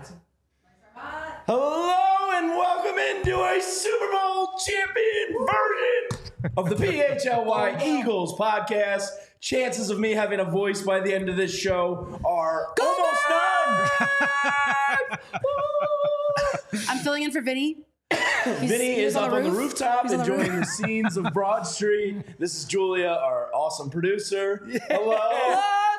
Hello and welcome into a Super Bowl champion version of the PHLY Eagles podcast. Chances of me having a voice by the end of this show are almost none. I'm filling in for Vinny. Vinny is up on the rooftop enjoying the roof. scenes of Broad Street. This is Julia, our awesome producer. Hello.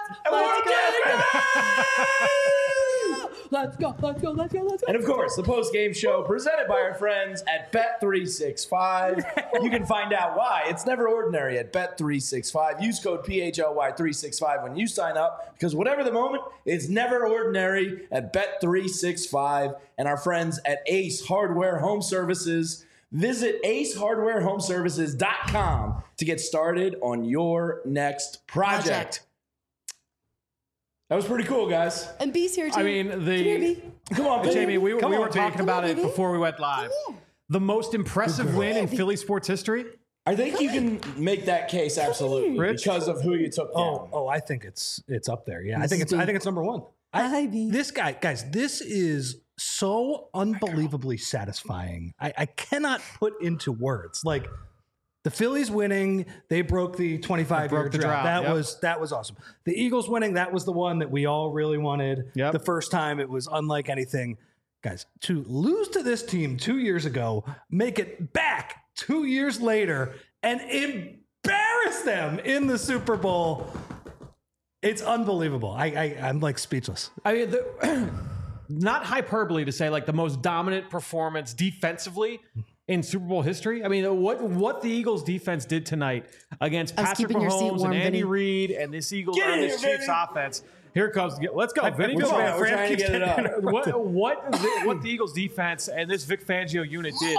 Let's go. And of course, the post-game show presented by our friends at Bet365. You can find out why it's never ordinary at Bet365. Use code PHLY365 when you sign up, because whatever the moment, it's never ordinary at Bet365. And our friends at Ace Hardware Home Services. Visit acehardwarehomeservices.com to get started on your next project. That was pretty cool, guys. And B's here too. I mean, Come here, B. Come on, Jamie, we were talking talking about it before we went live. The most impressive win in Philly sports history? I think you can make that case absolutely Rich? because of who you took down. Oh, I think it's up there. Yeah, I think it's number one. Hi, B. This guy, guys, this is so unbelievably satisfying. I cannot put into words. Like, the Phillies winning, they broke the 25-year drought. That was awesome. The Eagles winning, that was the one that we all really wanted. Yep. The first time, it was unlike anything. Guys, to lose to this team 2 years ago, make it back 2 years later, and embarrass them in the Super Bowl, it's unbelievable. I'm like speechless. I mean, not hyperbole to say like the most dominant performance defensively in Super Bowl history. I mean, what the Eagles defense did tonight against Patrick keeping your seat Mahomes warm, and Andy Vinny. Reid and this Eagles Get or in this here, Chiefs Vinny. offense. Here comes. Let's go, Vinny. We're Go, trying- man. we're trying to get it up. What the Eagles defense and this Vic Fangio unit did.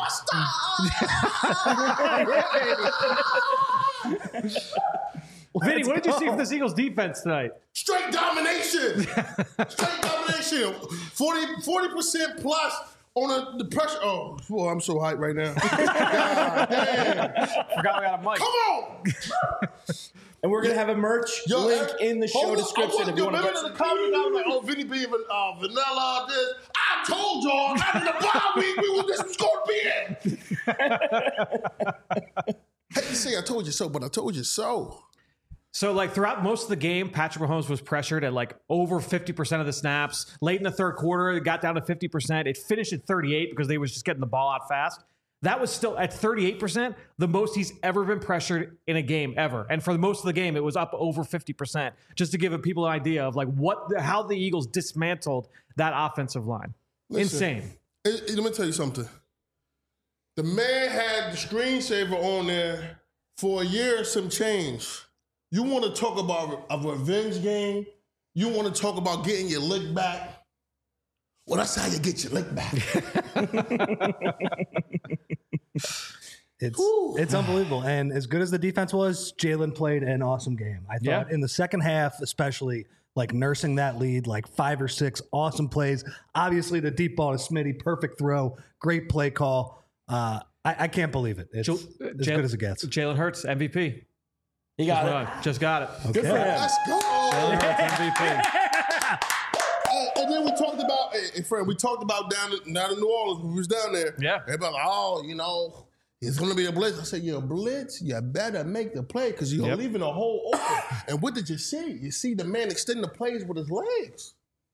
Vinny, what did you see from this Eagles defense tonight? Straight domination. Straight domination. 40% plus on the pressure. Oh, boy, I'm so hyped right now. God damn. Forgot we got a mic. Come on. And we're going to have a merch link in the show hold on, description if you want to remember get in the comments, I was like, oh, Vinny B, vanilla, this. I told y'all after the bye week, this was going to be it. Hate to say I told you so, but I told you so. So, like, throughout most of the game, Patrick Mahomes was pressured at, like, over 50% of the snaps. Late in the third quarter, it got down to 50%. It finished at 38% because they was just getting the ball out fast. That was still, at 38%, the most he's ever been pressured in a game ever. And for most of the game, it was up over 50%, just to give people an idea of, like, how the Eagles dismantled that offensive line. Listen, Insane. Let me tell you something. The man had the screensaver on there for a year and some change. You want to talk about a revenge game? You want to talk about getting your lick back? Well, that's how you get your lick back. It's unbelievable. And as good as the defense was, Jalen played an awesome game. I thought in the second half, especially, like nursing that lead, like 5 or 6 awesome plays. Obviously, the deep ball to Smitty, perfect throw, great play call. I can't believe it. It's as good as it gets. Jalen Hurts, MVP. He got it. Just got it. Good for him. Let's go. Jalen Hurts, MVP. And then we talked about, hey, friend, we talked about down in New Orleans when we was down there. Yeah. Everybody like, oh, it's going to be a blitz. I said, you're a blitz. You better make the play because you're leaving a hole open. And what did you see? You see the man extending the plays with his legs.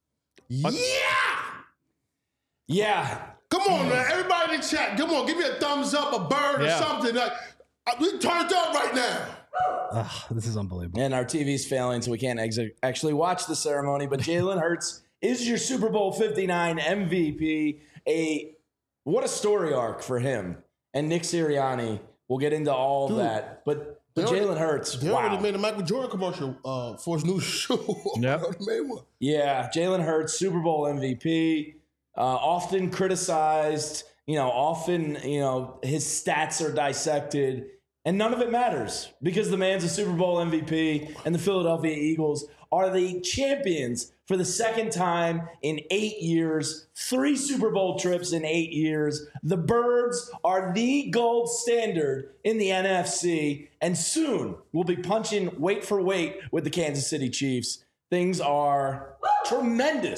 Yeah. Come on, man. Everybody in the chat, come on. Give me a thumbs up, a bird or something. Like, we turned up right now. This is unbelievable. And our TV's failing, so we can't actually watch the ceremony. But Jalen Hurts is your Super Bowl 59 MVP. What a story arc for him. And Nick Sirianni. We'll get into all of that. But Jalen Hurts, They already made a Michael Jordan commercial for his new shoe. Yep. They made one. Yeah, Jalen Hurts, Super Bowl MVP. Often criticized. Often, his stats are dissected. And none of it matters because the man's a Super Bowl MVP and the Philadelphia Eagles are the champions for the second time in 8 years, 3 Super Bowl trips in 8 years. The Birds are the gold standard in the NFC, and soon we'll be punching weight for weight with the Kansas City Chiefs. Things are tremendous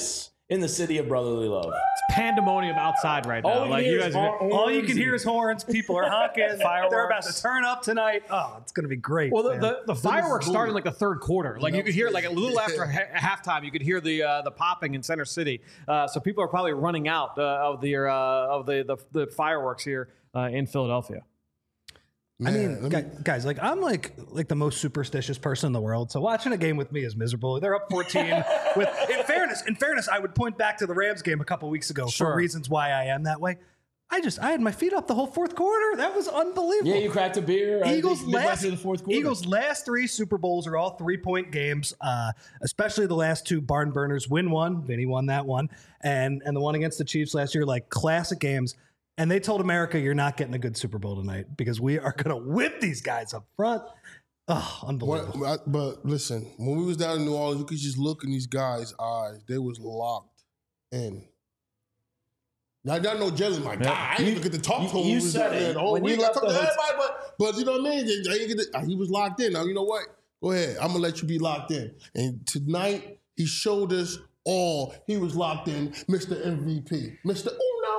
in the city of brotherly love. It's pandemonium outside right now. All you Like hear you is guys, All you can hear is horns. People are honking. Fireworks. They're about to turn up tonight. Oh, it's going to be great. well, man. the fireworks started in like the third quarter. Like you could hear like a little after halftime, you could hear the popping in Center City. So people are probably running out of the fireworks here in Philadelphia. I Man, mean, guys, like I'm like the most superstitious person in the world. So watching a game with me is miserable. They're up 14. In fairness, I would point back to the Rams game a couple weeks ago Sure. for reasons why I am that way. I had my feet up the whole fourth quarter. That was unbelievable. Yeah, you cracked a beer. Eagles midway through the fourth quarter. Eagles' last 3 Super Bowls are all 3-point games, especially the last 2 barn burners. Win one, Vinny won that one, and the one against the Chiefs last year, like classic games. And they told America, you're not getting a good Super Bowl tonight because we are going to whip these guys up front. Oh, unbelievable. But listen, when we was down in New Orleans, you could just look in these guys' eyes. They was locked in. Now, y'all know Jalen, my guy. I didn't even get to talk to him. You said it. The whole When week. you I left talked the to hotel- everybody, but you know what I mean? He was locked in. Now, you know what? Go ahead. I'm going to let you be locked in. And tonight, he showed us all. He was locked in, Mr. MVP. Mr.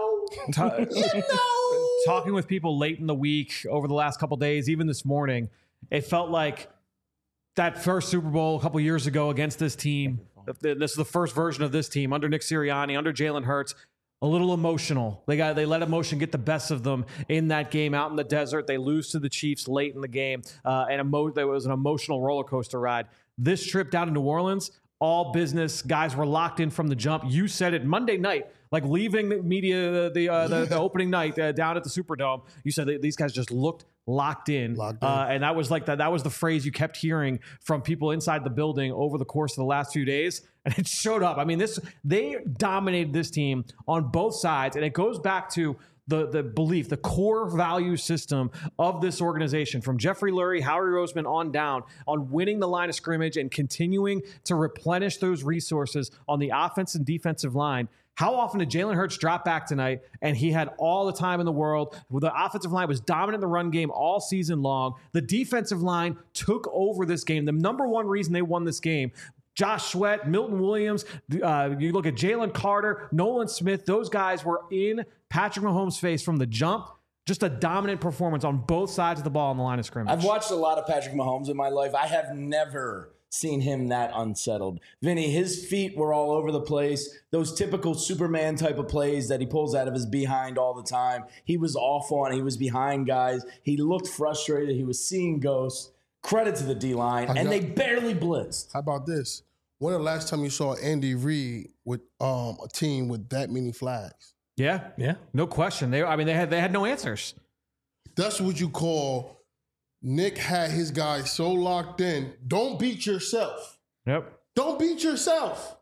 Talking with people late in the week, over the last couple days, even this morning, it felt like that first Super Bowl a couple years ago against this team. This is the first version of this team under Nick Sirianni, under Jalen Hurts. A little emotional. They let emotion get the best of them in that game out in the desert. They lose to the Chiefs late in the game, and there was an emotional roller coaster ride. This trip down to New Orleans, all business. Guys were locked in from the jump. You said it Monday night, like leaving the media the opening night down at the Superdome. You said that these guys just looked locked in. And that was like that was the phrase you kept hearing from people inside the building over the course of the last few days, and it showed up. I mean, they dominated this team on both sides, and it goes back to the belief, the core value system of this organization, from Jeffrey Lurie, Howie Roseman on down, on winning the line of scrimmage and continuing to replenish those resources on the offense and defensive line. How often did Jalen Hurts drop back tonight and he had all the time in the world? The offensive line was dominant in the run game all season long. The defensive line took over this game. The number one reason they won this game, Josh Sweat, Milton Williams, you look at Jalen Carter, Nolan Smith, those guys were in Patrick Mahomes' face from the jump. Just a dominant performance on both sides of the ball on the line of scrimmage. I've watched a lot of Patrick Mahomes in my life. I have never seen him that unsettled. Vinny, his feet were all over the place. Those typical Superman type of plays that he pulls out of his behind all the time. He was off on. He was behind guys. He looked frustrated. He was seeing ghosts. Credit to the D-line. And they barely blitzed. How about this? When the last time you saw Andy Reid with a team with that many flags? Yeah, no question. They had no answers. That's what you call Nick had his guys so locked in. Don't beat yourself. Yep. Don't beat yourself.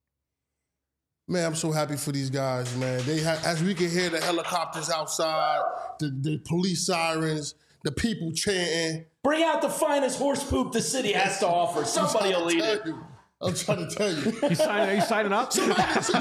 Man, I'm so happy for these guys, man. As we can hear the helicopters outside, the police sirens, the people chanting. Bring out the finest horse poop the city has to offer. Somebody will eat it. I'm trying to tell you. Are you signing up? They need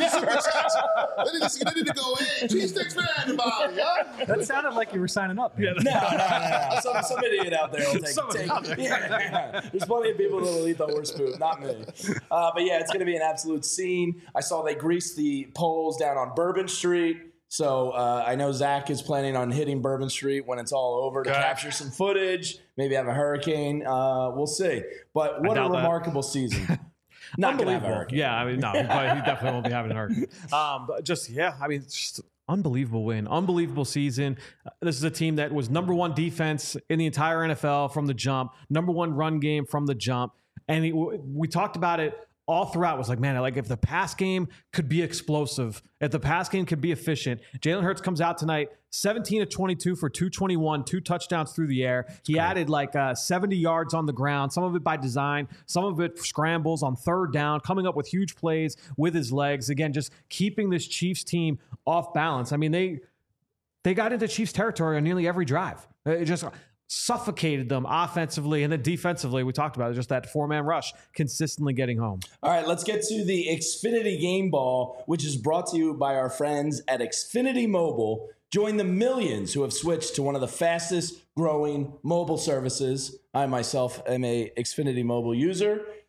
to go in. Cheesesteaks for everybody, huh? That sounded like you were signing up. Man. No. Some idiot out there will take it. Yeah. There's plenty of people that will eat the horse poop, not me. But yeah, it's going to be an absolute scene. I saw they greased the poles down on Bourbon Street. So I know Zach is planning on hitting Bourbon Street when it's all over to capture some footage, maybe have a hurricane. We'll see. But what a remarkable season. Not gonna have a hurricane. Yeah, I mean, no, he definitely won't be having a hurricane. But just unbelievable win, unbelievable season. This is a team that was number one defense in the entire NFL from the jump, number one run game from the jump, and we talked about it all throughout. Was like, man, like if the pass game could be explosive, if the pass game could be efficient. Jalen Hurts comes out tonight, 17 of 22 for 221, 2 touchdowns through the air. He added like 70 yards on the ground, some of it by design, some of it scrambles on third down, coming up with huge plays with his legs. Again, just keeping this Chiefs team off balance. I mean, they got into Chiefs territory on nearly every drive. It just suffocated them offensively, and then defensively, we talked about it, just that 4-man rush consistently getting home. All right, let's get to the Xfinity Game Ball, which is brought to you by our friends at Xfinity Mobile. Join the millions who have switched to one of the fastest growing mobile services. I myself am a Xfinity Mobile user.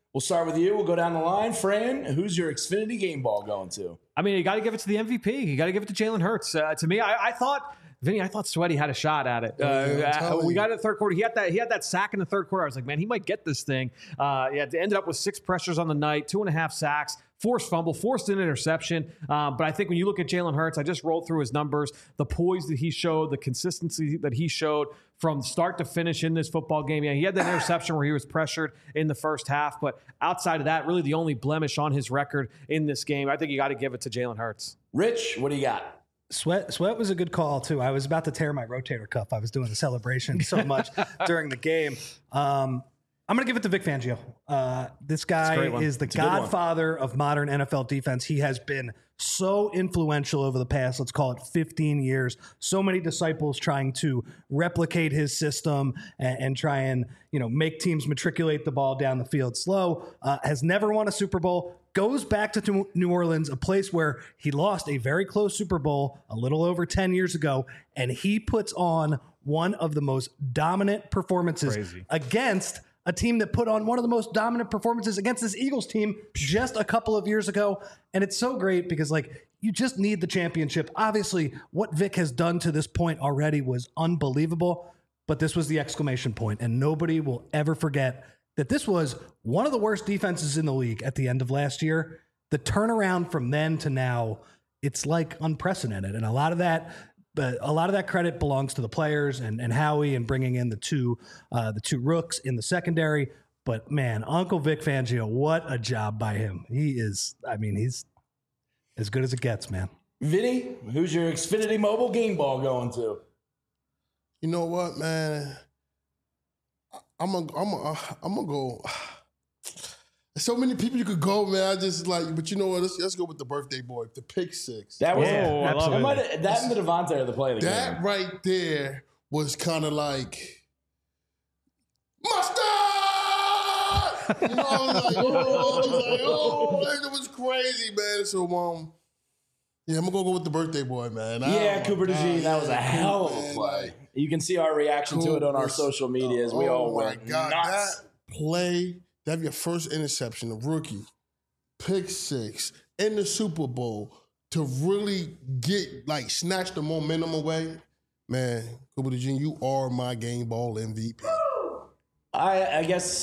We'll start with you. We'll go down the line. Fran, who's your Xfinity game ball going to? I mean, you got to give it to the MVP. You got to give it to Jalen Hurts. To me, I thought, Vinny, I thought Sweaty had a shot at it. We got it in the third quarter. He had that sack in the third quarter. I was like, man, he might get this thing. Ended up with 6 pressures on the night, 2.5 sacks. Forced fumble, forced an interception. But I think when you look at Jalen Hurts, I just rolled through his numbers, the poise that he showed, the consistency that he showed from start to finish in this football game. Yeah, he had that interception where he was pressured in the first half. But outside of that, really the only blemish on his record in this game, I think you got to give it to Jalen Hurts. Rich, what do you got? Sweat was a good call, too. I was about to tear my rotator cuff. I was doing the celebration so much during the game. I'm going to give it to Vic Fangio. This guy is the godfather of modern NFL defense. He has been so influential over the past, let's call it 15 years. So many disciples trying to replicate his system and try and, make teams matriculate the ball down the field slow. Has never won a Super Bowl. Goes back to New Orleans, a place where he lost a very close Super Bowl a little over 10 years ago, and he puts on one of the most dominant performances against a team that put on one of the most dominant performances against this Eagles team just a couple of years ago. And it's so great because, you just need the championship. Obviously, what Vic has done to this point already was unbelievable, but this was the exclamation point, and nobody will ever forget that this was one of the worst defenses in the league at the end of last year. The turnaround from then to now, it's unprecedented. And a lot of that credit belongs to the players and Howie and bringing in the two rooks in the secondary. But man, Uncle Vic Fangio, what a job by him. He's as good as it gets, man. Vinny, who's your Xfinity mobile game ball going to? You know what, man? I'm gonna go. There's so many people you could go, man. I just but you know what? Let's go with the birthday boy, the pick six. That was absolutely. That and the Devontae are the play of the game. That right there was kind of like mustard. It was crazy, man. So I'm gonna go with the birthday boy, man. Cooper DeJean, that was a hell of a play. You can see our reaction to it on our social medias. We all went nuts. That play, to have your first interception, a rookie, pick six in the Super Bowl, to really snatch the momentum away, man. Cooper DeJean, you are my game ball MVP. I guess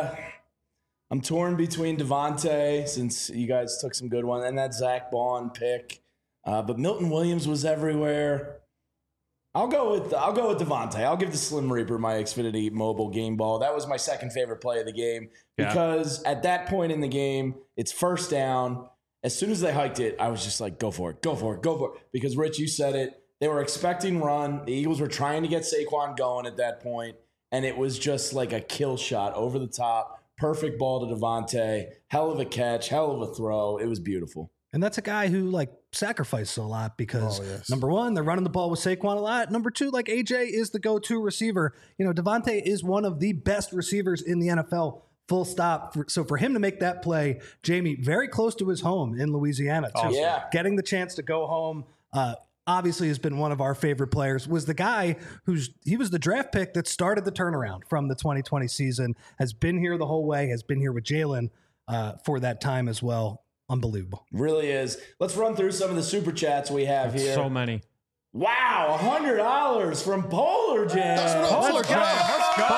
I'm torn between Devontae, since you guys took some good ones, and that Zach Bond pick. But Milton Williams was everywhere. I'll go with Devontae. I'll give the Slim Reaper my Xfinity mobile game ball. That was my second favorite play of the game because at that point in the game, it's first down. As soon as they hiked it, I was just like, go for it. Because, Rich, you said it. They were expecting run. The Eagles were trying to get Saquon going at that point, and it was just like a kill shot over the top. Perfect ball to Devontae. Hell of a catch. Hell of a throw. It was beautiful. And that's a guy who sacrificed a lot because number one, they're running the ball with Saquon a lot. Number two, AJ is the go-to receiver. Devontae is one of the best receivers in the NFL, full stop. So for him to make that play, Jamie, very close to his home in Louisiana too. Awesome. Yeah. Getting the chance to go home, obviously has been one of our favorite players, was the guy he was the draft pick that started the turnaround from the 2020 season, has been here the whole way, has been here with Jalen for that time as well. Unbelievable. Really is. Let's run through some of the super chats we have here. So many. Wow, $100 from Polar Jam. Polar Jam. Let's go.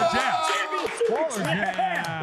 Polar Jam.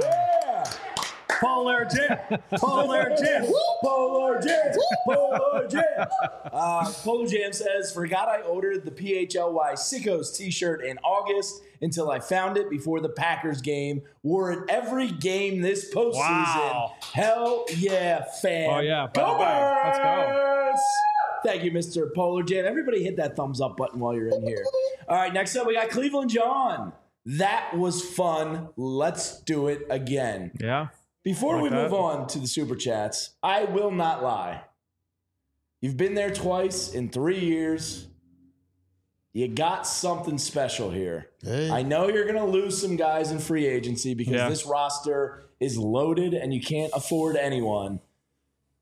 Polar Jam. Polar Jam. Polar Jam. Polar Jam. Polar Jam says, forgot I ordered the PHLY Sickos t-shirt in August until I found it before the Packers game. Wore it every game this postseason. Wow. Hell yeah, fan. Oh, yeah. Go Birds! Let's go. Thank you, Mr. Polar Jam. Everybody hit that thumbs up button while you're in here. All right, next up we got Cleveland John. That was fun. Let's do it again. Yeah. Before we move on to the super chats, I will not lie. You've been there twice in 3 years. You got something special here. Hey. I know you're going to lose some guys in free agency because this roster is loaded and you can't afford anyone.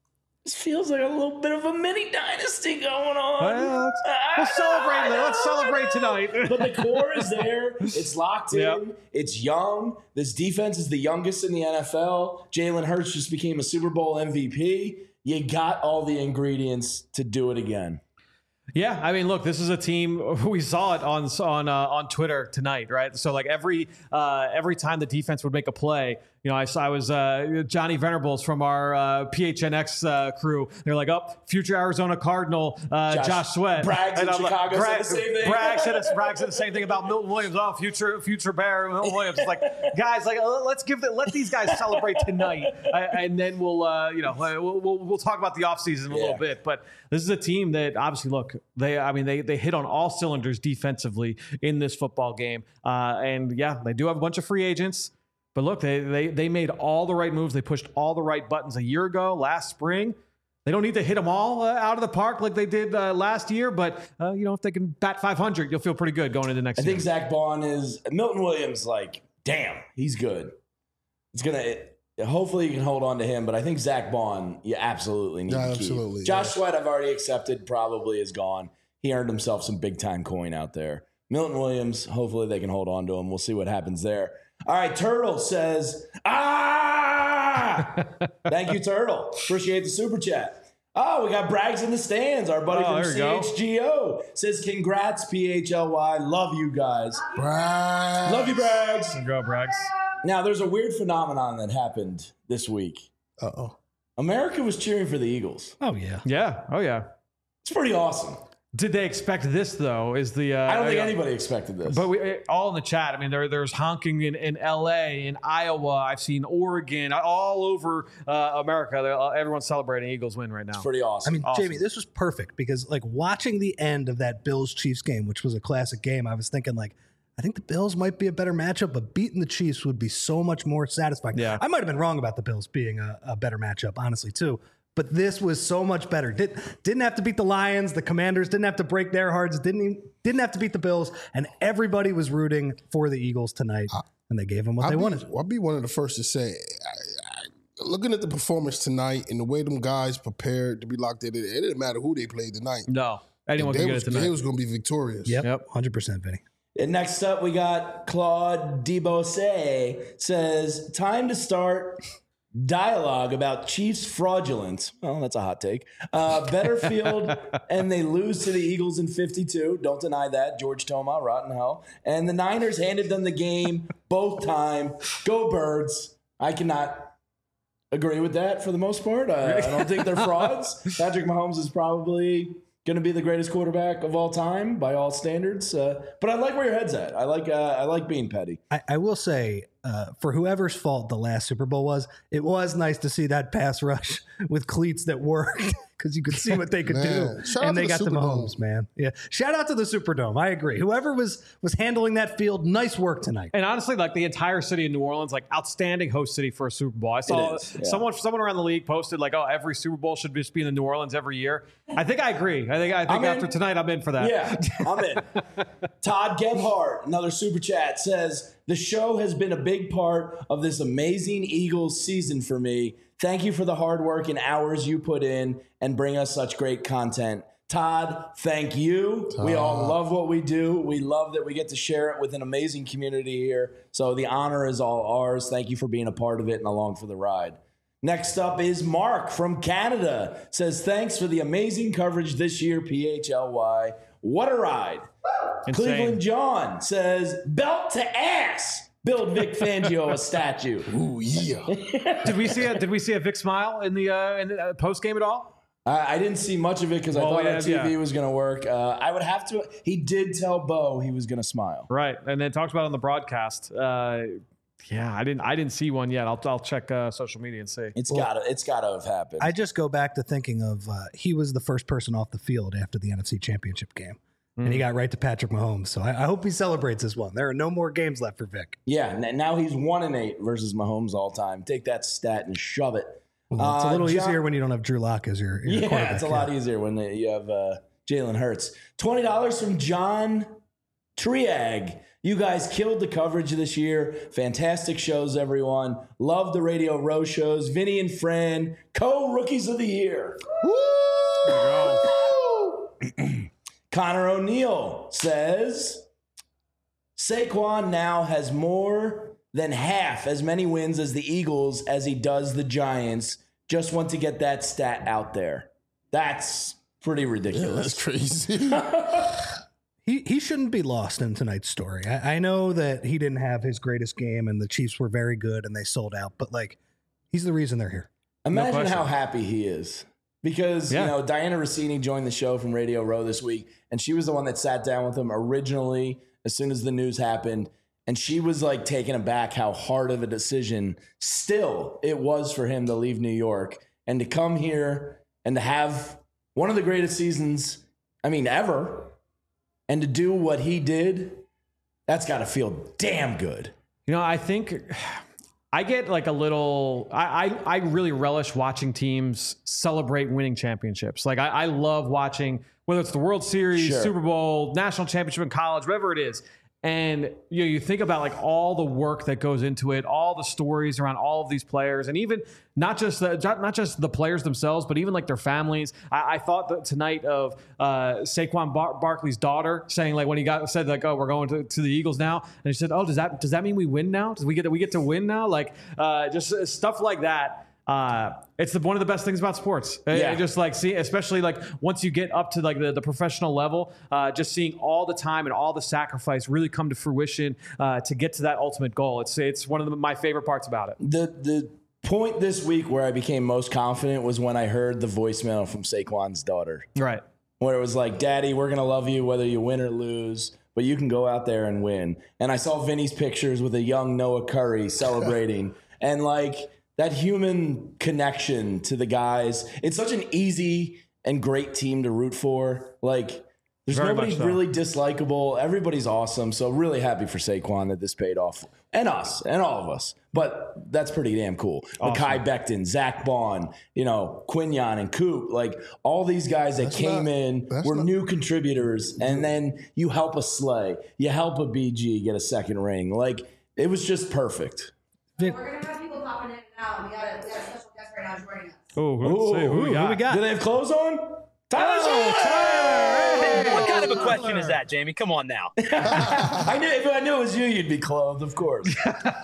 This feels like a little bit of a mini dynasty going on. Well, let's celebrate. Let's celebrate tonight. But the core is there. It's locked in. Yep. It's young. This defense is the youngest in the NFL. Jalen Hurts just became a Super Bowl MVP. You got all the ingredients to do it again. Yeah, I mean, look, this is a team. We saw it on Twitter tonight, right? So like every time the defense would make a play, you know, I was Johnny Venerables from our PHNX crew. They're like, future Arizona Cardinal Josh Sweat. Braggs in Chicago said the same thing. Bragg said the same thing about Milton Williams. Oh, future Bear Milton Williams. It's like, guys, like let these guys celebrate tonight, and then we'll talk about the offseason a little bit. But this is a team that obviously, look, they hit on all cylinders defensively in this football game, and yeah, they do have a bunch of free agents. But look, they made all the right moves. They pushed all the right buttons a year ago, last spring. They don't need to hit them all out of the park like they did last year. But, if they can bat 500, you'll feel pretty good going into next year. I think Zach Bond is – Milton Williams, like, damn, he's good. It's going to – hopefully you can hold on to him. But I think Zach Bond, you absolutely need to keep. Absolutely. Josh Sweat, I've already accepted, probably is gone. He earned himself some big-time coin out there. Milton Williams, hopefully they can hold on to him. We'll see what happens there. All right, Turtle says, Thank you, Turtle. Appreciate the super chat. Oh, we got Braggs in the stands. Our buddy from CHGO says, congrats, PHLY. Love you guys. Braggs. Love you, Braggs. Go, Braggs. Now, there's a weird phenomenon that happened this week. Uh-oh. America was cheering for the Eagles. Oh, yeah. Yeah. Oh, yeah. It's pretty awesome. Did they expect this, though? Is the I don't think anybody expected this. But all in the chat. I mean, there's honking in L.A., in Iowa. I've seen Oregon, all over America. Everyone's celebrating Eagles win right now. It's pretty awesome. I mean, Awesome. Jamie, this was perfect because, like, watching the end of that Bills-Chiefs game, which was a classic game, I was thinking, like, I think the Bills might be a better matchup, but beating the Chiefs would be so much more satisfying. Yeah. I might have been wrong about the Bills being a better matchup, honestly, too. But this was so much better. Didn't have to beat the Lions. The Commanders didn't have to break their hearts. Didn't have to beat the Bills. And everybody was rooting for the Eagles tonight. And they gave them what they wanted. I'll be one of the first to say, looking at the performance tonight and the way them guys prepared to be locked in, it didn't matter who they played tonight. No. Anyone can get it tonight. They was going to be victorious. Yep. 100%, Vinny. And next up, we got Claude Debose says, time to start dialogue about Chiefs fraudulence. Well, that's a hot take. Better field, and they lose to the Eagles in 52. Don't deny that. George Toma, rotten hell. And the Niners handed them the game both time. Go Birds. I cannot agree with that for the most part. I don't think they're frauds. Patrick Mahomes is probably going to be the greatest quarterback of all time by all standards. But I like where your head's at. I like being petty. I will say, for whoever's fault the last Super Bowl was, it was nice to see that pass rush with cleats that worked because you could see what they could do. Shout out And to they the got the Superdome. Mahomes, man. Yeah. Shout out to the Superdome. I agree. Whoever was handling that field, nice work tonight. And honestly, like the entire city of New Orleans, like outstanding host city for a Super Bowl. I saw is, yeah. someone around the league posted like, oh, every Super Bowl should just be in the New Orleans every year. I think I agree. I think after tonight, I'm in for that. Yeah, I'm in. Todd Gebhardt, another super chat, says, the show has been a big part of this amazing Eagles season for me. Thank you for the hard work and hours you put in and bring us such great content. Todd, thank you. We all love what we do. We love that we get to share it with an amazing community here. So the honor is all ours. Thank you for being a part of it and along for the ride. Next up is Mark from Canada. Says, thanks for the amazing coverage this year, PHLY. What a ride. Insane. Cleveland John says, belt to ass. Build Vic Fangio a statue. Ooh, yeah. Did we see a Vic smile in the post game at all? I didn't see much of it because I thought our TV was going to work. I would have to. He did tell Bo he was going to smile. Right, and then talked about it on the broadcast. Yeah, I didn't see one yet. I'll check social media and see. It's gotta have happened. I just go back to thinking of he was the first person off the field after the NFC Championship game. And he got right to Patrick Mahomes. So I hope he celebrates this one. There are no more games left for Vic. Yeah, now he's 1-8 versus Mahomes all time. Take that stat and shove it. Well, it's a little easier when you don't have Drew Lock as your quarterback. Yeah, it's a lot easier when you have Jalen Hurts. $20 from John Triag. You guys killed the coverage this year. Fantastic shows, everyone. Love the Radio Row shows. Vinny and Fran, co-rookies of the year. Connor O'Neill says, Saquon now has more than half as many wins as the Eagles as he does the Giants. Just want to get that stat out there. That's pretty ridiculous. That's crazy. He shouldn't be lost in tonight's story. I know that he didn't have his greatest game and the Chiefs were very good and they sold out, but like he's the reason they're here. Imagine how happy he is. Because, you know, Diana Rossini joined the show from Radio Row this week, and she was the one that sat down with him originally as soon as the news happened. And she was like taken aback how hard of a decision still it was for him to leave New York and to come here and to have one of the greatest seasons, ever. And to do what he did, that's got to feel damn good. You know, I think I get like a little, I really relish watching teams celebrate winning championships. Like I love watching, whether it's the World Series, Super Bowl, national championship in college, whatever it is. And you think about like all the work that goes into it, all the stories around all of these players, and even not just the players themselves, but even like their families. I thought that tonight of Saquon Barkley's daughter saying like when he said like, oh, we're going to the Eagles now, and he said, oh, does that mean we win now? Does we get to win now? Like just stuff like that. It's one of the best things about sports. Just like especially like once you get up to like the professional level, just seeing all the time and all the sacrifice really come to fruition to get to that ultimate goal. It's one of my favorite parts about it. The point this week where I became most confident was when I heard the voicemail from Saquon's daughter. Right. Where it was like, Daddy, we're going to love you whether you win or lose, but you can go out there and win. And I saw Vinny's pictures with a young Noah Curry celebrating and like that human connection to the guys. It's such an easy and great team to root for. Like, there's nobody really dislikable. Everybody's awesome. So really happy for Saquon that this paid off. And us, and all of us. But that's pretty damn cool. Awesome. Mekhi Becton, Zach Bond, Quinyon and Coop. Like, all these guys that came in were new contributors. And then you help a Slay. You help a BG get a second ring. Like, it was just perfect. We're going to have people popping in and out. We got a special guest right now joining us. Who we got? Do they have clothes on? What kind of a question is that, Jamie? Come on now. If I knew it was you, you'd be clothed, of course.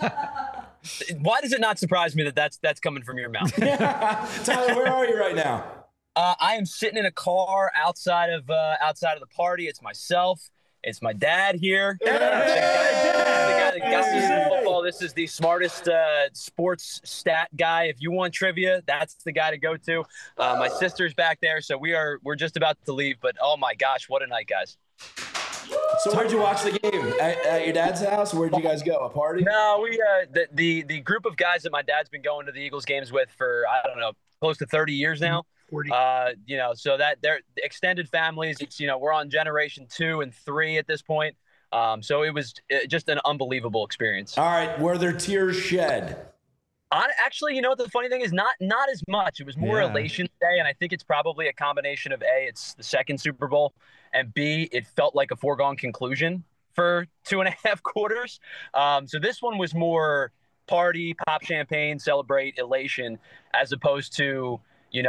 Why does it not surprise me that that's coming from your mouth? Tyler, where are you right now? I am sitting in a car outside of the party. It's myself. It's my dad here. The guy that got me into football. This is the smartest sports stat guy. If you want trivia, that's the guy to go to. My sister's back there, so we're just about to leave. But oh my gosh, what a night, guys! So where'd you watch the game? At your dad's house? Where'd you guys go? A party? No, we the group of guys that my dad's been going to the Eagles games with for I don't know, close to 30 years now. 40. So that they're extended families. It's we're on generation 2 and 3 at this point. So it was just an unbelievable experience. All right, were there tears shed? Actually, the funny thing is not as much. It was more elation today, and I think it's probably a combination of A, it's the second Super Bowl, and B, it felt like a foregone conclusion for 2.5 quarters. So this one was more party, pop champagne, celebrate, elation, as opposed to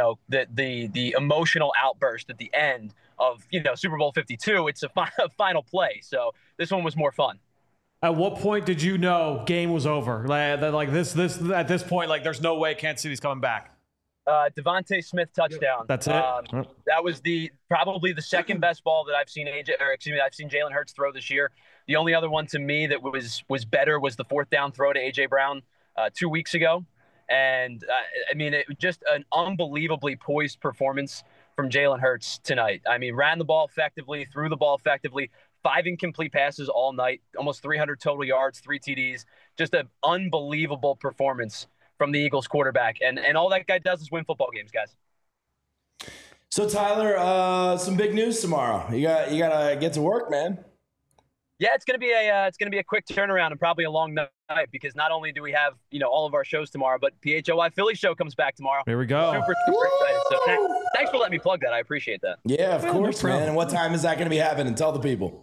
the emotional outburst at the end of Super Bowl 52. It's a final play, so this one was more fun. At what point did you know game was over? Like this at this point, like there's no way Kansas City's coming back. Devontae Smith touchdown. That's it. That was probably the second best ball that I've seen Jalen Hurts throw this year. The only other one to me that was better was the 4th down throw to AJ Brown 2 weeks ago. And it was just an unbelievably poised performance from Jalen Hurts tonight. Ran the ball effectively, threw the ball effectively, 5 incomplete passes all night, almost 300 total yards, 3 TDs. Just an unbelievable performance from the Eagles quarterback. And all that guy does is win football games, guys. So Tyler, some big news tomorrow. You gotta get to work, man. Yeah, it's gonna be a quick turnaround and probably a long night because not only do we have all of our shows tomorrow, but PHOI Philly show comes back tomorrow. Here we go. Super excited. So thanks for letting me plug that. I appreciate that. Yeah, of course, man. And what time is that gonna be happening? Tell the people.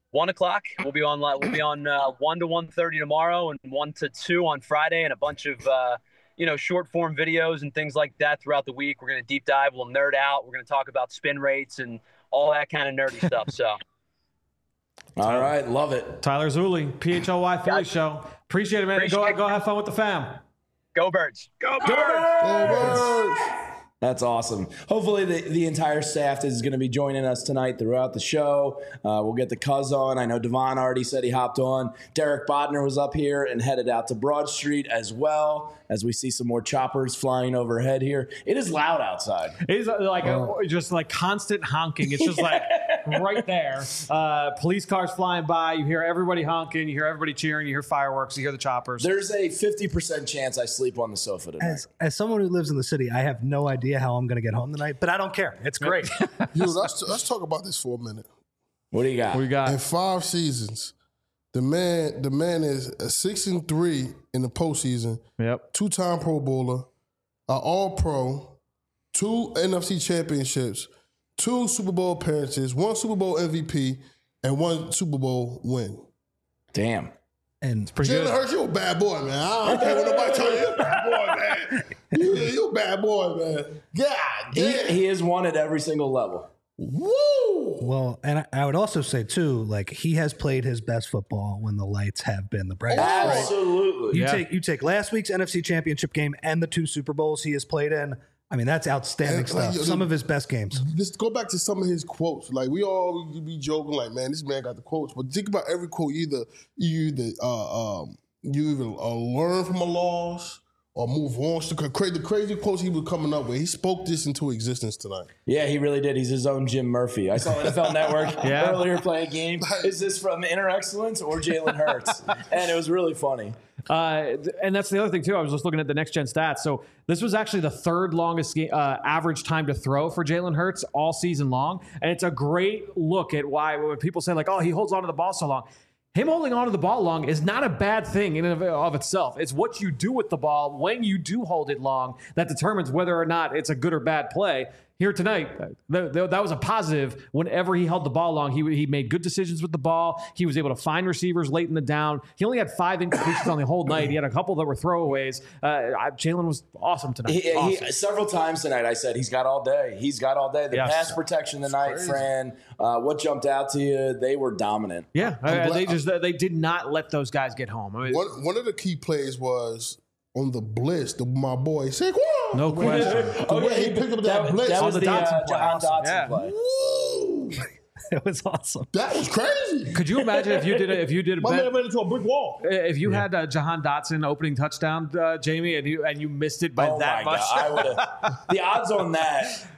1 o'clock. We'll be on 1 to 1:30 tomorrow, and 1 to 2 on Friday, and a bunch of short form videos and things like that throughout the week. We're gonna deep dive. We'll nerd out. We're gonna talk about spin rates and all that kind of nerdy stuff. So. All right, love it. Tyler Zulli, PHLY Philly Show. Appreciate it, man. Go have fun with the fam. Go Birds. Go Birds. That's awesome. Hopefully the entire staff is going to be joining us tonight throughout the show. We'll get the Cuz on. I know Devon already said he hopped on. Derek Bodner was up here and headed out to Broad Street as well, as we see some more choppers flying overhead here. It is loud outside. It is just like constant honking. It's just like right there. Police cars flying by. You hear everybody honking. You hear everybody cheering. You hear fireworks. You hear the choppers. There's a 50% chance I sleep on the sofa tonight. As someone who lives in the city, I have no idea how I'm going to get home tonight, but I don't care. It's great. Let's talk about this for a minute. What do you got? In 5 seasons, the man is a 6-3 in the postseason. Yep. 2-time Pro Bowler, an All-Pro, 2 NFC championships, 2 Super Bowl appearances, 1 Super Bowl MVP, and 1 Super Bowl win. Damn. And Jalen Hurts, you a bad boy, man. I don't care what nobody tell you. You're a bad boy, man. You a bad boy, man. God damn. He is one at every single level. Woo! Well, and I would also say, too, like, he has played his best football when the lights have been the brightest. Absolutely. You take last week's NFC Championship game and the 2 Super Bowls he has played in. I mean, that's outstanding stuff. Some of his best games. Just go back to some of his quotes. Like, we all be joking, like, man, this man got the quotes. But think about every quote. You either learn from a loss or move on. The crazy quotes he was coming up with. He spoke this into existence tonight. Yeah, he really did. He's his own Jim Murphy. I saw NFL Network earlier playing a game. Is this from Inner Excellence or Jalen Hurts? And it was really funny. And that's the other thing, too. I was just looking at the next gen stats. So this was actually the 3rd longest average time to throw for Jalen Hurts all season long. And it's a great look at why when people say, like, oh, he holds on to the ball so long. Him holding on to the ball long is not a bad thing in and of itself. It's what you do with the ball when you do hold it long that determines whether or not it's a good or bad play. Here tonight, that was a positive. Whenever he held the ball long, he made good decisions with the ball. He was able to find receivers late in the down. He only had 5 incompletions on the whole night. He had a couple that were throwaways. Jalen was awesome tonight. He several times tonight I said he's got all day. He's got all day. The pass protection tonight, Fran. What jumped out to you? They were dominant. Yeah, they did not let those guys get home. I mean, one of the key plays was on the blitz. My boy Saquon. No question. He picked up that blitz. That was the the Dotson play. Jahan Dotson Yeah. play. Woo! It was awesome. That was crazy. Could you imagine if you did My man ran into a brick wall. if you had Jahan Dotson opening touchdown, Jamie, and you missed it by that much? I would have. The odds on that.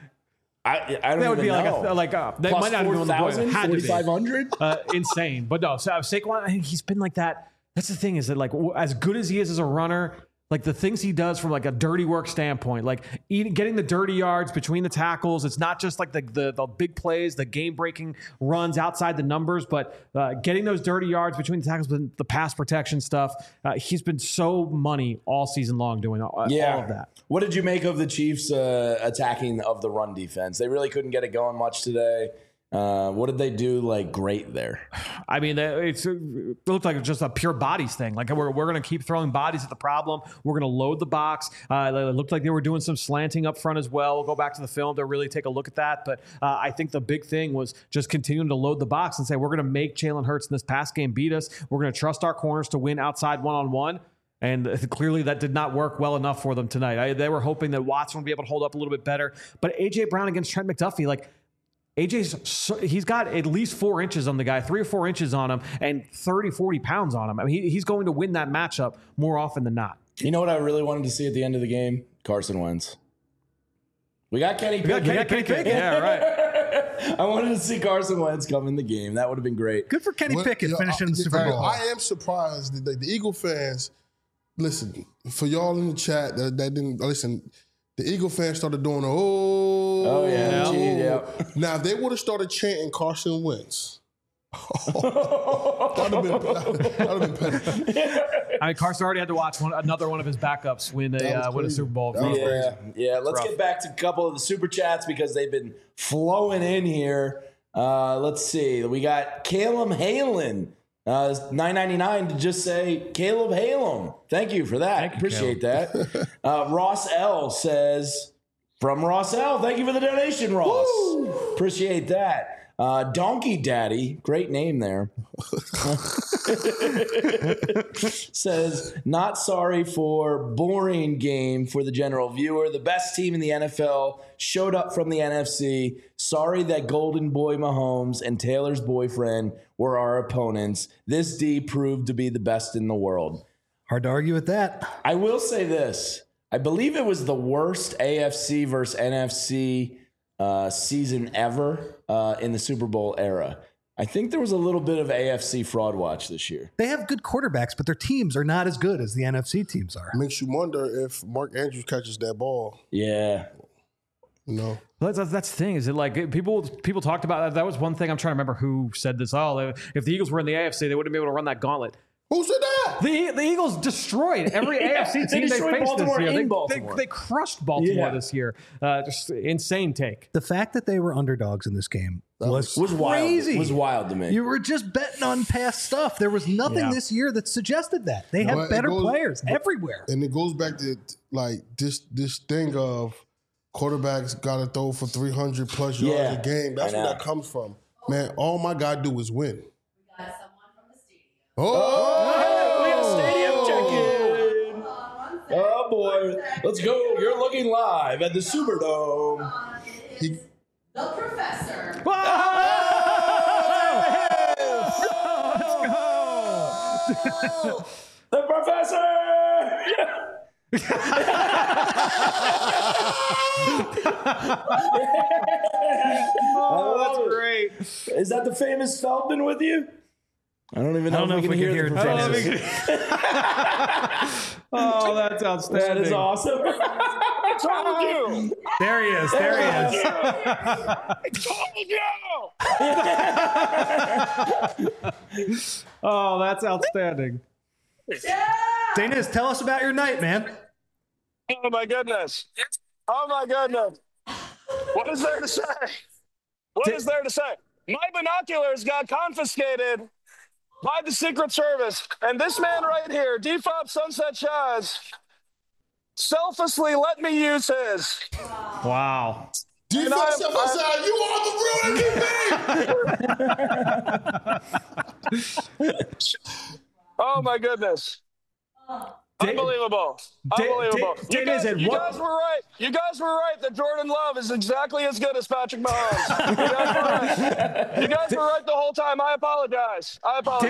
I don't That would even be know. that Plus might not have been on the board. 4,000, Had to be. 4,500. Insane. But no, so Saquon, he's been like that. That's the thing, is that, like, as good as he is as a runner, like the things he does from like a dirty work standpoint, like getting the dirty yards between the tackles. It's not just like the big plays, the game breaking runs outside the numbers, but getting those dirty yards between the tackles, the pass protection stuff. He's been so money all season long doing all of that. What did you make of the Chiefs attacking of the run defense? They really couldn't get it going much today. What did they do like great there? I mean, it looked like just a pure bodies thing. Like we're going to keep throwing bodies at the problem. We're going to load the box. It looked like they were doing some slanting up front as well. We'll go back to the film to really take a look at that. But I think the big thing was just continuing to load the box and say, we're going to make Jalen Hurts in this pass game beat us. We're going to trust our corners to win outside one-on-one. And clearly that did not work well enough for them tonight. They were hoping that Watson would be able to hold up a little bit better. But A.J. Brown against Trent McDuffie, like, he's got at least 4 inches on the guy, 3 or 4 inches on him, and 30, 40 pounds on him. I mean, he's going to win that matchup more often than not. You know what I really wanted to see at the end of the game? Carson Wentz. We got Kenny Pickett. Yeah, right. I wanted to see Carson Wentz come in the game. That would have been great. Good for Kenny Pickett finishing the Super Bowl. I am surprised that the Eagle fans, listen, for y'all in the chat that didn't listen, the Eagle fans started doing yeah. Now, if they would have started chanting Carson Wentz, that would have been petty. I mean, Carson already had to watch another one of his backups win a Super Bowl. Yeah. Let's get back to a couple of the super chats because they've been flowing in here. Let's see. We got Caleb Halen. $9.99 to just say Caleb Halem. Thank you for that. Appreciate that. Ross L says, from Ross L, thank you for the donation, Ross. Woo! Appreciate that. Donkey Daddy, great name there, says, not sorry for boring game for the general viewer. The best team in the NFL showed up from the NFC. Sorry that Golden Boy Mahomes and Taylor's boyfriend were our opponents. This D proved to be the best in the world. Hard to argue with that. I will say this. I believe it was the worst AFC versus NFC season ever in the Super Bowl era. I think there was a little bit of AFC fraud watch this year. They have good quarterbacks, but their teams are not as good as the NFC teams are. Makes you wonder if Mark Andrews catches that ball. Yeah. No. That's the thing. Is it like people talked about that was one thing. I'm trying to remember who said this. Oh, if the Eagles were in the AFC, they wouldn't be able to run that gauntlet. Who said that? The Eagles destroyed every AFC team they faced Baltimore this year. Baltimore. They crushed Baltimore this year. Just insane take. The fact that they were underdogs in this game was Wild. crazy. It was wild to me. You were just betting on past stuff. There was nothing this year that suggested that. They have better players everywhere. And it goes back to like this thing of quarterbacks got to throw for 300 plus yards a game. That's where that comes from. Man, all my guy do is win. We got someone from the stadium. Oh, we got a stadium check-in. Oh, boy. Let's go. You're looking live at the Superdome. It's the professor. The professor! Oh, that's great. Is that the famous Feldman with you? I don't even know if we can hear the professor. Oh, that's outstanding. That is awesome. What's wrong with you? There he is. There he is. Oh, that's outstanding. Daniz, tell us about your night, man. Oh, my goodness. Oh, my goodness. What is there to say? What is there to say? My binoculars got confiscated by the Secret Service. And this man right here, Defop Sunset Shaz, selflessly let me use his. Wow. Defense step aside. You are the real MVP. Oh, my goodness. Unbelievable. Unbelievable. You guys were right. You guys were right that Jordan Love is exactly as good as Patrick Mahomes. You guys were right the whole time. I apologize.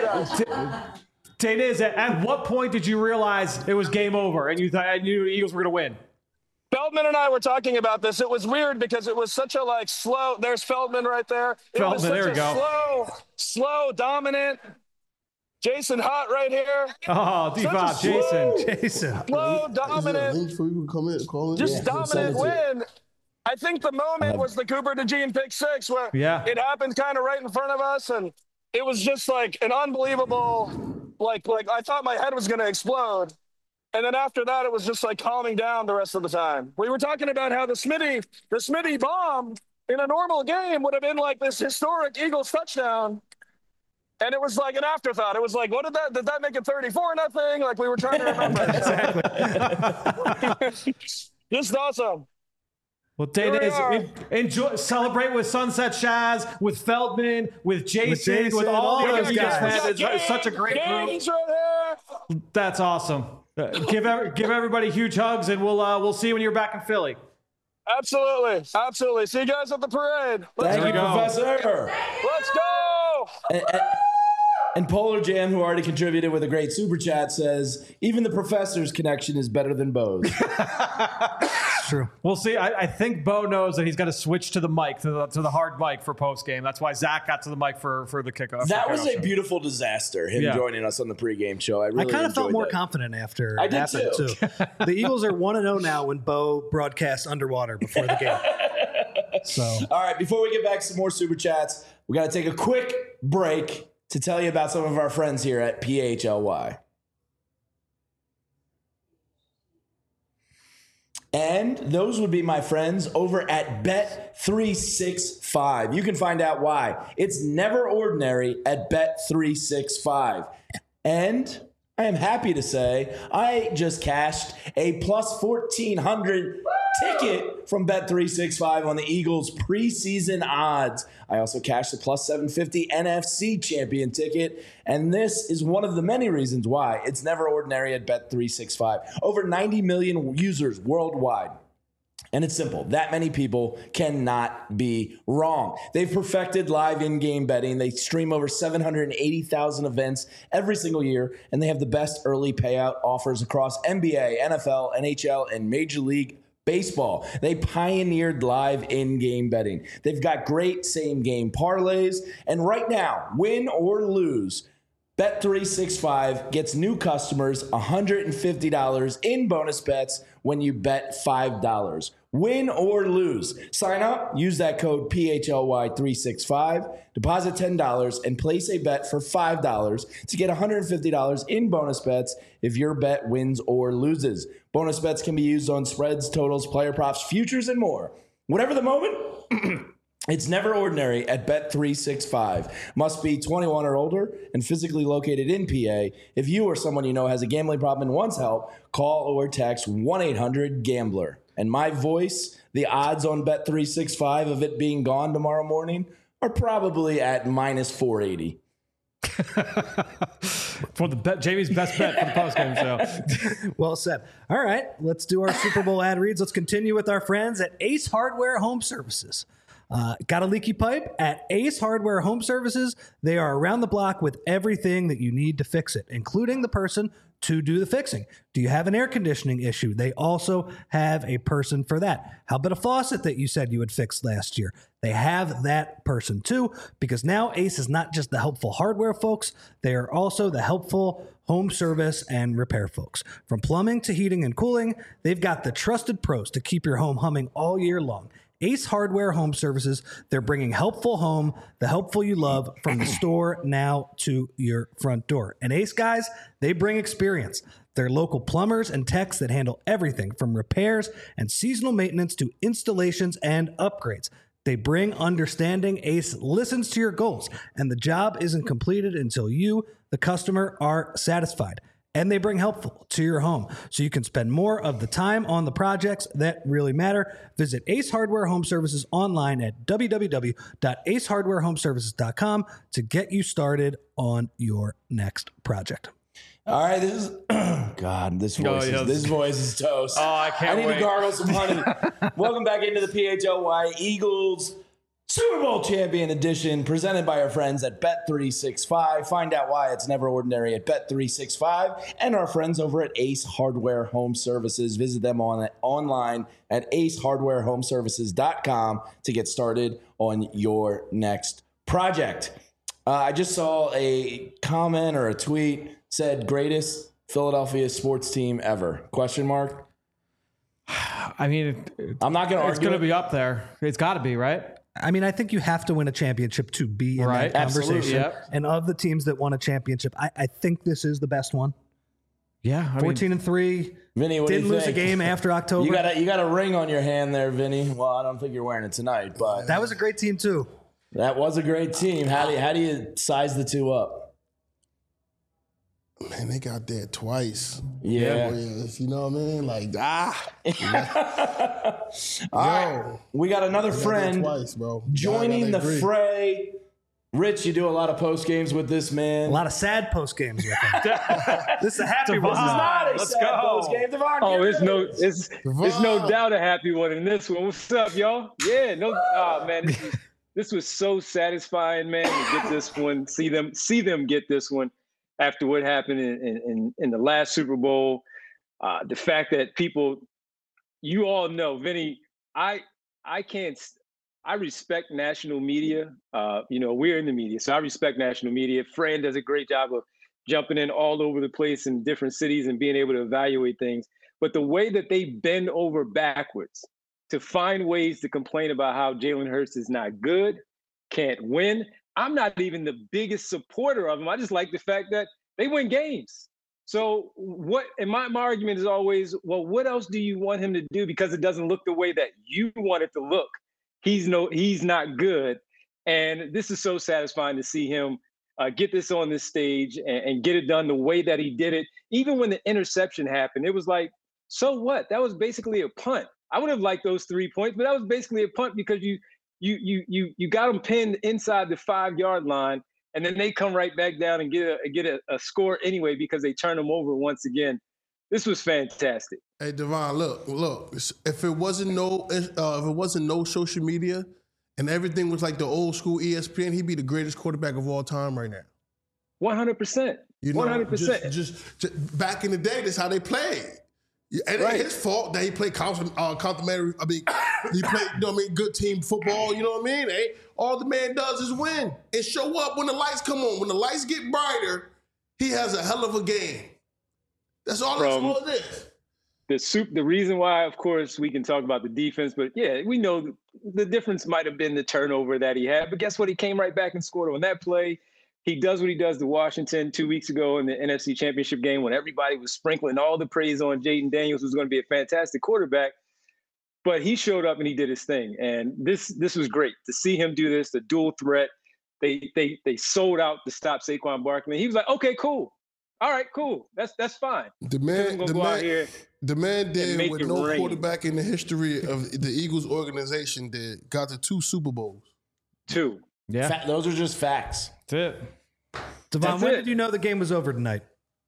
Daniz, at what point did you realize it was game over and you thought you knew the Eagles were going to win? Feldman and I were talking about this. It was weird because it was such a slow. There's Feldman right there. Feldman, there we go. Slow, dominant. Jason Hott right here. Oh, Defop, Jason. Slow, dominant. Just dominant win. I think the moment was the Cooper DeJean pick six where it happened kind of right in front of us. And it was just like an unbelievable, like I thought my head was going to explode. And then after that, it was just like calming down the rest of the time. We were talking about how the Smitty bomb in a normal game would have been like this historic Eagles touchdown. And it was like an afterthought. It was like, did that make it 34-0? Like we were trying to remember. Exactly. Just awesome. Well, Daniz, enjoy, celebrate with Sunset Shaz, with Feldman, with Jason, with all those guys. It's such a great group. Right. That's awesome. Give everybody huge hugs, and we'll see you when you're back in Philly. Absolutely. See you guys at the parade. Thank you, Professor. Let's go. And Polar Jam, who already contributed with a great super chat, says even the professor's connection is better than Bo's. It's true. We'll see. I think Bo knows that he's got to switch to the mic, to the hard mic for post game. That's why Zach got to the mic for the kickoff. That was a beautiful disaster. Him joining us on the pregame show. I kind of felt more confident after it happened too. The Eagles are 1-0 now when Bo broadcasts underwater before the game. So, all right. Before we get back to some more super chats, we got to take a quick break to tell you about some of our friends here at PHLY. And those would be my friends over at Bet365. You can find out why. It's never ordinary at Bet365. And I am happy to say I just cashed a plus 1,400 ticket from Bet365 on the Eagles preseason odds. I also cashed the plus 750 NFC champion ticket. And this is one of the many reasons why it's never ordinary at Bet365. Over 90 million users worldwide. And it's simple. That many people cannot be wrong. They've perfected live in-game betting. They stream over 780,000 events every single year, and they have the best early payout offers across NBA, NFL, NHL, and Major League Baseball. They pioneered live in-game betting. They've got great same-game parlays, and right now, win or lose, Bet365 gets new customers $150 in bonus bets when you bet $5. Win or lose. Sign up, use that code PHLY365, deposit $10, and place a bet for $5 to get $150 in bonus bets if your bet wins or loses. Bonus bets can be used on spreads, totals, player props, futures, and more. Whatever the moment, it's never ordinary at Bet365. Must be 21 or older and physically located in PA. If you or someone you know has a gambling problem and wants help, call or text 1-800-GAMBLER. And my voice, the odds on Bet365 of it being gone tomorrow morning are probably at minus 480. For the bet, Jamie's best bet for the postgame show. Well said. All right, let's do our Super Bowl ad reads. Let's continue with our friends at Ace Hardware Home Services. Got a leaky pipe? At Ace Hardware Home Services, they are around the block with everything that you need to fix it, including the person to do the fixing. Do you have an air conditioning issue? They also have a person for that. How about a faucet that you said you would fix last year? They have that person too, because now Ace is not just the helpful hardware folks, they are also the helpful home service and repair folks. From plumbing to heating and cooling, they've got the trusted pros to keep your home humming all year long. Ace Hardware Home Services, they're bringing helpful home, the helpful you love, from the store now to your front door. And Ace guys, they bring experience. They're local plumbers and techs that handle everything from repairs and seasonal maintenance to installations and upgrades. They bring understanding. Ace listens to your goals, and the job isn't completed until you, the customer, are satisfied. And they bring helpful to your home so you can spend more of the time on the projects that really matter. Visit Ace Hardware Home Services online at www.acehardwarehomeservices.com to get you started on your next project. All right, this is God. This voice is toast. Oh, I can't wait. I need to gargle some honey. Welcome back into the PHLY Eagles Super Bowl Champion Edition, presented by our friends at Bet365. Find out why it's never ordinary at Bet365 and our friends over at Ace Hardware Home Services. Visit them online at acehardwarehomeservices.com to get started on your next project. I just saw a comment or a tweet said greatest Philadelphia sports team ever? Question mark. I mean, I'm not going to argue. It's going to be up there. It's got to be, right? I mean, I think you have to win a championship to be in that conversation. Absolutely, yep. And of the teams that won a championship, I think this is the best one. Yeah, 14-3. Vinny, what do you Didn't lose a game after October. You got a ring on your hand there, Vinny. Well, I don't think you're wearing it tonight, but that was a great team too. That was a great team. How do you size the two up? Man, they got there twice. Yeah. You know what I mean? Like, All right. We got another friend twice, bro. joining the fray. Rich, you do a lot of post games with this man. A lot of sad post games with him. This is a happy one. This is not a sad post game. Oh, it's no doubt a happy one in this one. What's up, y'all? Yeah, man, this was so satisfying, man, to get this one. See them get this one after what happened in the last Super Bowl. The fact that people, you all know, Vinny, I respect national media. We're in the media, so I respect national media. Fran does a great job of jumping in all over the place in different cities and being able to evaluate things. But the way that they bend over backwards to find ways to complain about how Jalen Hurts is not good, can't win. I'm not even the biggest supporter of them. I just like the fact that they win games. So what? And my argument is always, well, what else do you want him to do? Because it doesn't look the way that you want it to look. He's not good. And this is so satisfying to see him get this on this stage and get it done the way that he did it. Even when the interception happened, it was like, so what? That was basically a punt. I would have liked those 3 points, but that was basically a punt because you got them pinned inside the 5-yard line, and then they come right back down and get a score anyway because they turn them over once again. This was fantastic. Hey, Devon, look. If it wasn't no social media and everything was like the old school ESPN, he'd be the greatest quarterback of all time right now. 100%. 100%. Just back in the day, that's how they played. It ain't his fault that he played complimentary. I mean, he played, good team football. You know what I mean? All the man does is win and show up when the lights come on. When the lights get brighter, he has a hell of a game. That's all it is. The reason why, of course, we can talk about the defense, but yeah, we know the difference might have been the turnover that he had. But guess what? He came right back and scored on that play. He does what he does to Washington 2 weeks ago in the NFC Championship game when everybody was sprinkling all the praise on Jayden Daniels, who's going to be a fantastic quarterback. But he showed up and he did his thing. And this was great to see him do this, the dual threat. They sold out to stop Saquon Barkley. He was like, okay, cool. All right, cool. That's fine. The man did what no quarterback in the history of the Eagles organization did. Got to 2 Super Bowls. 2. Yeah. Those are just facts. That's it. Devon, when did you know the game was over tonight?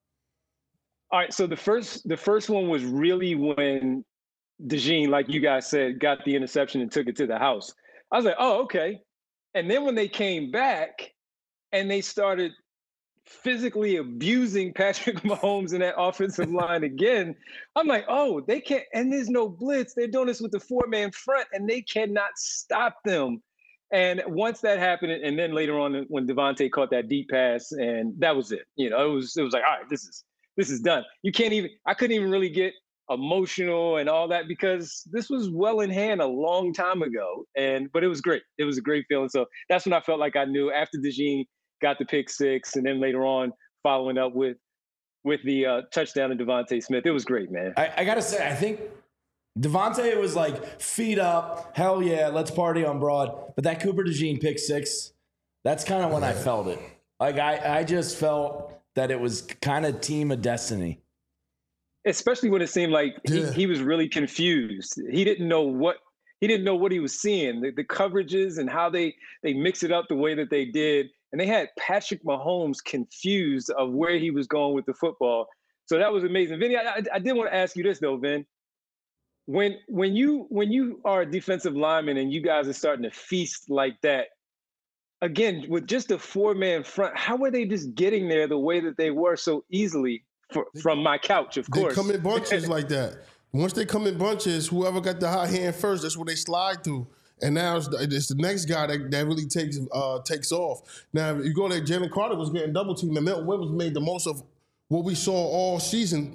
All right, so the first one was really when DeJean, like you guys said, got the interception and took it to the house. I was like, oh, okay. And then when they came back and they started physically abusing Patrick Mahomes in that offensive line again, I'm like, oh, they can't, and there's no blitz. They're doing this with the 4-man front, and they cannot stop them. And once that happened, and then later on when Devontae caught that deep pass, and that was it. It was like, all right, this is done. I couldn't even really get emotional and all that because this was well in hand a long time ago. But it was great. It was a great feeling. So that's when I felt like I knew after DeJean got the pick 6, and then later on following up with the touchdown to Devontae Smith. It was great, man. I got to say, I think Devontae was like, feet up, hell yeah, let's party on Broad. But that Cooper DeJean pick 6, that's kind of when I felt it. Like, I just felt that it was kind of team of destiny. Especially when it seemed like he was really confused. He didn't know what he was seeing, the coverages and how they mix it up the way that they did. And they had Patrick Mahomes confused of where he was going with the football. So that was amazing. Vinny, I did want to ask you this though, Vin. When you are a defensive lineman and you guys are starting to feast like that, again, with just a 4-man front, how were they just getting there the way that they were so easily from my couch, of course? They come in bunches like that. Once they come in bunches, whoever got the hot hand first, that's where they slide through. And now it's the next guy that really takes off. Now, if you go there, Jalen Carter was getting double teamed, and Milton Williams made the most of what we saw all season.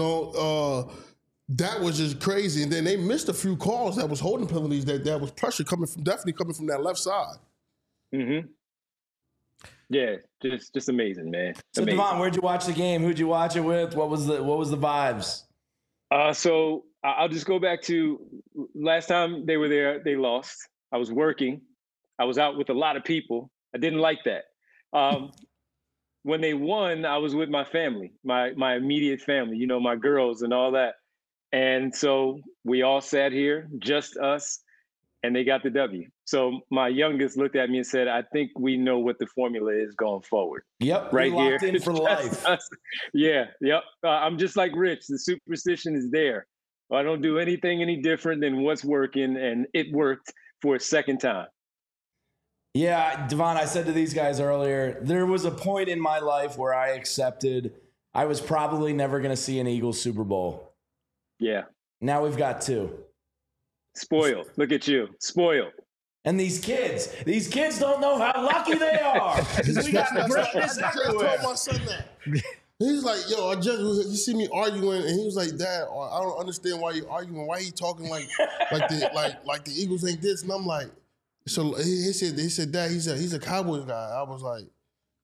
That was just crazy. And then they missed a few calls that was holding penalties. That was pressure definitely coming from that left side. Mm-hmm. Yeah, just amazing, man. So amazing. Devon, where'd you watch the game? Who'd you watch it with? What was the vibes? So I'll just go back to last time they were there, they lost. I was working. I was out with a lot of people. I didn't like that. When they won, I was with my family, my immediate family, my girls and all that. And so we all sat here, just us, and they got the W. So my youngest looked at me and said, I think we know what the formula is going forward. Yep, right here. Locked in for life. Yeah, yep. I'm just like Rich. The superstition is there. I don't do anything any different than what's working, and it worked for a second time. Yeah, Devon, I said to these guys earlier, there was a point in my life where I accepted I was probably never going to see an Eagles Super Bowl. Yeah. Now we've got 2. Spoiled. Look at you. Spoiled. And these kids don't know how lucky they are. We got greatness everywhere. I told my son that. He's like, yo, you see me arguing, and he was like, Dad, I don't understand why you're arguing. Why he talking like the Eagles ain't this? And I'm like, so he said, Dad, he's a Cowboys guy. I was like,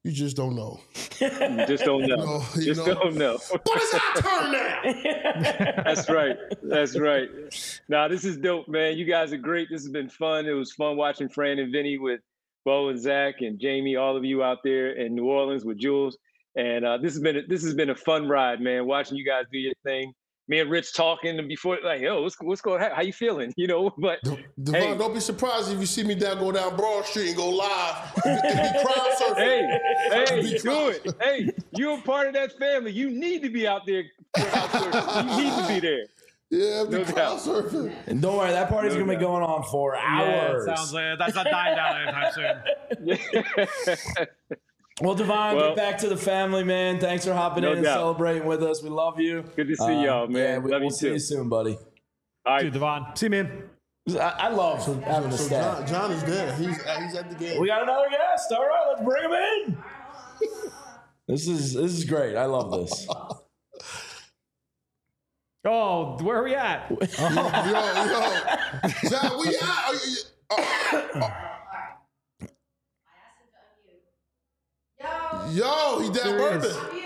You just don't know. You just don't know. Don't know. But it's our turn now. That's right. Nah, this is dope, man. You guys are great. This has been fun. It was fun watching Fran and Vinny with Bo and Zach and Jamie, all of you out there in New Orleans with Jules. And this has been a fun ride, man. Watching you guys do your thing. Me and Rich talking and before, like, yo, what's going on? How you feeling? You know, but Devon, don't be surprised if you see me go down Broad Street and go live and be crowd surfing. Hey, do it. Hey, you're a part of that family. You need to be out there. You need to be there. Yeah, be crowd surfing. And don't worry, that party's gonna be going on for hours. Yeah, it sounds like that's not dying down anytime soon. Well, Devon, get back to the family, man. Thanks for hopping in and celebrating with us. We love you. Good to see y'all, man. Yeah, we'll see you soon, buddy. All right, dude, Devon. See you, man. I love having a staff. John is there. He's at the game. We got another guest. All right, let's bring him in. This is great. I love this. Oh, where are we at? Yo. John, we out. Yo, he down bourbon.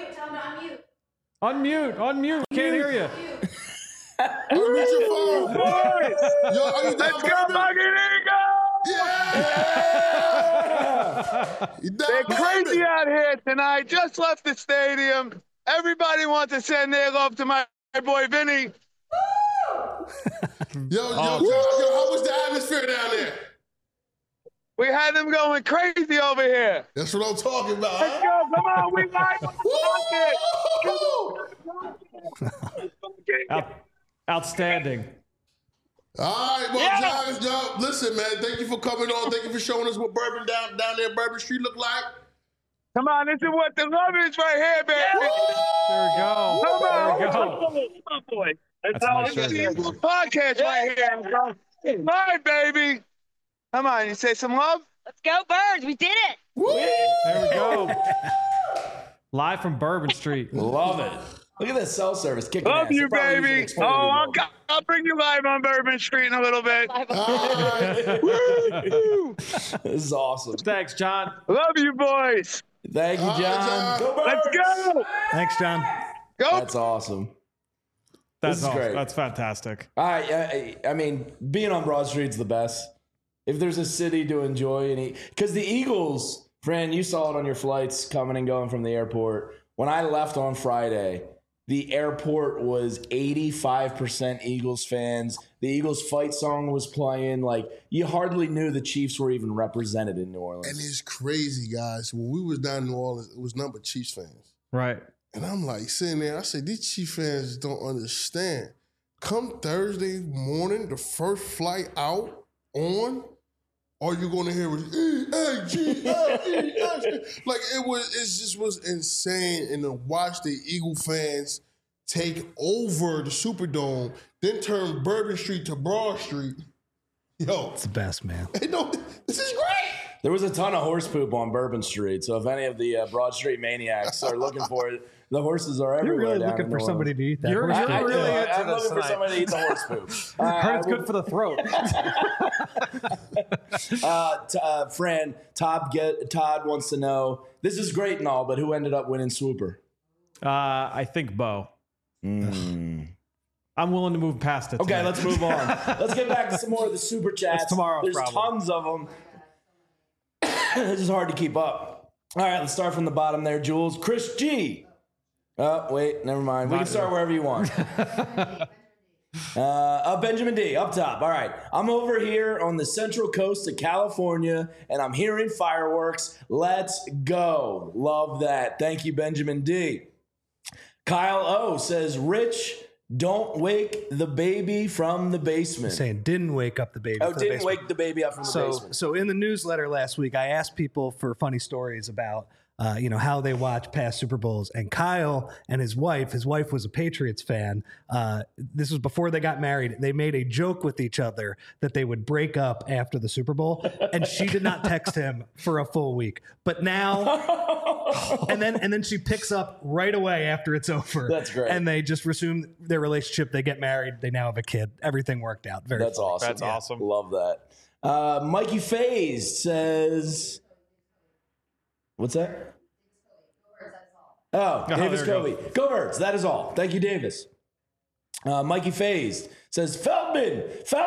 Unmute. Can't hear you. Unmute your phone. Yo, are you down Let's go, Buccaneers! Yeah! They're crazy out here tonight. Just left the stadium. Everybody wants to send their love to my boy Vinny. Yo, how was the atmosphere down there? We had them going crazy over here. That's what I'm talking about. Let's go. Come on. We live. Outstanding. All right, well, John, listen, man, thank you for coming on. Thank you for showing us what bourbon down there Bourbon Street look like. Come on, this is what the love is right here, baby. There we go. Come on. There we go. Come on, boy. That's my shirt. Podcast right here. All right, baby. Come on, you say some love? Let's go, Birds. We did it. There we go. Live from Bourbon Street. Love it. Look at this cell service kicking Love ass. you, baby. Oh, I'll bring you live on Bourbon Street in a little bit. This is awesome. Thanks, John. Love you, boys. Thank you, John. Go Let's go. Thanks, John. Go. That's awesome. That's This is great. That's fantastic. I mean, being on Broad Street's the best. If there's a city to enjoy and eat, because the Eagles, Fran, you saw it on your flights coming and going from the airport. When I left on Friday, the airport was 85% Eagles fans. The Eagles fight song was playing. Like, you hardly knew the Chiefs were even represented in New Orleans. And it's crazy, guys. When we was down in New Orleans, it was nothing but Chiefs fans. Right. And I'm like sitting there, I said, these Chiefs fans don't understand. Come Thursday morning, the first flight out on, all you're going to hear was E-A-G-L-E-S. Like, it just was insane. And to watch the Eagle fans take over the Superdome, then turn Bourbon Street to Broad Street. Yo. It's the best, man. Hey, no, this is great. There was a ton of horse poop on Bourbon Street. So if any of the Broad Street maniacs are looking for it, the horses are everywhere. You're really down looking in for New somebody Orleans. to eat that. You're horse really poop. into I'm this looking for tonight. somebody to eat the horse poop. Heard it's good for the throat. Fran, Todd wants to know, this is great and all, but who ended up winning Swooper? I think Bo. I'm willing to move past it. Okay, tonight. let's move on. Let's get back to some more of the super chats. It's tomorrow's There's problem. tons of them. This is hard to keep up. All right, let's start from the bottom there, Jules. Chris G. Oh, wait, never mind. We can start wherever you want. Benjamin D, up top. All right. I'm over here on the central coast of California, and I'm hearing fireworks. Let's go. Love that. Thank you, Benjamin D. Kyle O says, Rich, don't wake the baby from the basement. Saying didn't wake up the baby. Oh, from the didn't basement. wake the baby up from the basement. So in the newsletter last week, I asked people for funny stories about, how they watch past Super Bowls. And Kyle and his wife was a Patriots fan. This was before they got married. They made a joke with each other that they would break up after the Super Bowl. And she did not text him for a full week. But now, and then she picks up right away after it's over. That's great. And they just resume their relationship. They get married. They now have a kid. Everything worked out. That's funny. awesome. That's awesome. Love that. Mikey Faze says, what's that? Oh, Davis there we Covey. Go Birds. That is all. Thank you, Davis. Mikey Phased says, Feldman.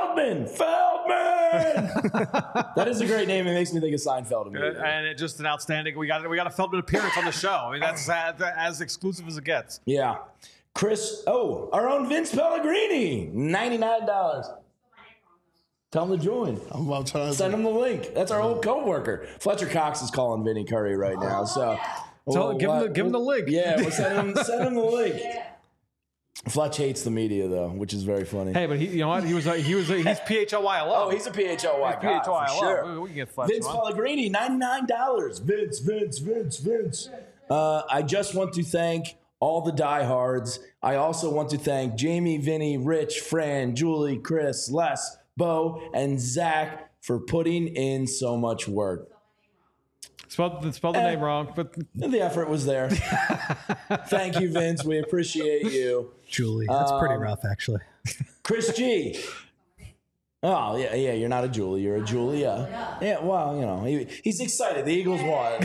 That is a great name. It makes me think of Seinfeld. And it just an outstanding. We got a Feldman appearance on the show. I mean, that's as exclusive as it gets. Yeah. Chris, our own Vince Pellegrini, $99. Tell him to join. I'm about to send him the link. That's our old coworker. Fletcher Cox is calling Vinny Curry right now. So give him the link. Yeah, we'll send him the link. Fletch hates the media though, which is very funny. Hey, but you know what? He's PHLY alum. Oh, he's a PHLY guy. PHLY sure. We can get Fletch. Vince Pellegrini, $99. Vince. I just want to thank all the diehards. I also want to thank Jamie, Vinny, Rich, Fran, Julie, Chris, Les, Bo, and Zach for putting in so much work. Spelled the name wrong, but the effort was there. Thank you, Vince. We appreciate you. Julie, that's pretty rough, actually. Chris G. Oh, yeah, you're not a Julie. You're a Julia. Yeah, well, you know, he's excited. The Eagles won.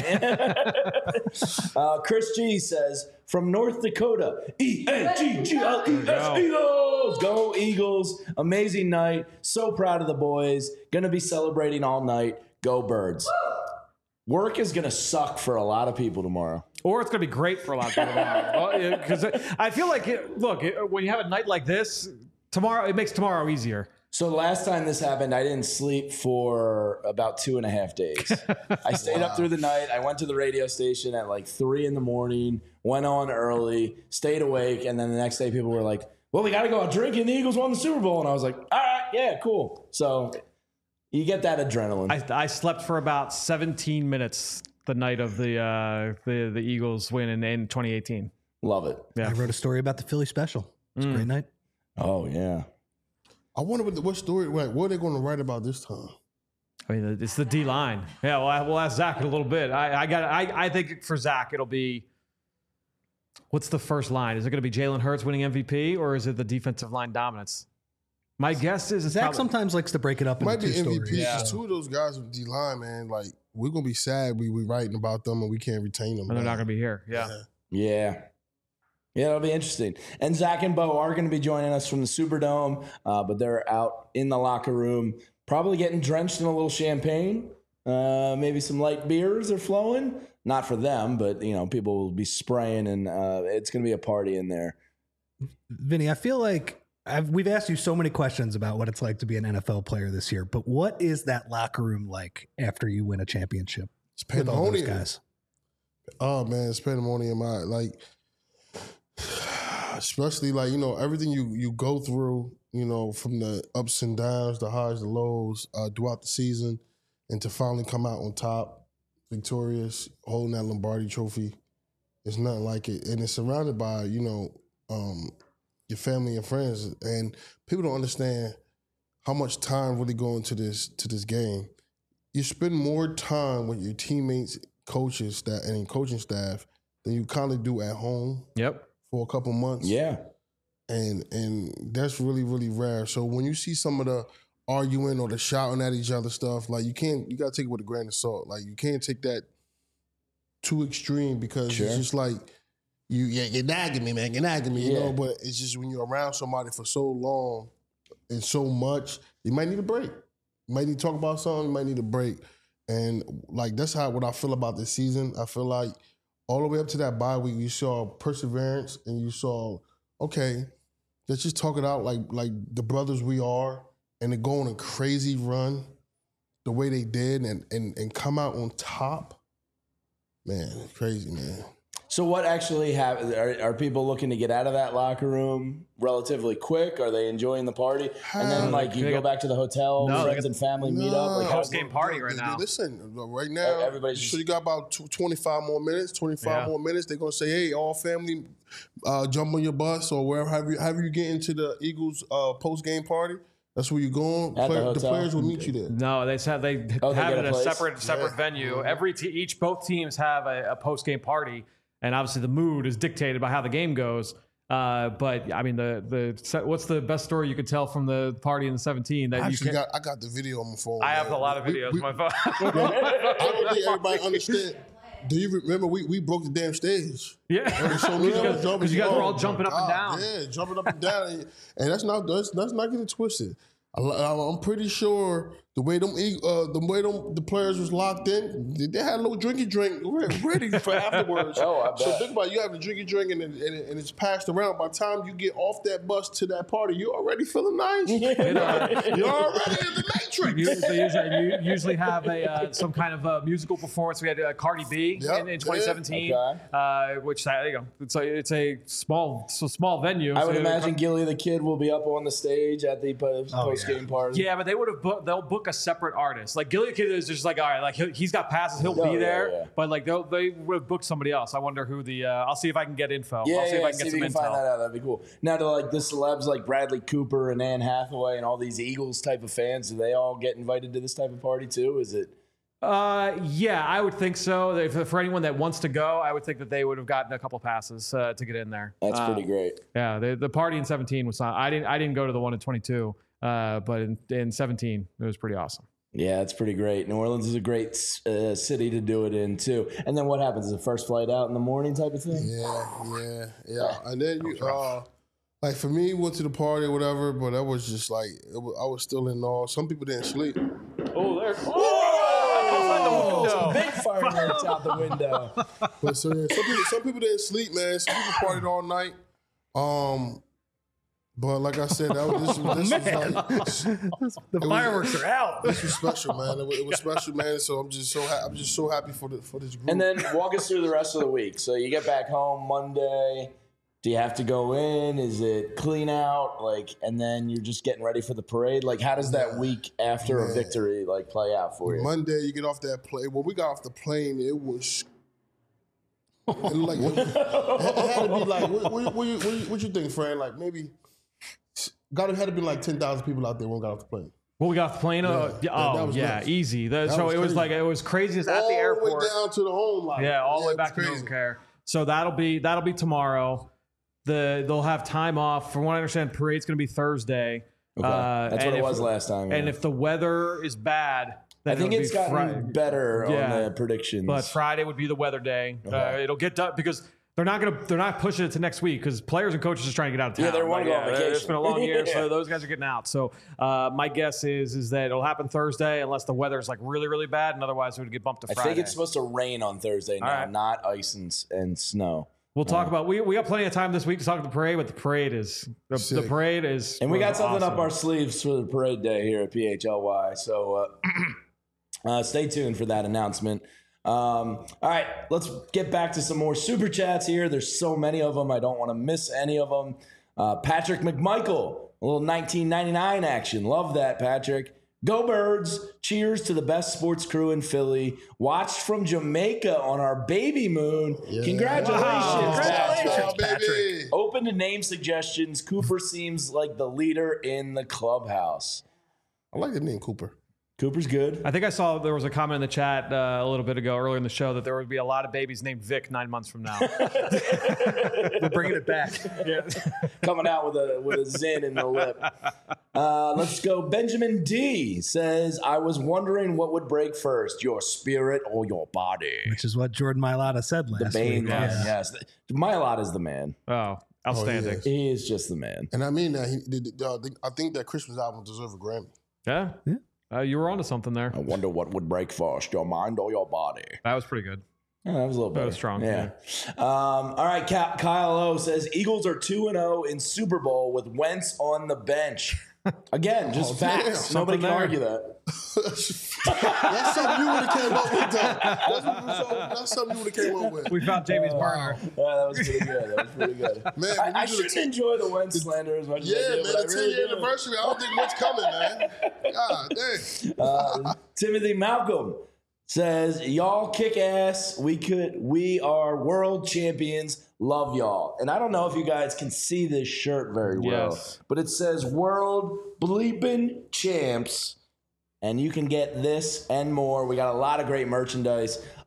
Chris G says, from North Dakota, E-N-G-G-L-E-S, Eagles! Go Eagles. Amazing night. So proud of the boys. Going to be celebrating all night. Go Birds. Work is going to suck for a lot of people tomorrow. Or it's going to be great for a lot of people tomorrow. Because I feel like, when you have a night like this, tomorrow, it makes tomorrow easier. So last time this happened, I didn't sleep for about 2.5 days. I stayed up through the night. I went to the radio station at like 3 a.m, went on early, stayed awake. And then the next day people were like, well, we got to go out drinking. The Eagles won the Super Bowl. And I was like, all right, yeah, cool. So you get that adrenaline. I slept for about 17 minutes the night of the Eagles win in 2018. Love it. Yeah. I wrote a story about the Philly special. It was a great night. Oh, yeah. I wonder what story, what are they going to write about this time? I mean, it's the D line. Yeah, well, we'll ask Zach in a little bit. I think for Zach, it'll be, what's the first line? Is it going to be Jalen Hurts winning MVP, or is it the defensive line dominance? My guess is Zach sometimes likes to break it up into two stories. MVP. Yeah. Two of those guys with D line, man, like we're gonna be sad we writing about them and we can't retain them. And they're not gonna be here. Yeah, it'll be interesting. And Zach and Bo are going to be joining us from the Superdome, but they're out in the locker room, probably getting drenched in a little champagne. Maybe some light beers are flowing. Not for them, but people will be spraying, and it's going to be a party in there. Vinny, I feel like we've asked you so many questions about what it's like to be an NFL player this year, but what is that locker room like after you win a championship? It's pandemonium, guys. Oh man, it's pandemonium. Especially everything you go through, from the ups and downs, the highs, the lows throughout the season, and to finally come out on top, victorious, holding that Lombardi trophy, it's nothing like it. And it's surrounded by, your family and friends, and people don't understand how much time really go into this game. You spend more time with your teammates, coaches, and coaching staff than you kind of do at home. Yep. For a couple months. Yeah. And that's really, really rare. So when you see some of the arguing or the shouting at each other stuff, like you gotta take it with a grain of salt. Like you can't take that too extreme because it's just like you're nagging me, man. You're nagging me, you know, but it's just when you're around somebody for so long and so much, you might need a break. You might need to talk about something, you might need a break. And like that's what I feel about this season. I feel like all the way up to that bye week, you saw perseverance and you saw, okay, let's just talk it out like the brothers we are, and to go on a crazy run the way they did and come out on top. Man, it's crazy, man. So what actually happened? Are people looking to get out of that locker room relatively quick? Are they enjoying the party? And then you go back to the hotel, friends and family meet up? Like post-game party right now. Listen, right now, everybody's you got about 25 more minutes, more minutes. They're going to say, hey, all family, jump on your bus or wherever, however you get into the Eagles post-game party. That's where you're going. The players will meet you there. No, they have it in a separate venue. Both teams have a post-game party. And obviously the mood is dictated by how the game goes. But I mean, what's the best story you could tell from the party in the 17? I got the video on my phone. I have a lot of videos on my phone. I don't think everybody understands. Do you remember we broke the damn stage? Yeah, because you guys were all jumping up and down. Yeah, jumping up and down, and that's not get it twisted. I'm pretty sure the way the players was locked in, they had a little drinky drink ready for afterwards. So think about it, you have a drinky drink and it's passed around. By the time you get off that bus to that party, you're already feeling nice. You're already in the matrix. They usually have some kind of a musical performance. We had Cardi B in 2017, which there you go. It's a small venue. I would imagine Gilly the Kid will be up on the stage at the post-game party. Yeah, but they'll book a separate artist. Like Gilly the Kid is just like, all right, like he's got passes, he'll be there. Yeah. But like they would have booked somebody else. I wonder who the. I'll see if I can get info. I'll see if I can get some info. Find that out. That'd be cool. Now, do like the celebs like Bradley Cooper and Anne Hathaway and all these Eagles type of fans, do they all get invited to this type of party too? Is it? Yeah, I would think so. For anyone that wants to go, I would think that they would have gotten a couple passes to get in there. That's pretty great. Yeah, the party in 17 was not. I didn't go to the one in 22, but in 17 it was pretty awesome. Yeah, it's pretty great. New Orleans is a great city to do it in too. And then what happens? Is the first flight out in the morning type of thing? Yeah. And then like for me, went to the party or whatever, but that was just like I was still in awe. Some people didn't sleep. Oh, there. Some big fireworks out the window. But some people didn't sleep, man. Some people partied all night. But like I said, this was like the fireworks are out. This was special, man. It was special, man. So I'm just so happy for this group. And then walk us through the rest of the week. So you get back home Monday. Do you have to go in? Is it clean out? And then you're just getting ready for the parade? Like, how does that week after a victory play out for you? Monday, you get off that plane. When we got off the plane, it was it had to be like, what you think, Fran? Like maybe had to be like 10,000 people out there when we got off the plane. When we got off the plane, easy. So it was it was craziest at the airport. All the way down to the home line. Yeah, all the way back to Northern Care. So that'll be tomorrow. They'll have time off. From what I understand, parade's going to be Thursday. Okay. That's what it was last time. Yeah. And if the weather is bad, then I think it's gotten better on the predictions. But Friday would be the weather day. Okay. It'll get done because they're not pushing it to next week because players and coaches are just trying to get out of town. Yeah, they're wanting to go on vacation. It's been a long year, so those guys are getting out. So my guess is that it'll happen Thursday unless the weather is really, really bad, and otherwise it would get bumped to Friday. I think it's supposed to rain on Thursday now, not ice and snow. We'll talk about we got plenty of time this week to talk about the parade, but the parade is and we got something up our sleeves for the parade day here at PHLY. So stay tuned for that announcement. All right, let's get back to some more super chats here. There's so many of them. I don't want to miss any of them. Patrick McMichael, a little 1999 action. Love that, Patrick. Go Birds. Cheers to the best sports crew in Philly. Watched from Jamaica on our baby moon. Yeah. Congratulations. Wow. Congratulations, Patrick. Open to name suggestions. Cooper seems like the leader in the clubhouse. I like the name Cooper. Cooper's good. I think I saw there was a comment in the chat a little bit ago, earlier in the show, that there would be a lot of babies named Vic 9 months from now. We're bringing it back. Yeah. Coming out with a zin in the lip. Let's go. Benjamin D says, I was wondering what would break first, your spirit or your body. Which is what Jordan Mailata said last week. Yes. Mailata is the man. Oh, outstanding. He is just the man. And I mean that I think that Christmas album deserves a Grammy. Yeah. You were onto something there. I wonder what would break first, your mind or your body. That was pretty good. Yeah, that was a little better. That was strong. Yeah. All right, Kyle O says Eagles are 2-0 in Super Bowl with Wentz on the bench. Again, just facts. Damn. Nobody can argue that. That's something you would have came up with, though. That's something you would have came up with. We found Jamie's burner. Yeah, that was pretty good. Man, I shouldn't enjoy the Wentz slander as much as I did. Man, the 10-year anniversary, I don't think much coming, man. God dang. Timothy Malcolm says, y'all kick ass. We are world champions. Love y'all. And I don't know if you guys can see this shirt very well, but it says world bleeping champs. And you can get this and more. We got a lot of great merchandise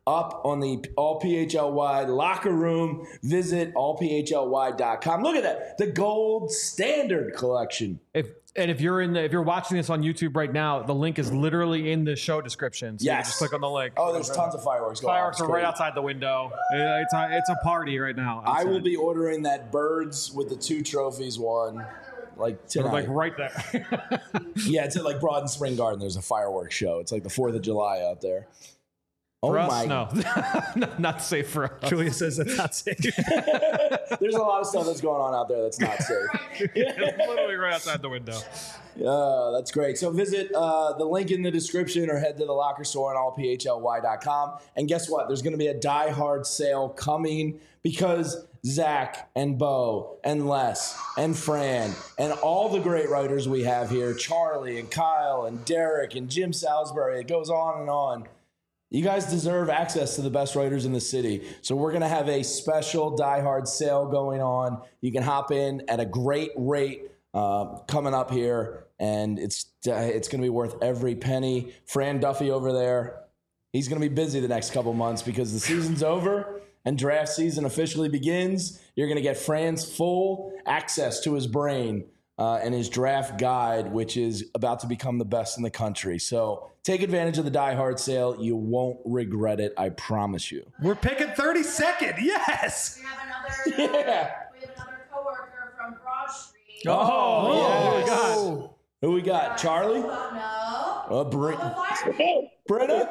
up on the All PHLY locker room. Visit allphly.com. Look at that, the gold standard collection. If you're watching this on YouTube right now, the link is literally in the show description. So you just click on the link. Oh, there's tons of fireworks going on. Fireworks are right outside the window. It's a party right now. Outside. I will be ordering that birds with the 2 trophies one. Like tonight. Like right there. Yeah, it's at like Broad and Spring Garden. There's a fireworks show. It's like the 4th of July out there. Oh for us, my! No, not safe for us. Julia says it's not safe. There's a lot of stuff that's going on out there that's not safe. It's literally right outside the window. That's great. So visit the link in the description or head to the locker store on allphly.com. And guess what? There's going to be a Die Hard sale coming because Zach and Bo and Les and Fran and all the great writers we have here, Charlie and Kyle and Derek and Jim Salisbury, it goes on and on. You guys deserve access to the best writers in the city. So we're going to have a special Die Hard sale going on. You can hop in at a great rate coming up here, and it's going to be worth every penny. Fran Duffy over there, he's going to be busy the next couple months because the season's over and draft season officially begins. You're going to get Fran's full access to his brain and his draft guide, which is about to become the best in the country. So take advantage of the Die Hard sale. You won't regret it. I promise you. We're picking 32nd. Yes. We have another coworker from Broad Street. Oh, yes. God. Who we got? Charlie? No. Brenna?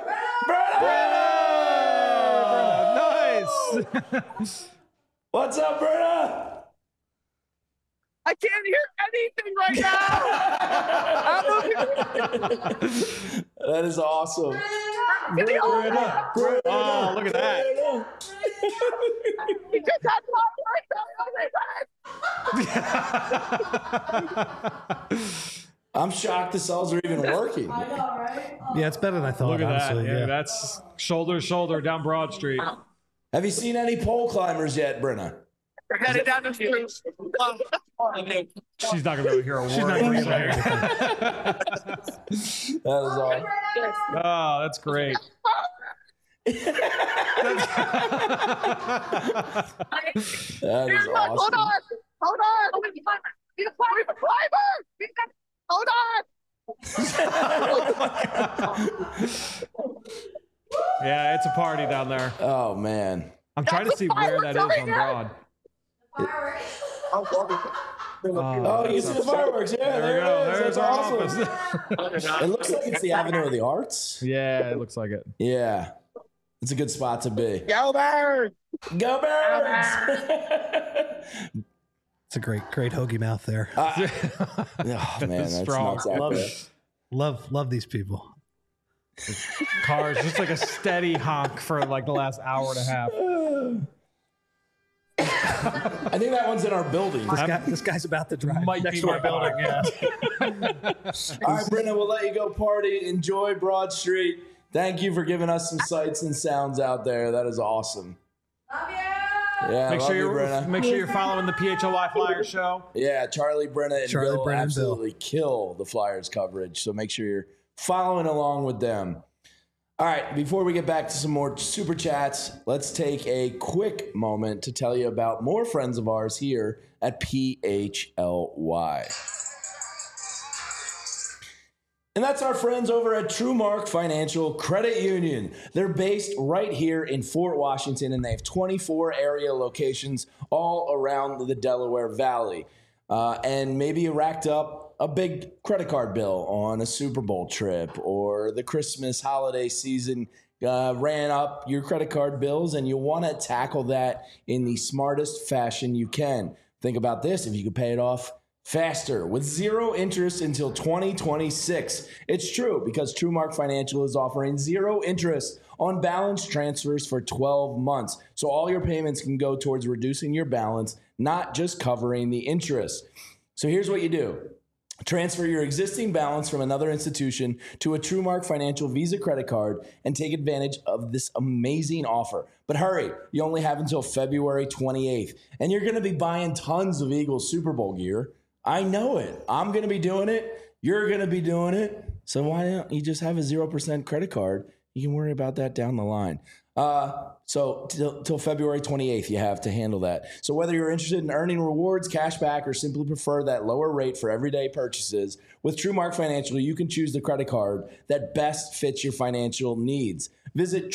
Nice. What's up, Brenna? I can't hear anything right now. That is awesome. Brenna. Oh, look at that. He just had I'm shocked the cells are even working. I know, right? Oh. Yeah, it's better than I thought. Look at honestly. that. Yeah, that's shoulder to shoulder down Broad Street. Have you seen any pole climbers yet, Brenna? We're headed down the street. She's not going to be able to hear a word. She's not going to hear That is awesome. Oh, that's great. That is awesome. Hold on. He's a climber. Hold on. Yeah, it's a party down there. Oh, man. I'm trying to see where that is on Broad. Oh, you see the fireworks. Yeah, there it is. There's That's our awesome. office. It looks like it's the Avenue of the Arts. Yeah, it looks like it. Yeah. It's a good spot to be. Go Birds! Go Birds! It's a great hoagie mouth there. Oh, man, that's strong. nuts out there. Love these people. Cars, just like a steady honk for like the last hour and a half. I think that one's in our building. This guy's about to drive Might next be to our my building. car. Yeah. All right, Brenna, we'll let you go party. Enjoy Broad Street. Thank you for giving us some sights and sounds out there. That is awesome. Love you. Yeah, Make love sure you, Brenna. make sure you're following the PHLY Flyers show. Yeah, Charlie, Brenna, and Charlie, Bill Brenna, and absolutely kill the Flyers coverage. So make sure you're following along with them. All right, before we get back to some more super chats, let's take a quick moment to tell you about more friends of ours here at PHLY. And that's our friends over at TrueMark Financial Credit Union. They're based right here in Fort Washington, and they have 24 area locations all around the Delaware Valley. And maybe you racked up a big credit card bill on a Super Bowl trip, or the Christmas holiday season ran up your credit card bills, and you want to tackle that in the smartest fashion you can. Think about this: if you could pay it off faster with zero interest until 2026. It's true, because TrueMark Financial is offering zero interest on balance transfers for 12 months. So all your payments can go towards reducing your balance, not just covering the interest. So here's what you do. Transfer your existing balance from another institution to a TrueMark Financial Visa credit card and take advantage of this amazing offer. But hurry, you only have until February 28th, and you're going to be buying tons of Eagles Super Bowl gear. I know it. I'm going to be doing it. You're going to be doing it. So why don't you just have a 0% credit card? You can worry about that down the line. So till February 28th, you have to handle that. So whether you're interested in earning rewards, cash back, or simply prefer that lower rate for everyday purchases, with TrueMark Financial, you can choose the credit card that best fits your financial needs. Visit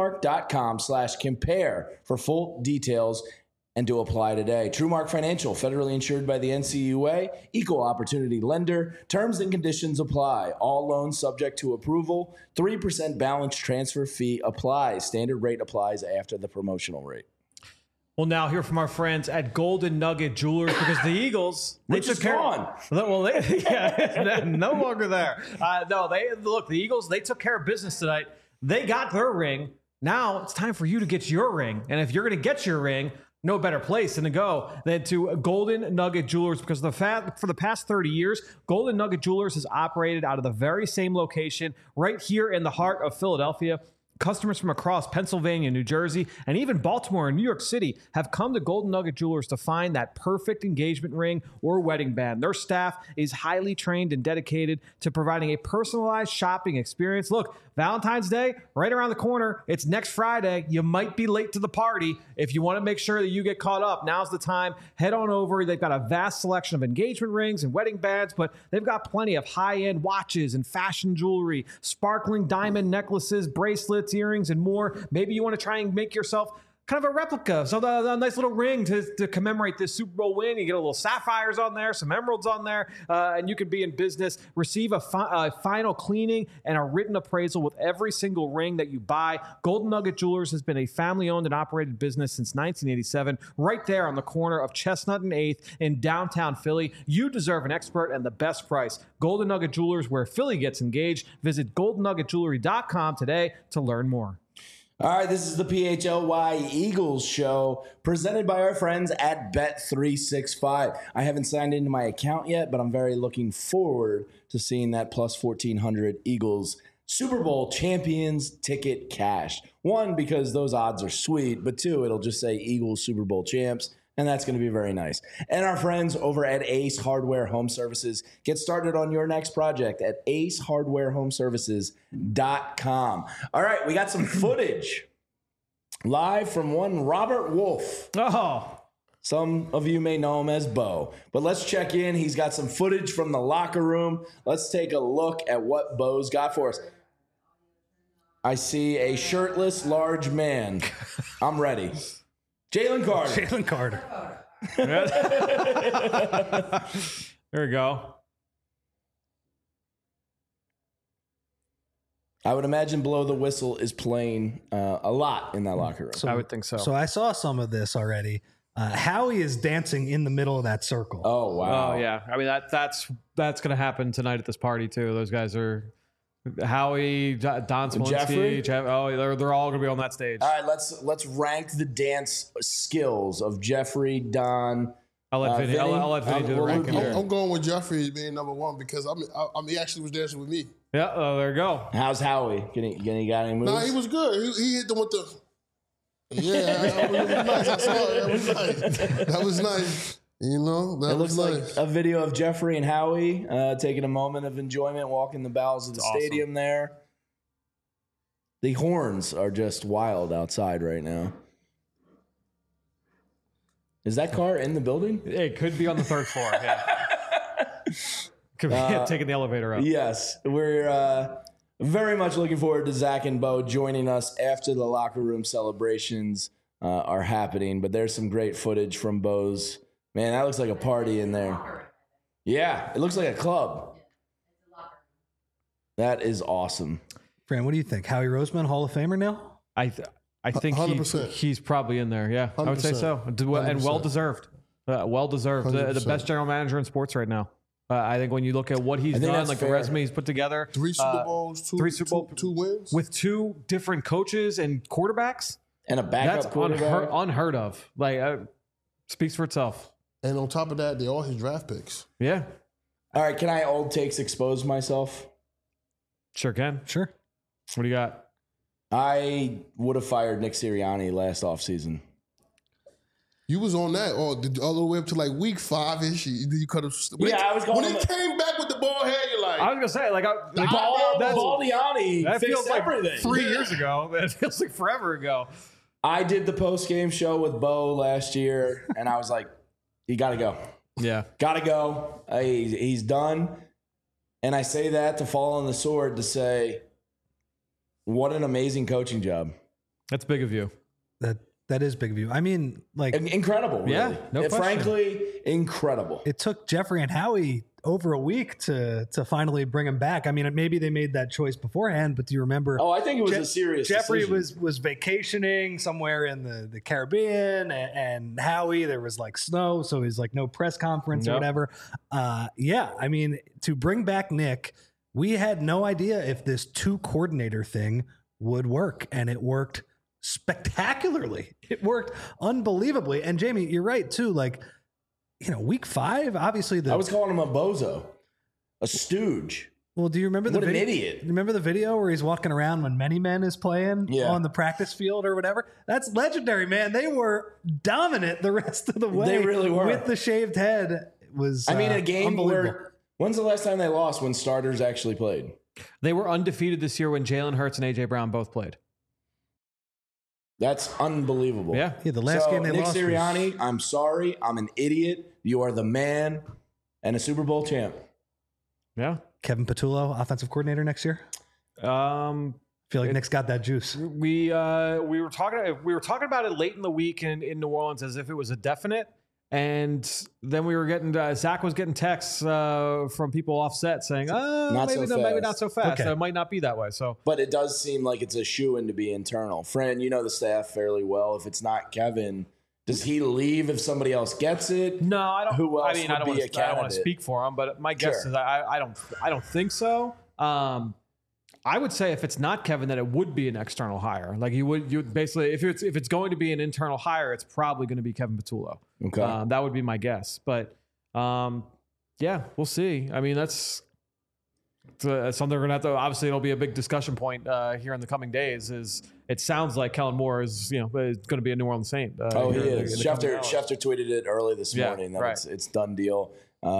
TrueMark.com/compare for full details and to apply today. TrueMark Financial, federally insured by the NCUA, equal opportunity lender. Terms and conditions apply. All loans subject to approval. 3% balance transfer fee applies. Standard rate applies after the promotional rate. We'll now hear from our friends at Golden Nugget Jewelers because the Eagles, they Which took is care. gone. Well, they're no longer there. The Eagles, they took care of business tonight. They got their ring. Now it's time for you to get your ring. And if you're going to get your ring, no better place than to go than to Golden Nugget Jewelers, because for the past 30 years, Golden Nugget Jewelers has operated out of the very same location right here in the heart of Philadelphia. Customers from across Pennsylvania, New Jersey, and even Baltimore and New York City have come to Golden Nugget Jewelers to find that perfect engagement ring or wedding band. Their staff is highly trained and dedicated to providing a personalized shopping experience. Look, Valentine's Day, right around the corner. It's next Friday. You might be late to the party. If you want to make sure that you get caught up, now's the time. Head on over. They've got a vast selection of engagement rings and wedding bands, but they've got plenty of high-end watches and fashion jewelry, sparkling diamond necklaces, bracelets, earrings, and more. Maybe you want to try and make yourself kind of a replica, so a nice little ring to commemorate this Super Bowl win. You get a little sapphires on there, some emeralds on there, and you can be in business. Receive a final cleaning and a written appraisal with every single ring that you buy. Golden Nugget Jewelers has been a family-owned and operated business since 1987, right there on the corner of Chestnut and 8th in downtown Philly. You deserve an expert and the best price. Golden Nugget Jewelers, where Philly gets engaged. Visit goldennuggetjewelry.com today to learn more. All right, this is the PHLY Eagles show presented by our friends at Bet365. I haven't signed into my account yet, but I'm very looking forward to seeing that plus 1,400 Eagles Super Bowl champions ticket cash. One, because those odds are sweet, but two, it'll just say Eagles Super Bowl champs, and that's going to be very nice. And our friends over at Ace Hardware Home Services. Get started on your next project at acehardwarehomeservices.com. All right, we got some footage live from one Robert Wolf. Oh, some of you may know him as Bo, but let's check in. He's got some footage from the locker room. Let's take a look at what Bo's got for us. I see a shirtless, large man. I'm ready. Jalen Carter. There we go. I would imagine Blow the Whistle is playing a lot in that locker room. I would think so. So I saw some of this already. Howie is dancing in the middle of that circle. Oh, wow. Oh, yeah. I mean, that's going to happen tonight at this party, too. Those guys are... Howie, Don Smolinski, they're all going to be on that stage. All right, let's rank the dance skills of Jeffrey, Don. I'll let Vinny do the ranking. I'm going with Jeffrey being number one because he actually was dancing with me. Yeah, there you go. How's Howie? He got any moves? Nah, he was good. He hit them with the. Yeah, it was nice. I saw it. That was nice. You know, that looks nice. Like a video of Jeffrey and Howie taking a moment of enjoyment, walking the bowels of the stadium there. The horns are just wild outside right now. Is that car in the building? It could be on the third floor, yeah. Could be taking the elevator up. Yes, we're very much looking forward to Zach and Bo joining us after the locker room celebrations are happening. But there's some great footage from Bo's. Man, that looks like a party in there. Yeah, it looks like a club. That is awesome. Fran, what do you think? Howie Roseman, Hall of Famer now? I think he's probably in there. Yeah, 100%. I would say so. 100%. And well deserved. Well deserved. The best general manager in sports right now. I think when you look at what he's done, like fair. The resume he's put together. 3 Super Bowls, two wins. With 2 different coaches and quarterbacks. And a backup that's quarterback. Unheard of. Like, speaks for itself. And on top of that, they're all his draft picks. Yeah. All right, can I old takes expose myself? Sure can. Sure. What do you got? I would have fired Nick Sirianni last offseason. You was on that all the way up to like week 5-ish. You could have. I was going. When he came back with the ball head, you're like, I was gonna say, like Baldiani that fixed feels like everything. 3 years ago. That feels like forever ago. I did the post game show with Bo last year, and I was like, "You got to go. Yeah, got to go. He's done." And I say that to fall on the sword to say, what an amazing coaching job. That's big of you. That is big of you. I mean, like incredible. Really. Yeah, no question. Frankly, incredible. It took Jeffrey and Howie over a week to finally bring him back. I mean, maybe they made that choice beforehand, but do you remember? Oh, I think it was a serious Jeffrey decision. was vacationing somewhere in the Caribbean, and Howie, there was like snow, so he's like no press conference or whatever. Yeah, I mean, to bring back Nick, we had no idea if this 2 coordinator thing would work, and it worked spectacularly. It worked unbelievably. And Jamie, you're right too. Like, week 5, obviously I was calling him a bozo, a stooge. Well, do you remember an idiot? Remember the video where he's walking around when Many Men is playing on the practice field or whatever? That's legendary, man. They were dominant the rest of the way. They really were. With the shaved head. It was a game where, when's the last time they lost when starters actually played? They were undefeated this year when Jalen Hurts and A.J. Brown both played. That's unbelievable. Yeah. The last game they Nick lost. Sirianni, I'm sorry. I'm an idiot. You are the man and a Super Bowl champ. Yeah. Kevin Patullo, offensive coordinator next year. I feel like Nick's got that juice. We were talking about it late in the week in New Orleans as if it was a definite. And then we were getting Zach was getting texts from people offset saying, maybe not so fast. Okay. So it might not be that way. So, but it does seem like it's a shoo-in to be internal. Fran, you know the staff fairly well. If it's not Kevin, does he leave if somebody else gets it? No, I don't. Who else I don't want to speak for him, but my guess is I don't think so. I would say if it's not Kevin, that it would be an external hire. Like you would basically, if it's going to be an internal hire, it's probably going to be Kevin Patullo. Okay, that would be my guess. But yeah, we'll see. I mean, that's something we're gonna have to. Obviously, it'll be a big discussion point here in the coming days. Is it sounds like Kellen Moore is going to be a New Orleans Saint. He is. Schefter tweeted it early this morning that it's done deal.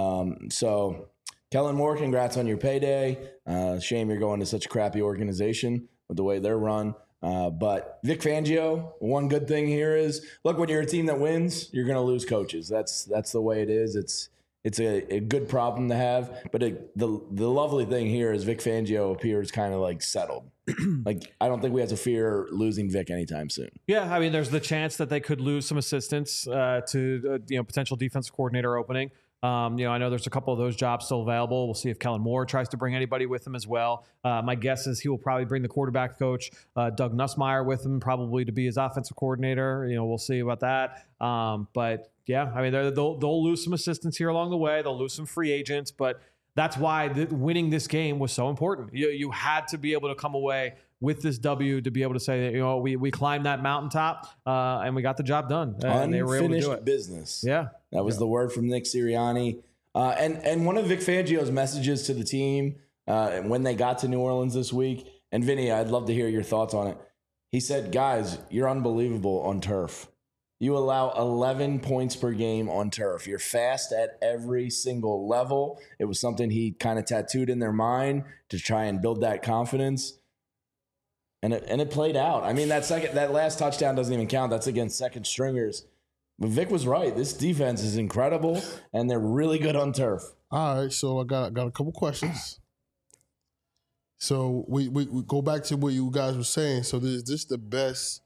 So. Kellen Moore, congrats on your payday. Shame you're going to such a crappy organization with the way they're run. But Vic Fangio, one good thing here is, look, when you're a team that wins, you're going to lose coaches. That's the way it is. It's a good problem to have. But the lovely thing here is Vic Fangio appears kind of like settled. Like, I don't think we have to fear losing Vic anytime soon. Yeah, I mean, there's the chance that they could lose some assistants to potential defensive coordinator opening. I know there's a couple of those jobs still available. We'll see if Kellen Moore tries to bring anybody with him as well. My guess is he will probably bring the quarterback coach, Doug Nussmeier, with him, probably to be his offensive coordinator. We'll see about that. But yeah, I mean, they'll lose some assistants here along the way. They'll lose some free agents, but that's why winning this game was so important. You had to be able to come away with this W to be able to say that, we climbed that mountaintop and we got the job done. And they were able to do it. Business. Yeah. That was the word from Nick Sirianni. And one of Vic Fangio's messages to the team when they got to New Orleans this week, and Vinny, I'd love to hear your thoughts on it. He said, guys, you're unbelievable on turf. You allow 11 points per game on turf. You're fast at every single level. It was something he kind of tattooed in their mind to try and build that confidence. And it played out. I mean, that last touchdown doesn't even count. That's against second stringers. But Vic was right. This defense is incredible, and they're really good on turf. All right, so I got a couple questions. So we go back to what you guys were saying. So is this the best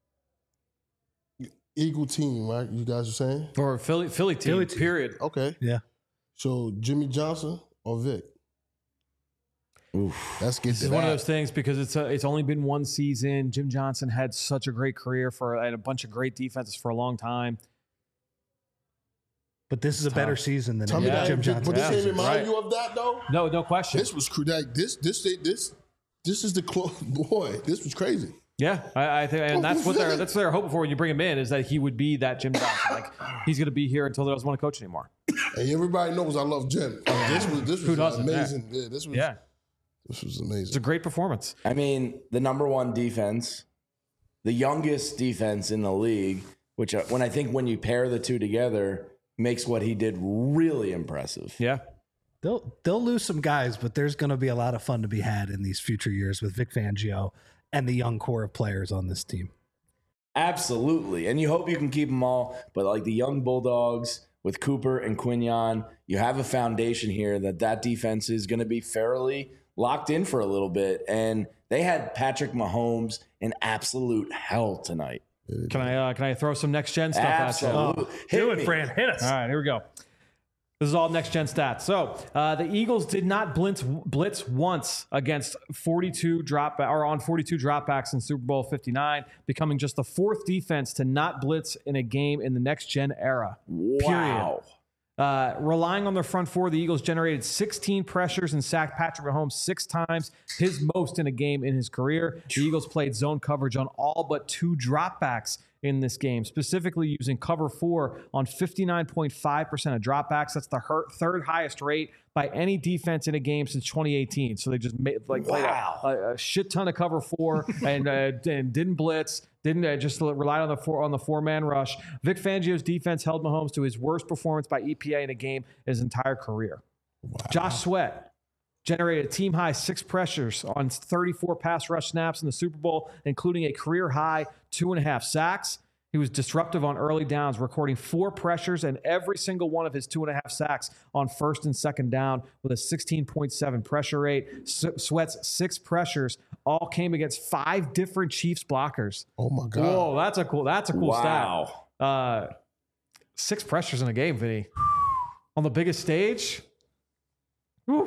Eagle team, right? You guys are saying? Or Philly team, period. Okay. Yeah. So Jimmy Johnson or Vic? Oof. Let's get to It's one of those things because it's only been one season. Jim Johnson had such a great career and a bunch of great defenses for a long time. But this is a better season than Jim Johnson. But this ain't remind you of that though? No question. This was like this is the boy. This was crazy. Yeah, I think, and that's what they're hoping for when you bring him in, is that he would be that Jim Johnson. Like, he's going to be here until he doesn't want to coach anymore. And everybody knows I love Jim. This was amazing. Yeah, this was amazing. It's a great performance. I mean, the number one defense, the youngest defense in the league, which when you pair the two together, makes what he did really impressive. Yeah. They'll lose some guys, but there's going to be a lot of fun to be had in these future years with Vic Fangio and the young core of players on this team. Absolutely. And you hope you can keep them all. But like the young Bulldogs with Cooper and Quinyon, you have a foundation here that defense is going to be fairly locked in for a little bit. And they had Patrick Mahomes in absolute hell tonight. Can I throw some next gen stuff Absolutely. at you? Do it, Fran. Hit us. All right, here we go. This is all next gen stats. So the Eagles did not blitz once against 42 dropbacks in Super Bowl 59, becoming just the fourth defense to not blitz in a game in the next gen era. Wow. Relying on their front four, the Eagles generated 16 pressures and sacked Patrick Mahomes 6 times, his most in a game in his career. The Eagles played zone coverage on all but 2 dropbacks in this game, specifically using cover 4 on 59.5% of dropbacks. That's the third highest rate by any defense in a game since 2018. So they just played a shit ton of cover 4 and didn't blitz, just relied on the 4-man rush. Vic Fangio's defense held Mahomes to his worst performance by EPA in a game his entire career. Wow. Josh Sweat generated a team-high 6 pressures on 34 pass rush snaps in the Super Bowl, including a career-high 2.5 sacks. He was disruptive on early downs, recording 4 pressures and every single one of his 2.5 sacks on first and second down with a 16.7 pressure rate. Sweat's 6 pressures all came against 5 different Chiefs blockers. Oh, my God. Whoa, that's a cool stat. 6 pressures in a game, Vinny. On the biggest stage. Whew.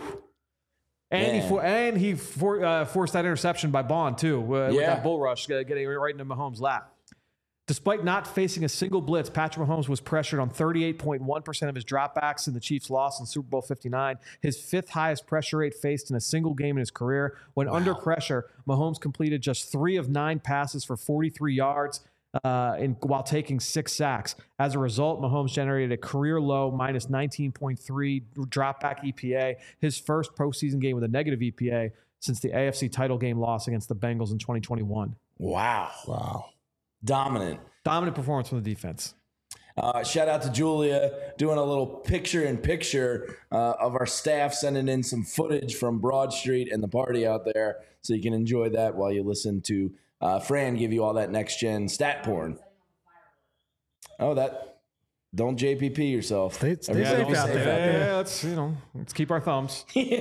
And he forced that interception by Bond, too, with that bull rush, getting right into Mahomes' lap. Despite not facing a single blitz, Patrick Mahomes was pressured on 38.1% of his dropbacks in the Chiefs' loss in Super Bowl 59, his 5th highest pressure rate faced in a single game in his career. When under pressure, Mahomes completed just 3 of 9 passes for 43 yards while taking 6 sacks. As a result, Mahomes generated a career-low minus 19.3 dropback EPA, his first postseason game with a negative EPA since the AFC title game loss against the Bengals in 2021. Wow. Dominant performance from the defense. Shout out to Julia doing a little picture-in-picture of our staff sending in some footage from Broad Street and the party out there, so you can enjoy that while you listen to Fran give you all that next-gen stat porn. Don't JPP yourself. Stay safe out there. Yeah, let's keep our thumbs.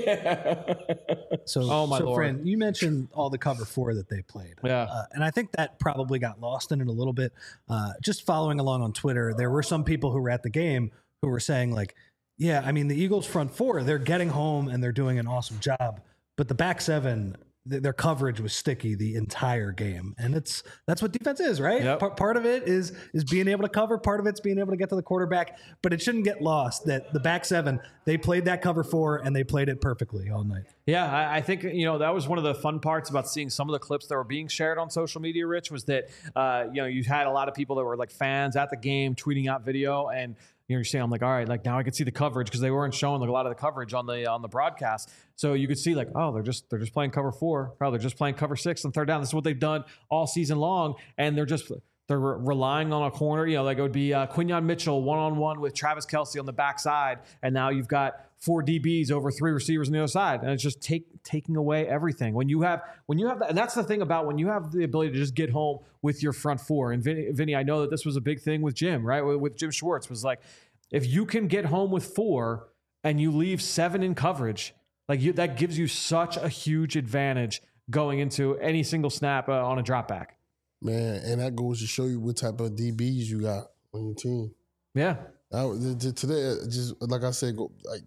So Lord. Fran, you mentioned all the cover 4 that they played. Yeah. And I think that probably got lost in it a little bit. Just following along on Twitter, there were some people who were at the game who were saying like, yeah, I mean, the Eagles front 4, they're getting home and they're doing an awesome job. But the back 7, their coverage was sticky the entire game. And that's what defense is, right? Yep. Part of it is being able to cover. Part of it's being able to get to the quarterback. But it shouldn't get lost that the back 7, they played that cover 4 and they played it perfectly all night. Yeah, I think, that was one of the fun parts about seeing some of the clips that were being shared on social media, Rich, was that, you had a lot of people that were like fans at the game tweeting out video, and you're saying, I'm like, all right, like now I can see the coverage because they weren't showing like a lot of the coverage on the broadcast. So you could see like, oh, they're just playing cover 4. Oh, they're just playing cover 6 on third down. This is what they've done all season long, and they're relying on a corner. Like it would be Quinyon Mitchell one-on-one with Travis Kelce on the backside, and now you've got 4 DBs over 3 receivers on the other side, and it's just taking away everything. When you have that, and that's the thing about when you have the ability to just get home with your front 4. And Vinny, I know that this was a big thing with Jim, right? With Jim Schwartz, was like, if you can get home with 4 and you leave 7 in coverage, that gives you such a huge advantage going into any single snap on a drop back. Man, and that goes to show you what type of DBs you got on your team. Yeah. Today, just like I said,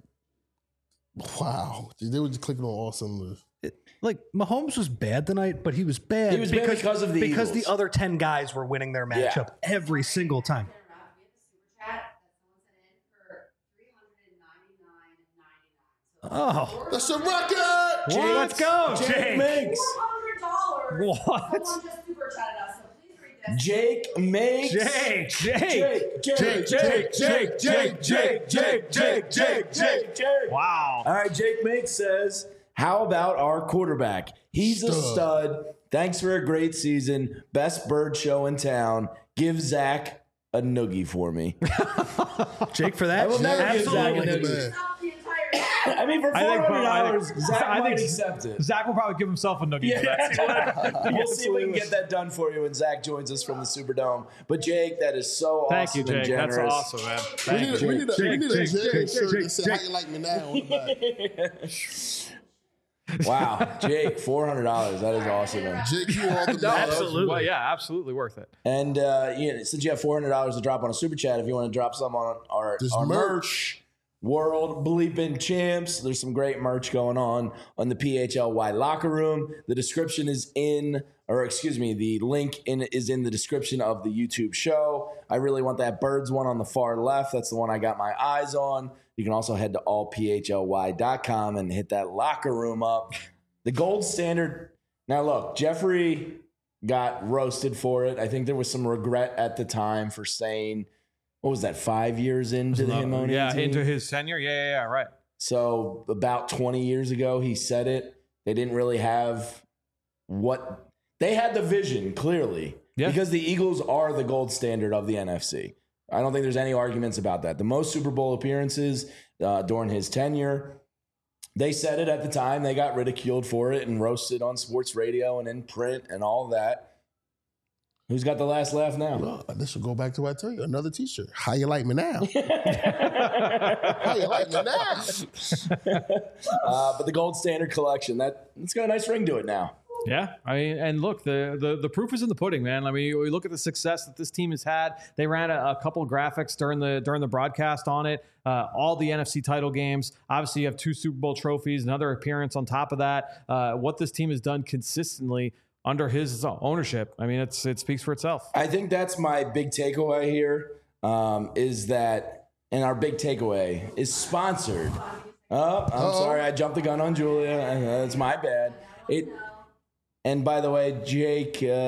wow. They were just clicking on all cylinders. Mahomes was bad tonight, but he was bad. He was bad because of the Eagles. The other 10 guys were winning their matchup every single time. Oh, that's a record! Jake, let's go, Jake. Makes $400. What? Someone just super chatted us, so please read this. Jake makes Jake. Wow. All right, Jake Makes says, how about our quarterback? He's a stud. Thanks for a great season. Best bird show in town. Give Zach a noogie for me. Jake, for that, I will never give Zach a absolutely. noogie. Stop the entire I mean, for $400, Zach might accept it. Zach will probably give himself a noogie for that. We'll see if we can get that done for you when Zach joins us from the Superdome. But Jake, that is so awesome. Thank you, Jake. And generous. That's awesome, man. We need a Jake shirt that says, how you like me now on the back. Wow, Jake, $400. That is awesome, man. Jake, you all the Absolutely. Well, yeah, absolutely worth it. And since you have $400 to drop on a super chat, if you want to drop some on our merch, World Bleeping Champs, there's some great merch going on the PHLY locker room. The description is the link is in the description of the YouTube show. I really want that Birds one on the far left. That's the one I got my eyes on. You can also head to allphly.com and hit that locker room up. The gold standard. Now, look, Jeffrey got roasted for it. I think there was some regret at the time for saying, what was that, 5 years into the Himonian team? Yeah, into his tenure. Yeah, right. So about 20 years ago, he said it. They didn't really have they had the vision, clearly, because the Eagles are the gold standard of the NFC. I don't think there's any arguments about that. The most Super Bowl appearances during his tenure, they said it at the time. They got ridiculed for it and roasted on sports radio and in print and all that. Who's got the last laugh now? Well, this will go back to what I tell you. Another T-shirt. How you like me now? How you like me now? But the Gold Standard collection, it's got a nice ring to it now. Yeah, I mean, and look, the proof is in the pudding, man. I mean, we look at the success that this team has had. They ran a couple of graphics during the broadcast on it. All the NFC title games. Obviously, you have 2 Super Bowl trophies, another appearance on top of that. What this team has done consistently under his ownership, I mean, it speaks for itself. I think that's my big takeaway here. Is that, and our big takeaway is sponsored. Oh, I'm sorry, I jumped the gun on Julia. That's my bad. And by the way, Jake, big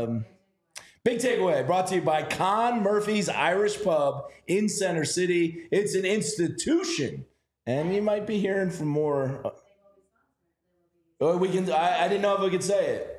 takeaway brought to you by Con Murphy's Irish Pub in Center City. It's an institution, and you might be hearing from more. I didn't know if we could say it.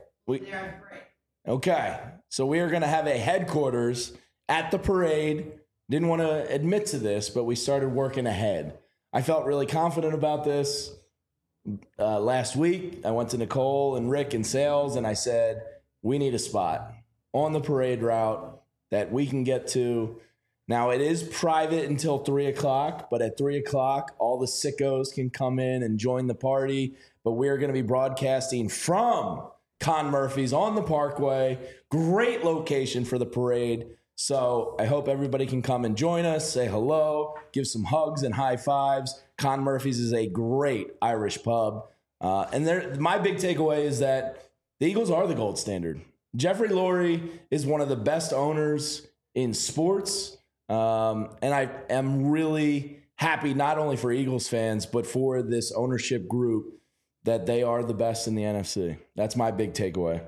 Okay, so we are going to have a headquarters at the parade. Didn't want to admit to this, but we started working ahead. I felt really confident about this. Last week, I went to Nicole and Rick in sales, and I said, we need a spot on the parade route that we can get to. Now, it is private until 3 o'clock, but at 3 o'clock, all the sickos can come in and join the party. But we're going to be broadcasting from Con Murphy's on the Parkway. Great location for the parade. So I hope everybody can come and join us, say hello, give some hugs and high fives. Con Murphy's is a great Irish pub. And my big takeaway is that the Eagles are the gold standard. Jeffrey Lurie is one of the best owners in sports. And I am really happy, not only for Eagles fans, but for this ownership group, that they are the best in the NFC. That's my big takeaway.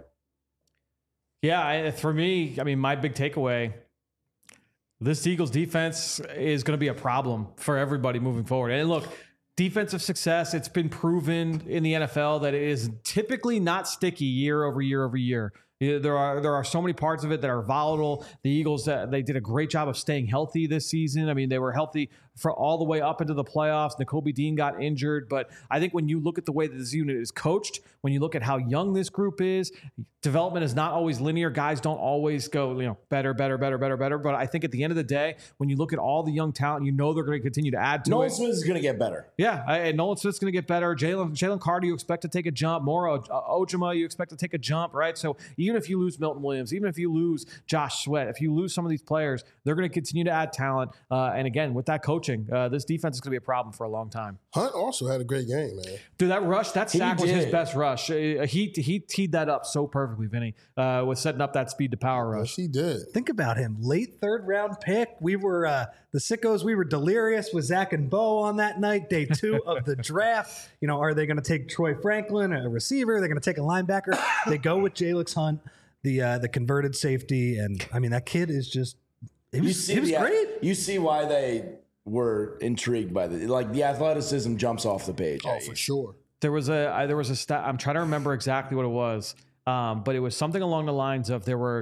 Yeah, for me, I mean, my big takeaway, this Eagles defense is going to be a problem for everybody moving forward. And look, defensive success, it's been proven in the NFL that it is typically not sticky year over year over year. There are so many parts of it that are volatile. The Eagles, they did a great job of staying healthy this season. I mean, they were healthy for all the way up into the playoffs. Nakobe Dean got injured. But I think when you look at the way that this unit is coached, when you look at how young this group is, development is not always linear. Guys don't always go, better. But I think at the end of the day, when you look at all the young talent, they're going to continue to add to Nolan it. Smith is going to get better. Yeah, and Nolan Smith's going to get better. Jalen Carter, you expect to take a jump. Moro Ojima, you expect to take a jump, right? So even if you lose Milton Williams, even if you lose Josh Sweat, if you lose some of these players, they're going to continue to add talent. And again, with that coaching, this defense is going to be a problem for a long time. Hunt also had a great game, man. Dude, that sack was his best rush. He teed that up so perfectly, Vinny, with setting up that speed to power rush. Yes, he did. Think about him. Late 3rd round pick. We were the sickos. We were delirious with Zach and Bo on that night, day 2 of the draft. Are they going to take Troy Franklin, a receiver? They're going to take a linebacker. They go with Jalix Hunt, the converted safety. And I mean, that kid is just, he was great. You see why they were intrigued by the athleticism jumps off the page. Oh, for sure. There was a stat. I'm trying to remember exactly what it was, but it was something along the lines of there were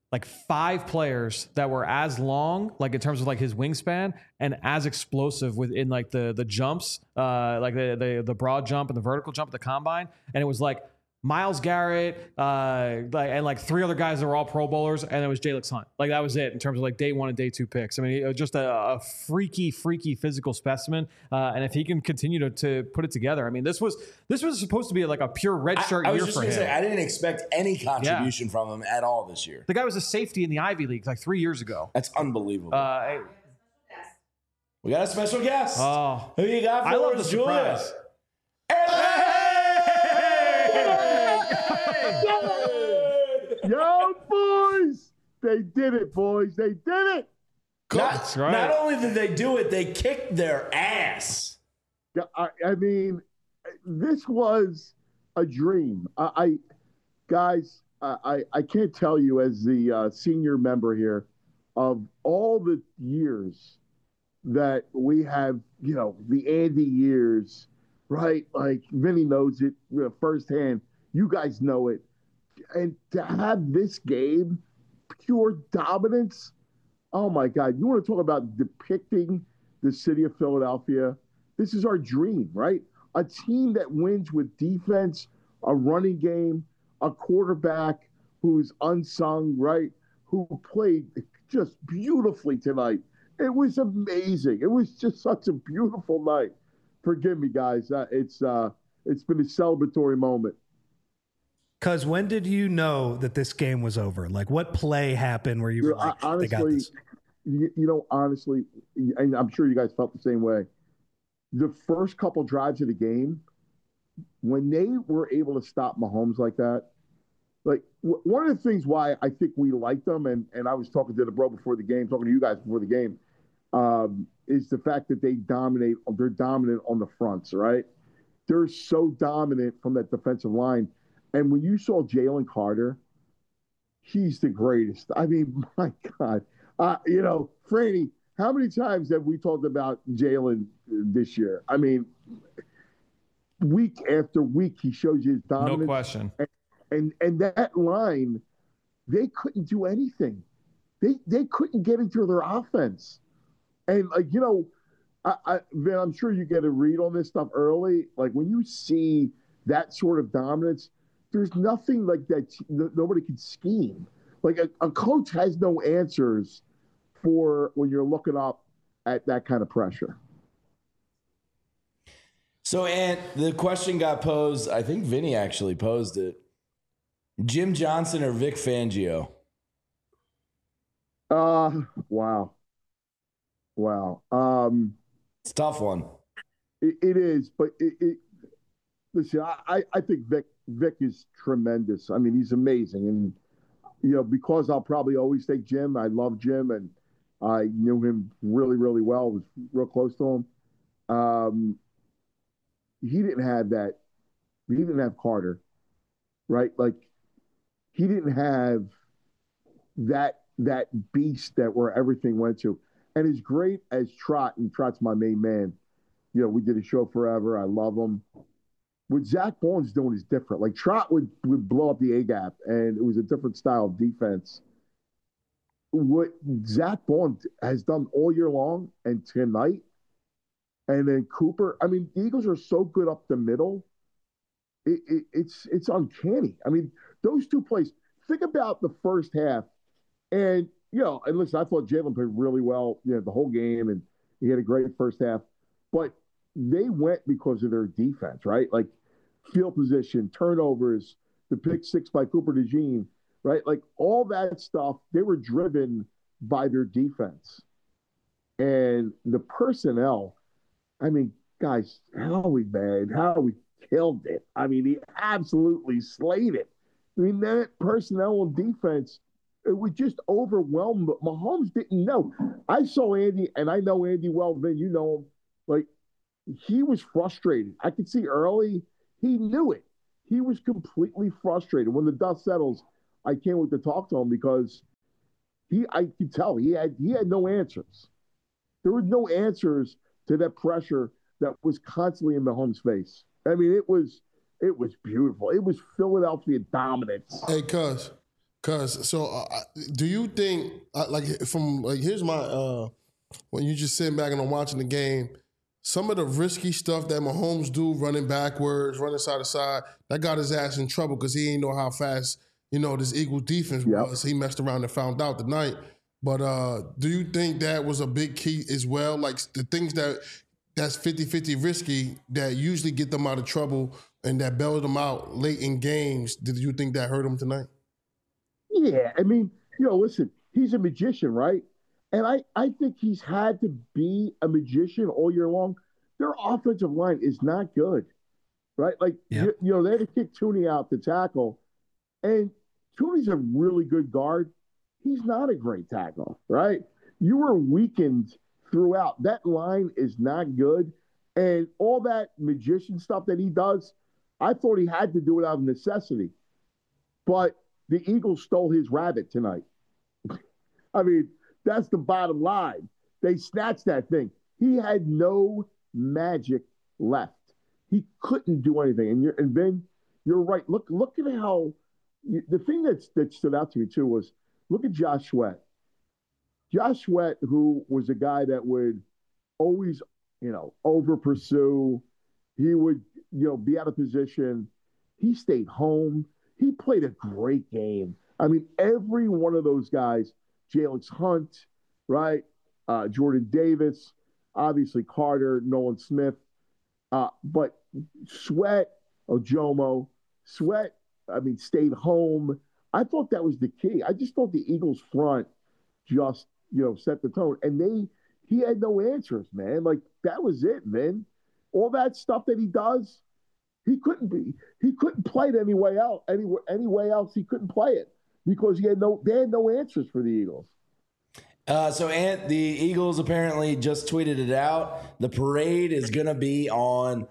like 5 players that were as long, like in terms of like his wingspan, and as explosive within like the jumps, like the broad jump and the vertical jump at the combine. And it was like Myles Garrett, and like 3 other guys that were all Pro Bowlers, and it was Jalen Hunt. Like that was it in terms of like day 1 and day 2 picks. I mean, it was just a freaky physical specimen. And if he can continue to put it together, I mean, this was supposed to be like a pure redshirt year for him. I was just going to say, I didn't expect any contribution from him at all this year. The guy was a safety in the Ivy League like 3 years ago. That's unbelievable. We got a special guest. Oh, who you got for I love the Julia? surprise. Yo, boys! They did it, boys. They did it. That's right. Not only did they do it, they kicked their ass. I mean, this was a dream. Guys, I can't tell you as the senior member here of all the years that we have, the Andy years, right? Like Vinny knows it firsthand. You guys know it. And to have this game, pure dominance, oh my God. You want to talk about depicting the city of Philadelphia? This is our dream, right? A team that wins with defense, a running game, a quarterback who's unsung, right? Who played just beautifully tonight. It was amazing. It was just such a beautiful night. Forgive me, guys. It's been a celebratory moment. Because when did you know that this game was over? Like, what play happened where you were like, honestly, they got this? Honestly, and I'm sure you guys felt the same way. The first couple drives of the game, when they were able to stop Mahomes like that, like one of the things why I think we like them, and I was talking to the bro before the game, talking to you guys before the game, is the fact that they're dominant on the fronts, right? They're so dominant from that defensive line. And when you saw Jalen Carter, he's the greatest. I mean, my God. Franny, how many times have we talked about Jalen this year? I mean, week after week, he shows you his dominance. No question. And that line, they couldn't do anything. They couldn't get into their offense. And, Vin, I'm sure you get a read on this stuff early. Like, when you see that sort of dominance, there's nothing like that. Nobody can scheme. Like a coach has no answers for when you're looking up at that kind of pressure. So, Ant, the question got posed. I think Vinny actually posed it. Jim Johnson or Vic Fangio? Wow. It's a tough one. It is, but listen, I think Vic is tremendous. I mean, he's amazing. And, because I'll probably always take Jim. I love Jim, and I knew him really, really well. Was real close to him. He didn't have that. He didn't have Carter, right? Like, he didn't have that beast that where everything went to. And as great as Trot, and Trot's my main man, we did a show forever. I love him. What Zach Bone's doing is different. Like, Trot would blow up the A-gap, and it was a different style of defense. What Zach Bone has done all year long and tonight, and then Cooper, I mean, the Eagles are so good up the middle. It's uncanny. I mean, those two plays, think about the first half. And, and listen, I thought Jalen played really well, the whole game, and he had a great first half. But they went because of their defense, right? Like field position, turnovers, the pick 6 by Cooper DeJean, right? Like all that stuff, they were driven by their defense. And the personnel, I mean, guys, how we killed it. I mean, he absolutely slayed it. I mean, that personnel and defense, it was just overwhelmed. Mahomes didn't know. I saw Andy, and I know Andy well, Vin, you know him. Like, he was frustrated. I could see early, he knew it. He was completely frustrated. When the dust settles, I can't wait to talk to him because I could tell he had no answers. There were no answers to that pressure that was constantly in Mahomes' face. I mean, it was beautiful. It was Philadelphia dominance. Hey, cuz Because do you think here's my when you just sitting back and I'm watching the game, some of the risky stuff that Mahomes do, running backwards, running side to side, that got his ass in trouble because he didn't know how fast this Eagles defense was. He messed around and found out tonight. But do you think that was a big key as well? Like the things that's 50-50 risky that usually get them out of trouble and that bailed them out late in games. Did you think that hurt him tonight? Yeah, I mean, listen, he's a magician, right? And I think he's had to be a magician all year long. Their offensive line is not good, right? Like, they had to kick Tooney out to tackle, and Tooney's a really good guard. He's not a great tackle, right? You were weakened throughout. That line is not good. And all that magician stuff that he does, I thought he had to do it out of necessity. But the Eagles stole his rabbit tonight. I mean, that's the bottom line. They snatched that thing. He had no magic left. He couldn't do anything. And Ben, you're right. Look at how the thing that stood out to me too was look at Josh Sweat. Josh Sweat, who was a guy that would always, over pursue. He would, be out of position. He stayed home. He played a great game. I mean, every one of those guys, Jalen Hunt, right? Jordan Davis, obviously Carter, Nolan Smith. But Sweat, Ojomo, Sweat, stayed home. I thought that was the key. I just thought the Eagles front just, set the tone. And he had no answers, man. Like, that was it, man. All that stuff that he does, he couldn't play it any way else he couldn't play it because they had no answers for the Eagles. So the Eagles apparently just tweeted it out. The parade is going to be on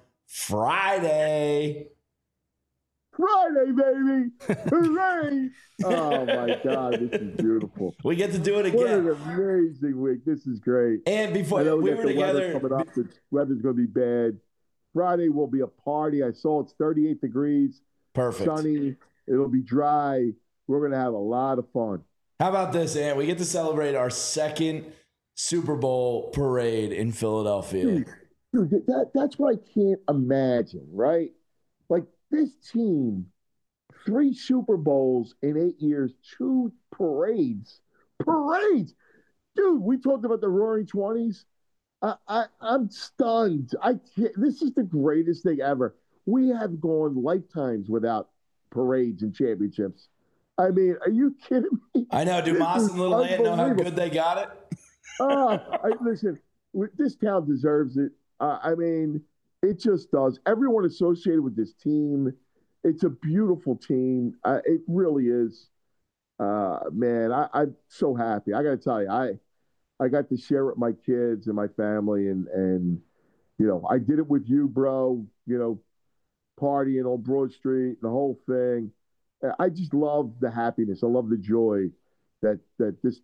Friday. Friday, baby. Hooray. Oh, my God. This is beautiful. We get to do it again. What an amazing week. This is great. And before we were together. Weather coming up. The weather's going to be bad. Friday will be a party. I saw it's 38 degrees. Perfect. Sunny. It'll be dry. We're going to have a lot of fun. How about this, Ant? We get to celebrate our second Super Bowl parade in Philadelphia. Dude, that's what I can't imagine, right? Like, this team, 3 Super Bowls in 8 years, 2 parades. Parades! Dude, we talked about the Roaring 20s. I'm stunned. This is the greatest thing ever. We have gone lifetimes without parades and championships. I mean, are you kidding me? I know. Do Moss and Little Ant know how good they got it? Listen, this town deserves it. It just does. Everyone associated with this team, it's a beautiful team. It really is. Man, I'm so happy. I got to tell you, I got to share it with my kids and my family, and I did it with you, bro. Partying on Broad Street, the whole thing. I just love the happiness. I love the joy that this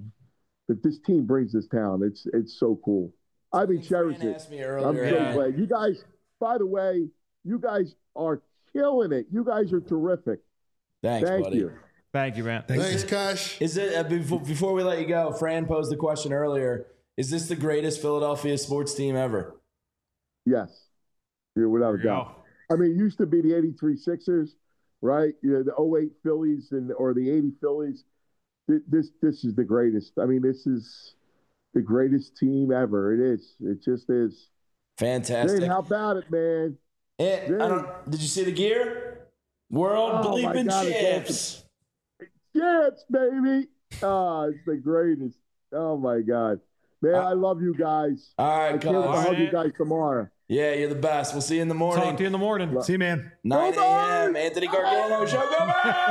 team brings this town. It's so cool. Cherish it. I'm so glad. You guys, by the way, you guys are killing it. You guys are terrific. Thanks, buddy. You. Thank you, man. Thanks, Cash. Is it before we let you go? Fran posed the question earlier. Is this the greatest Philadelphia sports team ever? Yes, without a doubt. It used to be the '83 Sixers, right? The '08 Phillies or the '80 Phillies. This is the greatest. This is the greatest team ever. It is. It just is. Fantastic. Zane, how about it, man? Did you see the gear? World bleeping champs. Champs, baby. It's the greatest. Oh, my God. Man, I love you guys. All right, I can't wait to hug you guys tomorrow. Yeah, you're the best. We'll see you in the morning. Talk to you in the morning. See you, man. 9 a.m. Anthony Gargano Show. Go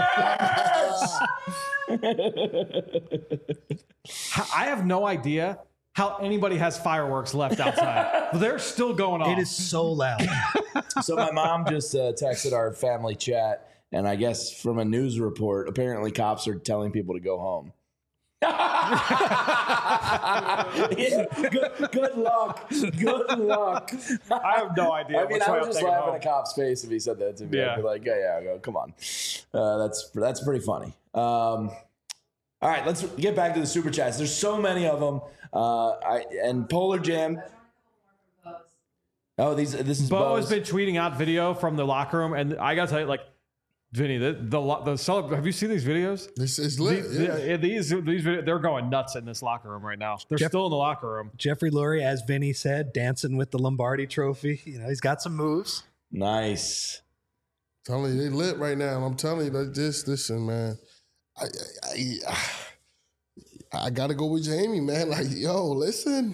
I have no idea how anybody has fireworks left outside. They're still going off. It is so loud. So my mom just texted our family chat, and I guess from a news report, apparently cops are telling people to go home. Good luck. Good luck. I have no idea. I mean, I would just laugh in a cop's face if he said that to me. Yeah. I'd be like, yeah, come on. That's pretty funny. All right, let's get back to the super chats. There's so many of them. And Polar Jam. Oh, this is Bo Bo's. has been tweeting out video from the locker room, and I gotta tell you, like, Vinny, have you seen these videos? This is lit. These videos, they're going nuts in this locker room right now. They're still in the locker room. Jeffrey Lurie, as Vinny said, dancing with the Lombardi Trophy. You know, he's got some moves. Nice. I'm telling you, they lit right now. I'm telling you, like this, listen, man. I gotta go with Jamie, man. Like, yo, listen,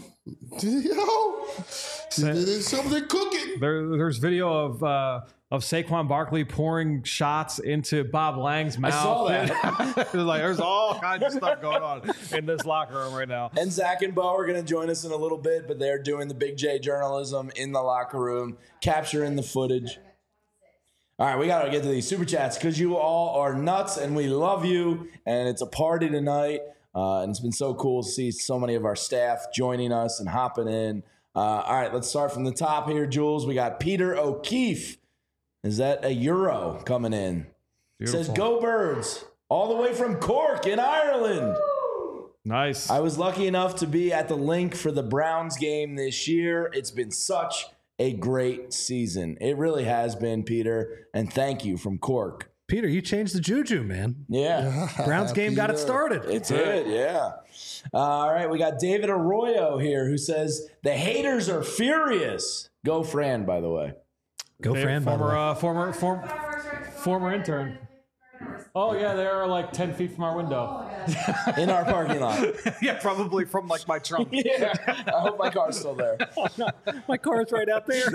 there's something cooking. There's video of Saquon Barkley pouring shots into Bob Lang's mouth. I saw that. Like, there's all kinds of stuff going on in this locker room right now. And Zach and Bo are going to join us in a little bit, but they're doing the Big J journalism in the locker room, capturing the footage. All right, we got to get to these super chats because you all are nuts and we love you. And it's a party tonight. And it's been so cool to see so many of our staff joining us and hopping in. All right, let's start from the top here, Jules. We got Peter O'Keefe. Is that a Euro coming in? Beautiful. Says, go Birds, all the way from Cork in Ireland. Nice. I was lucky enough to be at the link for the Browns game this year. It's been such a great season. It really has been, Peter. And thank you from Cork. Peter, you changed the juju, man. Yeah. Browns game got it started. It did, yeah. All right, we got David Arroyo here who says, the haters are furious. Go Fran, by the way. Go Fran, by the way. Former intern. Oh, yeah, they are like 10 feet from our window. In our parking lot. Yeah, probably from like my trunk. Yeah, I hope my car's still there. Oh, no. My car's right out there.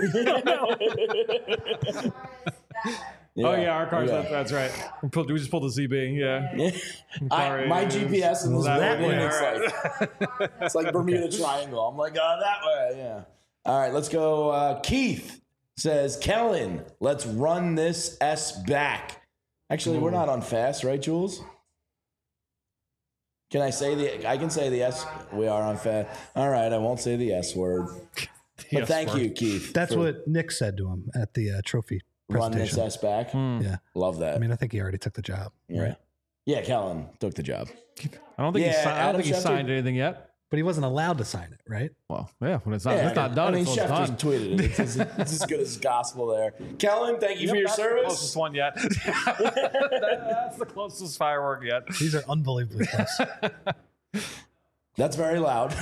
Yeah. Oh, yeah, our car's that's right. We just pulled the ZB, yeah. My GPS in this that building, it's like Bermuda Triangle. I'm like, that way, yeah. All right, let's go. Keith says, Kellen, let's run this S back. Actually, we're not on fast, right, Jules? Can I say I can say the S. We are on fast. All right, I won't say the S word. But thank you, Keith. That's what Nick said to him at the trophy run this presentation. S back. Yeah. Love that. I mean, I think he already took the job. Yeah. Right? Yeah, Kellen took the job. I don't think he signed anything yet. But he wasn't allowed to sign it, right? Well, yeah, when it's not done, I mean, it's Chef done. just tweeted it. It's as good as gospel there. Kellen, thank you for your that's service. The closest one yet. That's the closest firework yet. These are unbelievably close. That's very loud.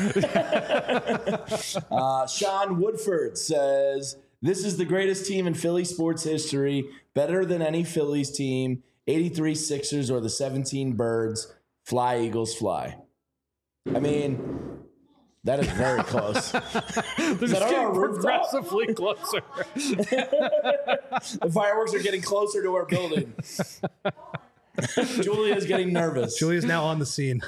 Sean Woodford says, this is the greatest team in Philly sports history, better than any Phillies team, 83 Sixers or the 17 Birds. Fly, Eagles, fly. I mean, that is very close. They're just getting progressively closer. The fireworks are getting closer to our building. Julia's getting nervous. Julia's now on the scene.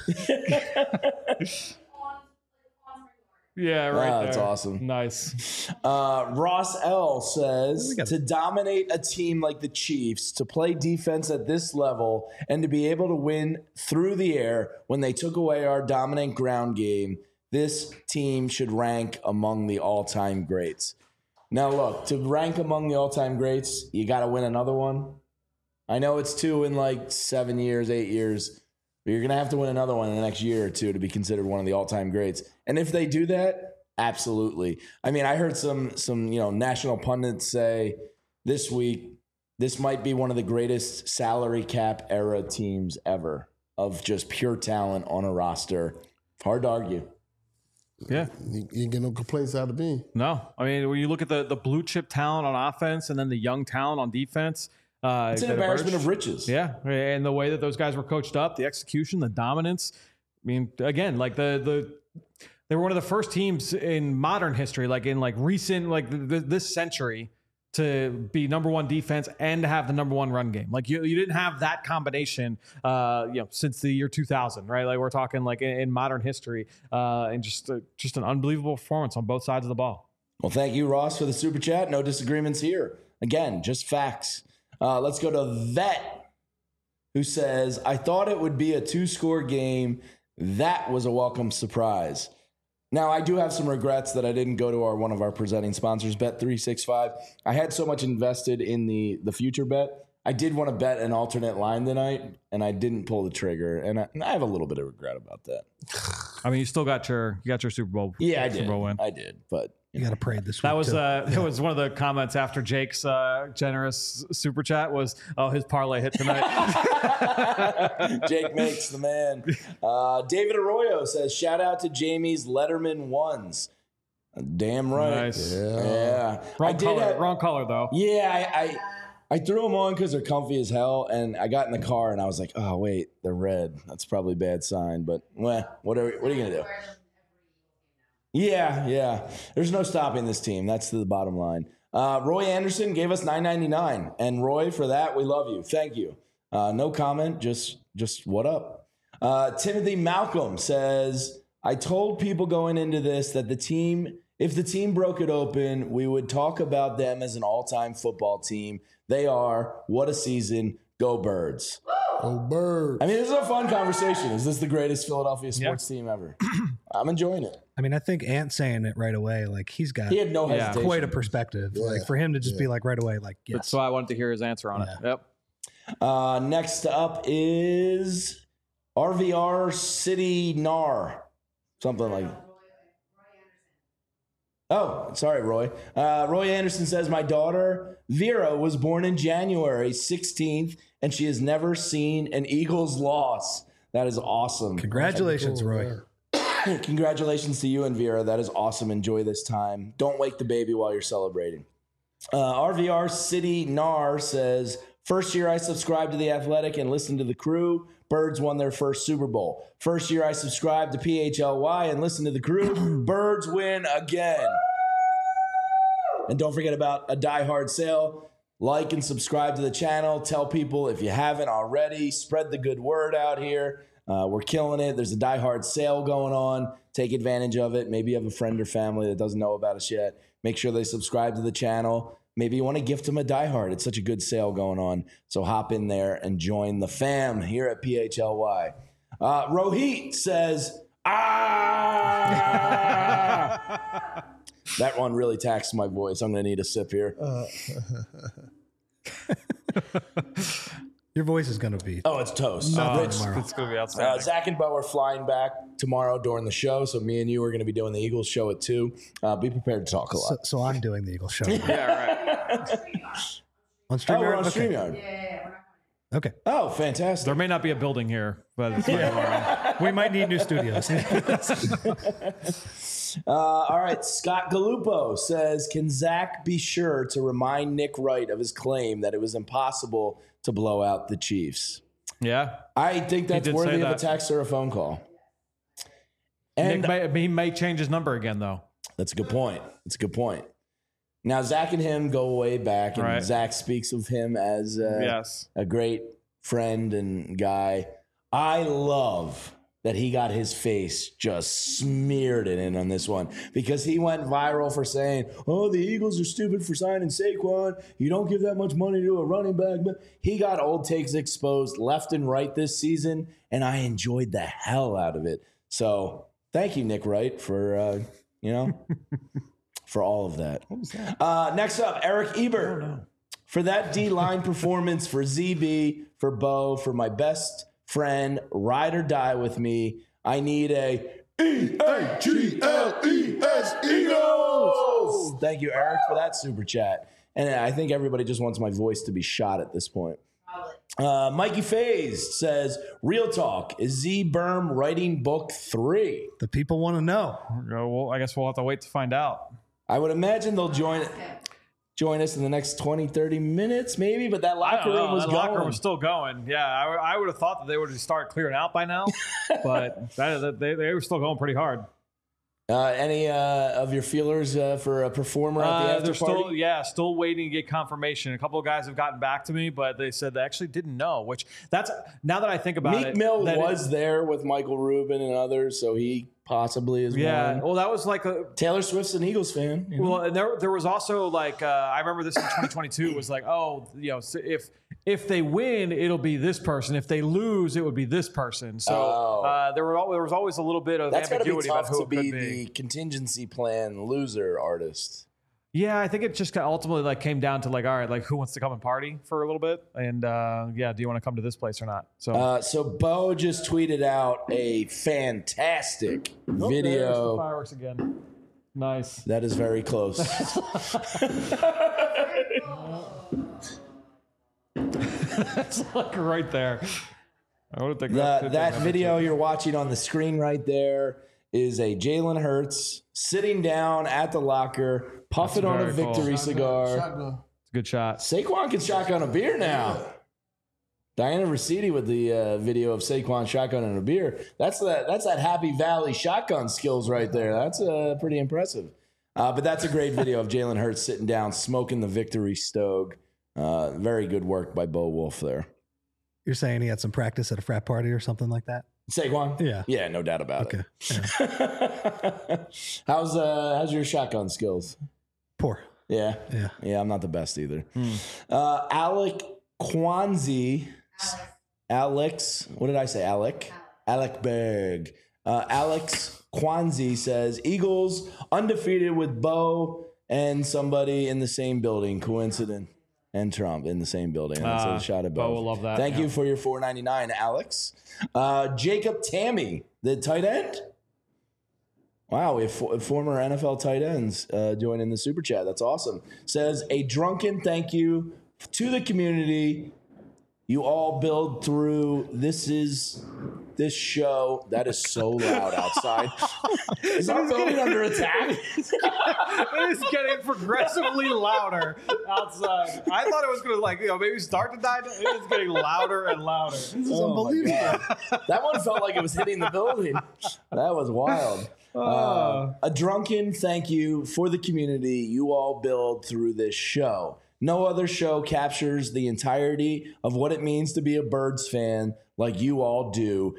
Yeah, right there. That's awesome. Nice. Ross L says, to dominate a team like the Chiefs, to play defense at this level, and to be able to win through the air when they took away our dominant ground game, this team should rank among the all-time greats. Now, look, to rank among the all-time greats, you got to win another one. I know it's 2 in like 7 years, 8 years, but you're going to have to win another one in the next year or two to be considered one of the all-time greats. And if they do that, absolutely. I mean, I heard some national pundits say this week, this might be one of the greatest salary cap era teams ever of just pure talent on a roster. Hard to argue. Yeah. You ain't get no complaints out of me. No. I mean, when you look at the blue chip talent on offense and then the young talent on defense, it's an embarrassment of riches. Yeah. And the way that those guys were coached up, the execution, the dominance. I mean, again, like they were one of the first teams in modern history, like in like recent, like this century, to be number one defense and to have the number one run game. Like you didn't have that combination, since the year 2000, right? Like we're talking like in modern history, and just an unbelievable performance on both sides of the ball. Well, thank you, Ross, for the super chat. No disagreements here. Again, just facts. Let's go to Vet, who says, I thought it would be a 2-score game. That was a welcome surprise. Now, I do have some regrets that I didn't go to one of our presenting sponsors, Bet365. I had so much invested in the future bet. I did want to bet an alternate line tonight, and I didn't pull the trigger, and I have a little bit of regret about that. I mean, you still got your Super Bowl. Yeah, I Super did. Bowl win. I did, but you got to pray this week. That was that was one of the comments after Jake's generous super chat was, "Oh, his parlay hit tonight." Jake makes the man. David Arroyo says, "Shout out to Jamie's Letterman ones." Damn right. Nice. Yeah. Wrong color though. Yeah, I threw them on because they're comfy as hell, and I got in the car and I was like, "Oh wait, they're red. That's probably a bad sign." But what are you gonna do? Yeah. There's no stopping this team. That's the bottom line. Roy Anderson gave us $9.99, and Roy, for that, we love you. Thank you. No comment. Just what up? Timothy Malcolm says, "I told people going into this that if the team broke it open, we would talk about them as an all-time football team. They are. What a season. Go Birds." Go Birds. I mean, this is a fun conversation. Is this the greatest Philadelphia sports team ever? I'm enjoying it. I mean, I think Ant saying it right away, like he had no hesitation. Quite a perspective. Yeah. Like for him to just be like right away, like yes. That's why I wanted to hear his answer on it. Yep. Next up is RVR City Nar. Something like that. Oh, sorry, Roy. Roy Anderson says, "My daughter, Vera, was born in January 16th, and she has never seen an Eagles loss." That is awesome. Congratulations, Roy. Congratulations to you and Vera. That is awesome. Enjoy this time. Don't wake the baby while you're celebrating. RVR City Nar says, "First year I subscribed to The Athletic and listened to the crew. Birds won their first Super Bowl. First year I subscribed to PHLY and listened to the crew. Birds win again." And don't forget about a Die Hard sale. Like and subscribe to the channel. Tell people if you haven't already. Spread the good word out here. We're killing it. There's a Die Hard sale going on. Take advantage of it. Maybe you have a friend or family that doesn't know about us yet. Make sure they subscribe to the channel. Maybe you want to gift them a Die Hard. It's such a good sale going on. So hop in there and join the fam here at PHLY. Rohit says, That one really taxed my voice. I'm going to need a sip here. Your voice is going to be... Oh, it's toast. It's going to be outstanding. Zach and Bo are flying back tomorrow during the show, so me and you are going to be doing the Eagles show at 2. Be prepared to talk a lot. So I'm doing the Eagles show. Yeah, right. On StreamYard? We're on Okay. StreamYard. Yeah. Okay. Oh, fantastic. There may not be a building here, but We might need new studios. All right. Scott Gallupo says, "Can Zach be sure to remind Nick Wright of his claim that it was impossible to blow out the Chiefs?" Yeah. I think that's did worthy say of a that. text or a phone call. And he may change his number again, though. that's a good point. That's a good point. Now, Zach and him go way back, and Right. Zach speaks of him as Yes. a great friend and guy. I love that he got his face just smeared in on this one because he went viral for saying, "Oh, the Eagles are stupid for signing Saquon. You don't give that much money to a running back." But he got old takes exposed left and right this season, and I enjoyed the hell out of it. So thank you, Nick Wright, for, for all of that. What was that? Next up, Eric Ebert. For that D-line performance, for ZB, for Bo, for my best friend, ride or die with me, I need a EAGLES Eagles. Thank you, Eric, for that super chat. And I think everybody just wants my voice to be shot at this point. Mikey Faze says, "Real talk, is Z Berm writing book 3? The people want to know. Well, I guess we'll have to wait to find out. I would imagine they'll join us in the next 20, 30 minutes, maybe, but that locker room was going. Locker room was still going. Yeah, I would have thought that they would have started clearing out by now, but they were still going pretty hard. Any of your feelers for a performer at the after they're party? still waiting to get confirmation. A couple of guys have gotten back to me, but they said they actually didn't know. Which now that I think about Meek it, Mill was there with Michael Rubin and others, so he possibly is one. Well, that was like Taylor Swift's an Eagles fan. Well, and there was also like I remember this in 2022 was like, if if they win, it'll be this person. If they lose, it would be this person. So there was always a little bit of ambiguity about who it could be. That's got to be tough to be the contingency plan loser artist. Yeah, I think it just ultimately like came down to like, all right, like who wants to come and party for a little bit? And do you want to come to this place or not? So Bo just tweeted out a fantastic video. There's the fireworks again. Nice. That is very close. That's like right there. I would think that video you're watching on the screen right there is a Jalen Hurts sitting down at the locker, puffing on a victory cigar. Shotgun. It's a good shot. Saquon can shotgun a beer now. Diana Rossetti with the video of Saquon shotgunning a beer. That's that Happy Valley shotgun skills right there. That's pretty impressive. But that's a great video of Jalen Hurts sitting down, smoking the victory stove. Very good work by Bo Wolf there. You're saying he had some practice at a frat party or something like that? Saquon? Yeah. Yeah, no doubt about it. Yeah. How's your shotgun skills? Poor. Yeah. I'm not the best either. Alec Kwanzi. Alex. What did I say? Alec Berg. Alex Kwanzi says Eagles undefeated with Bo and somebody in the same building. Coincidence. And Trump in the same building. That's a shot at both. Bo will love that. Thank you for your $4.99, Alex. Jacob Tammy, the tight end. Wow, we have former NFL tight ends joining the super chat. That's awesome. Says a drunken thank you to the community. You all build through. This show. That is so loud outside. Is our building under attack? It is getting progressively louder outside. I thought it was going to maybe start to die. It is getting louder and louder. This is unbelievable. That one felt like it was hitting the building. That was wild. A drunken thank you for the community you all build through this show. No other show captures the entirety of what it means to be a Birds fan like you all do.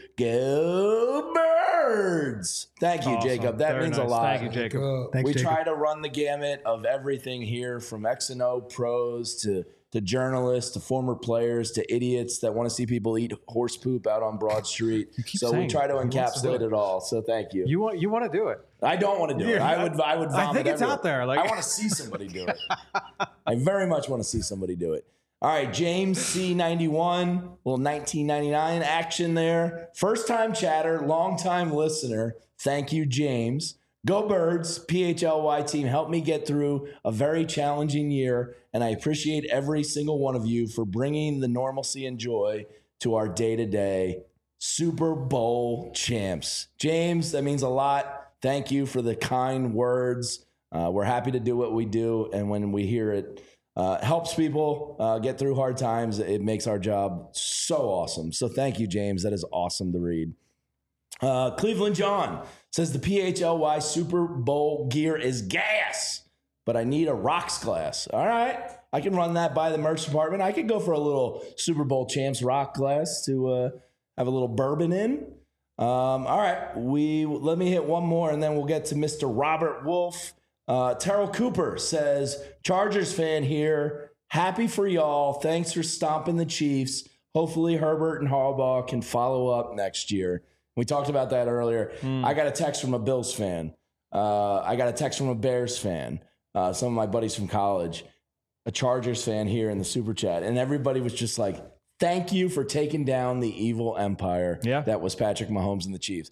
Go Birds! Thank you, awesome. Jacob. That means a lot. Thank you, Jacob. We try to run the gamut of everything here, from X&O pros to journalists to former players to idiots that want to see people eat horse poop out on Broad Street. So we try to encapsulate it all. So thank you. You want to do it? I don't want to do it. I would vomit. I think it's out there. I want to see somebody do it. I very much want to see somebody do it. All right, James C91, little 1999 action there. First time chatter, long time listener. Thank you, James. Go Birds, PHLY team, help me get through a very challenging year, and I appreciate every single one of you for bringing the normalcy and joy to our day-to-day Super Bowl champs. James, that means a lot. Thank you for the kind words. We're happy to do what we do, and when we hear it helps people get through hard times, it makes our job so awesome. So thank you, James. That is awesome to read. Cleveland John says the PHLY Super Bowl gear is gas, but I need a rocks glass. All right. I can run that by the merch department. I could go for a little Super Bowl champs rock glass to have a little bourbon in. All right. Let me hit one more and then we'll get to Mr. Robert Wolf. Terrell Cooper says, Chargers fan here. Happy for y'all. Thanks for stomping the Chiefs. Hopefully Herbert and Harbaugh can follow up next year. We talked about that earlier. I got a text from a Bills fan. I got a text from a Bears fan. Some of my buddies from college. A Chargers fan here in the super chat. And everybody was just like, thank you for taking down the evil empire that was Patrick Mahomes and the Chiefs.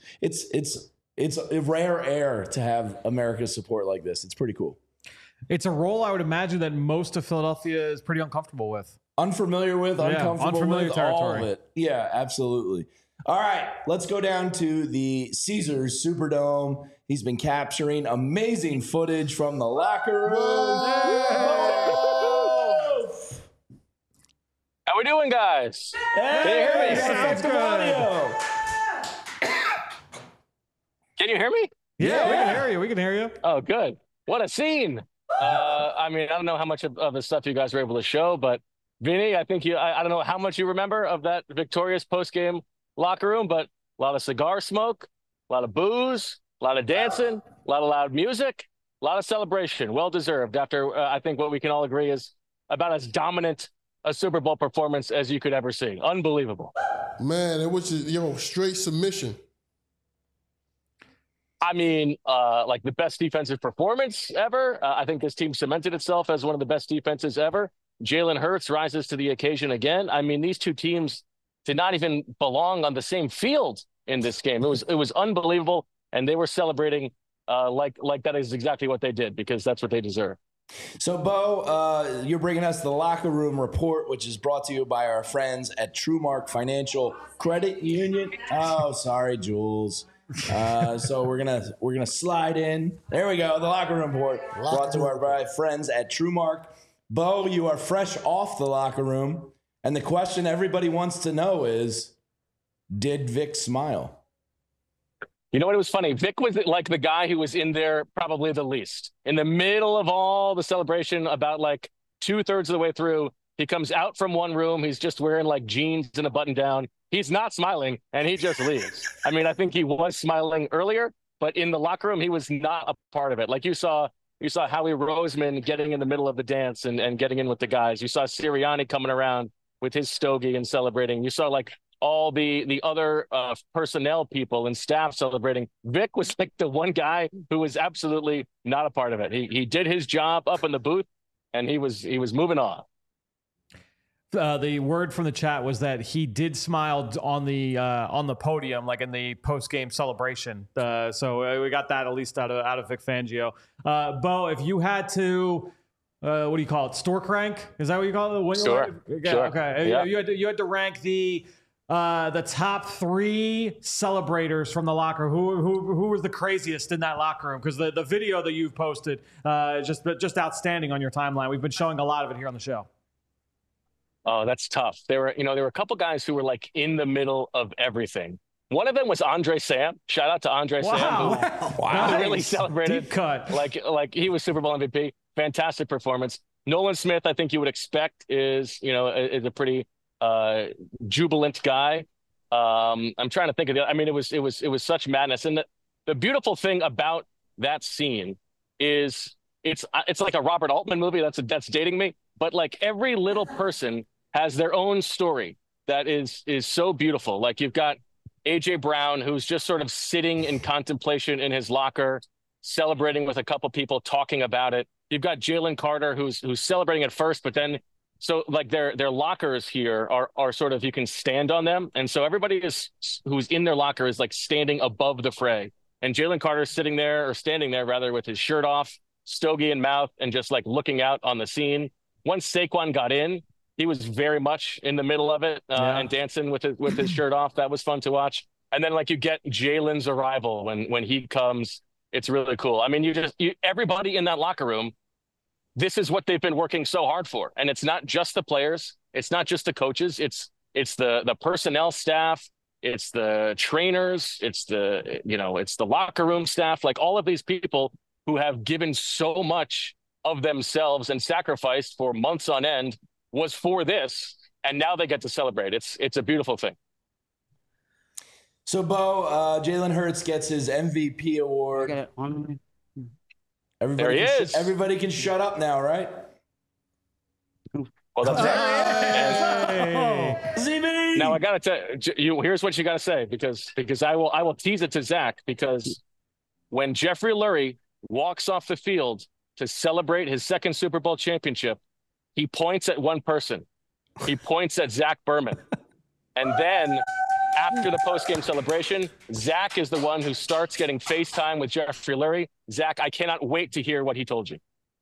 It's a rare air to have America's support like this. It's pretty cool. It's a role I would imagine that most of Philadelphia is pretty uncomfortable with. Unfamiliar with, uncomfortable unfamiliar with, territory. all of it. Yeah, absolutely. All right, let's go down to the Caesars Superdome. He's been capturing amazing footage from the locker room. How we doing, guys? Hey, can you hear me? Effective audio. Can you hear me? Yeah, we can hear you. We can hear you. Oh, good. What a scene. I mean, I don't know how much of the stuff you guys were able to show, but Vinny, I think I don't know how much you remember of that victorious post-game locker room, but a lot of cigar smoke, a lot of booze, a lot of dancing, a lot of loud music, a lot of celebration. Well deserved after I think what we can all agree is about as dominant a Super Bowl performance as you could ever see. Unbelievable. Man, it was just, straight submission. I mean, like the best defensive performance ever. I think this team cemented itself as one of the best defenses ever. Jalen Hurts rises to the occasion again. I mean, these two teams did not even belong on the same field in this game. It was unbelievable, and they were celebrating like that is exactly what they did, because that's what they deserve. So, Bo, you're bringing us the Locker Room Report, which is brought to you by our friends at TrueMark Financial Credit Union. Oh, sorry, Jules. So we're gonna slide in. There we go. The Locker Room Report brought to our friends at TrueMark. Bo, you are fresh off the locker room, and the question everybody wants to know is, did Vic smile? You know what? It was funny. Vic was like the guy who was in there probably the least. In the middle of all the celebration, about like 2/3 of the way through, he comes out from one room. He's just wearing like jeans and a button down. He's not smiling, and he just leaves. I mean, I think he was smiling earlier, but in the locker room, he was not a part of it. Like you saw Howie Roseman getting in the middle of the dance and getting in with the guys. You saw Sirianni coming around with his stogie and celebrating. You saw like all the other personnel people and staff celebrating. Vic was like the one guy who was absolutely not a part of it. He did his job up in the booth, and he was moving on. The word from the chat was that he did smile on the podium, like in the post-game celebration. So we got that at least out of Vic Fangio. Bo, if you had to, what do you call it? Store crank? Is that what you call it? Sure. Okay. Yeah. You had to rank the top 3 celebrators from the locker. Who was the craziest in that locker room? Because the video that you've posted is just outstanding on your timeline. We've been showing a lot of it here on the show. Oh, that's tough. There were a couple guys who were like in the middle of everything. One of them was Andre Sam. Shout out to Andre Sam, who really celebrated. Deep cut. Like he was Super Bowl MVP. Fantastic performance. Nolan Smith, I think you would expect, is a pretty jubilant guy. I'm trying to think of I mean, it was such madness. And the beautiful thing about that scene is it's like a Robert Altman movie. That's dating me. But like every little person has their own story that is so beautiful. Like you've got AJ Brown, who's just sort of sitting in contemplation in his locker, celebrating with a couple people, talking about it. You've got Jalen Carter, who's celebrating at first, but then so like their lockers here are sort of, you can stand on them, and so everybody who's in their locker is like standing above the fray. And Jalen Carter's standing there rather, with his shirt off, stogie in mouth, and just like looking out on the scene. Once Saquon got in, he was very much in the middle of it and dancing with his shirt off. That was fun to watch. And then like you get Jalen's arrival when he comes. It's really cool. I mean, everybody in that locker room, this is what they've been working so hard for. And it's not just the players. It's not just the coaches. It's the personnel staff. It's the trainers. It's the locker room staff. Like all of these people who have given so much of themselves and sacrificed for months on end was for this, and now they get to celebrate. It's a beautiful thing. So, Bo, Jalen Hurts gets his MVP award. There he is. Everybody can shut up now, right? Well, that's ZB. Now I gotta tell you, here's what you gotta say, because I will tease it to Zach, because when Jeffrey Lurie walks off the field to celebrate his second Super Bowl championship, he points at one person. He points at Zach Berman. And then after the post-game celebration, Zach is the one who starts getting FaceTime with Jeffrey Lurie. Zach, I cannot wait to hear what he told you.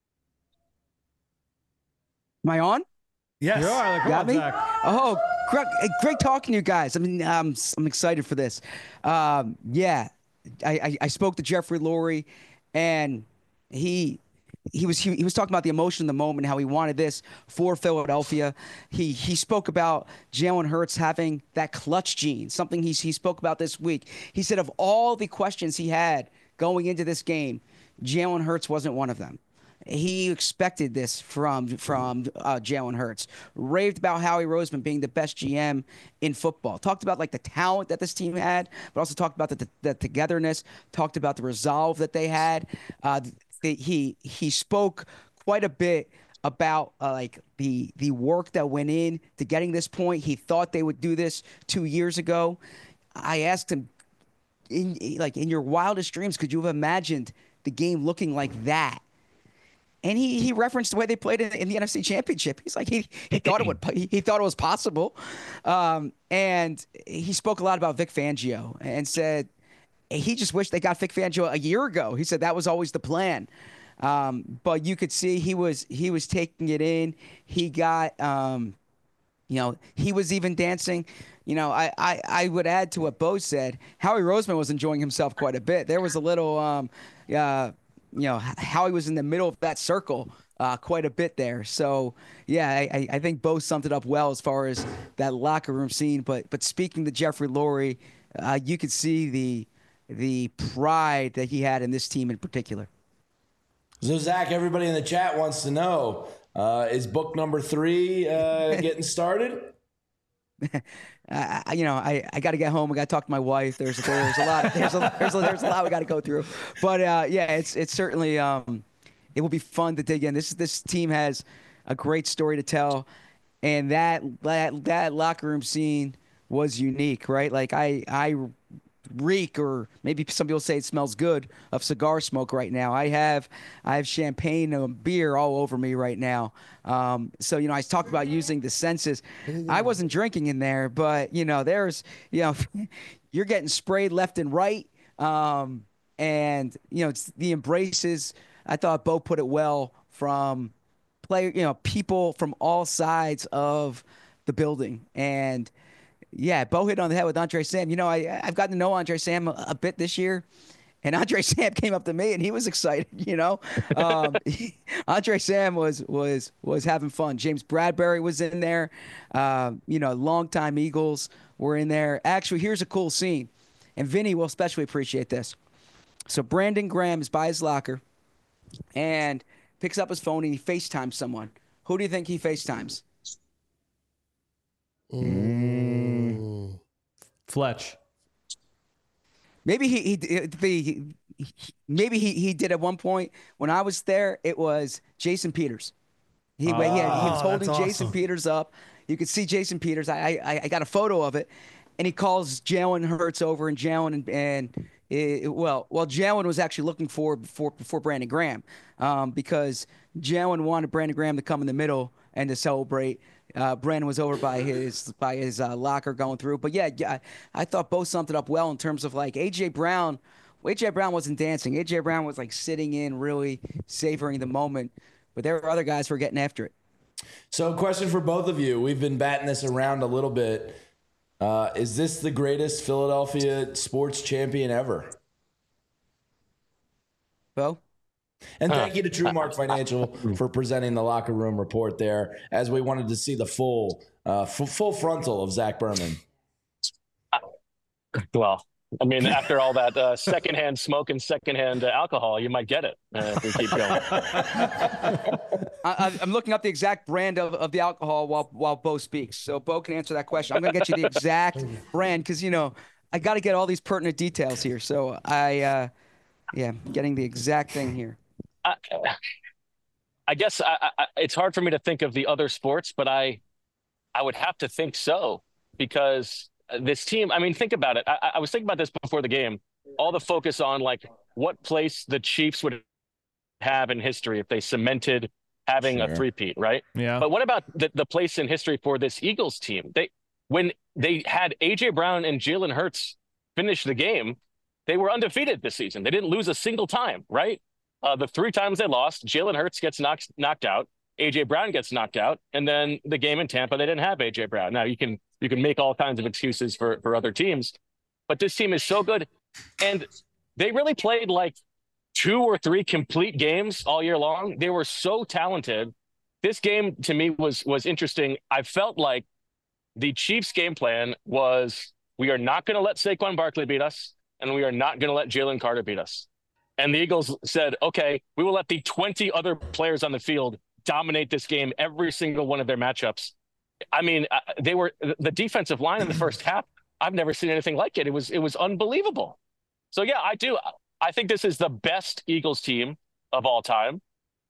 Am I on? Yes. Got me? Zach. Oh, great talking to you guys. I mean, I'm excited for this. I spoke to Jeffrey Lurie, and he was talking about the emotion in the moment, how he wanted this for Philadelphia. He spoke about Jalen Hurts having that clutch gene, something he spoke about this week. He said of all the questions he had going into this game, Jalen Hurts wasn't one of them. He expected this from Jalen Hurts. Raved about Howie Roseman being the best GM in football. Talked about like the talent that this team had, but also talked about the togetherness. Talked about the resolve that they had. He spoke quite a bit about like the work that went in to getting this point. He thought they would do this 2 years ago. I asked him, in your wildest dreams, could you have imagined the game looking like that? And he referenced the way they played in the NFC Championship. He's like he thought it was possible, and he spoke a lot about Vic Fangio and said he just wished they got Vic Fangio a year ago. He said that was always the plan, but you could see he was taking it in. He got he was even dancing. I would add to what Bo said. Howie Roseman was enjoying himself quite a bit. There was a little Howie was in the middle of that circle quite a bit there. So, yeah, I think Bo summed it up well as far as that locker room scene. But speaking to Jeffrey Lurie, you could see the pride that he had in this team in particular. So, Zach, everybody in the chat wants to know, is book number 3 getting started? I got to get home. I got to talk to my wife. There's a lot. There's a lot we got to go through. But it's certainly it will be fun to dig in. This team has a great story to tell, and that locker room scene was unique, right? Like I reek, or maybe some people say it smells good, of cigar smoke right now. I have champagne and beer all over me right now. So I talked about using the senses. I wasn't drinking in there, but there's you're getting sprayed left and right, and it's the embraces. I thought Bo put it well from people from all sides of the building. And yeah, Bo hit on the head with Andre Sam. I've gotten to know Andre Sam a bit this year, and Andre Sam came up to me and he was excited. Andre Sam was having fun. James Bradbury was in there. Longtime Eagles were in there. Actually, here's a cool scene, and Vinny will especially appreciate this. So Brandon Graham is by his locker and picks up his phone and he FaceTimes someone. Who do you think he FaceTimes? Fletch. Maybe he did at one point when I was there. It was Jason Peters. He was holding Jason Peters up. You could see Jason Peters. I got a photo of it, and he calls Jalen Hurts over, and Jalen Jalen was actually looking for Brandon Graham, because Jalen wanted Brandon Graham to come in the middle and to celebrate. Brandon was over by his locker going through. But yeah, I thought both summed it up well in terms of like A.J. Brown. A.J. Brown wasn't dancing. A.J. Brown was like sitting in, really savoring the moment. But there were other guys who were getting after it. So, question for both of you. We've been batting this around a little bit. Is this the greatest Philadelphia sports champion ever? Bo? And thank you to TrueMark Financial for presenting the locker room report there, as we wanted to see the full frontal of Zach Berman. Well, I mean, after all that secondhand smoke and secondhand alcohol, you might get it if we keep going. I'm looking up the exact brand of the alcohol while Bo speaks. So Bo can answer that question. I'm going to get you the exact brand because, I got to get all these pertinent details here. So I'm getting the exact thing here. I guess it's hard for me to think of the other sports, but I would have to think so, because this team, I mean, think about it. I was thinking about this before the game, all the focus on like what place the Chiefs would have in history if they cemented having a three-peat, right? Yeah. But what about the place in history for this Eagles team? When they had A.J. Brown and Jalen Hurts finish the game, they were undefeated this season. They didn't lose a single time, right? The 3 times they lost, Jalen Hurts gets knocked out, A.J. Brown gets knocked out, and then the game in Tampa, they didn't have A.J. Brown. Now, you can make all kinds of excuses for other teams, but this team is so good, and they really played like 2 or 3 complete games all year long. They were so talented. This game, to me, was interesting. I felt like the Chiefs' game plan was, we are not going to let Saquon Barkley beat us, and we are not going to let Jalen Carter beat us. And the Eagles said, okay, we will let the 20 other players on the field dominate this game, every single one of their matchups. I mean, the defensive line in the first half, I've never seen anything like it. It was unbelievable. So, yeah, I think this is the best Eagles team of all time.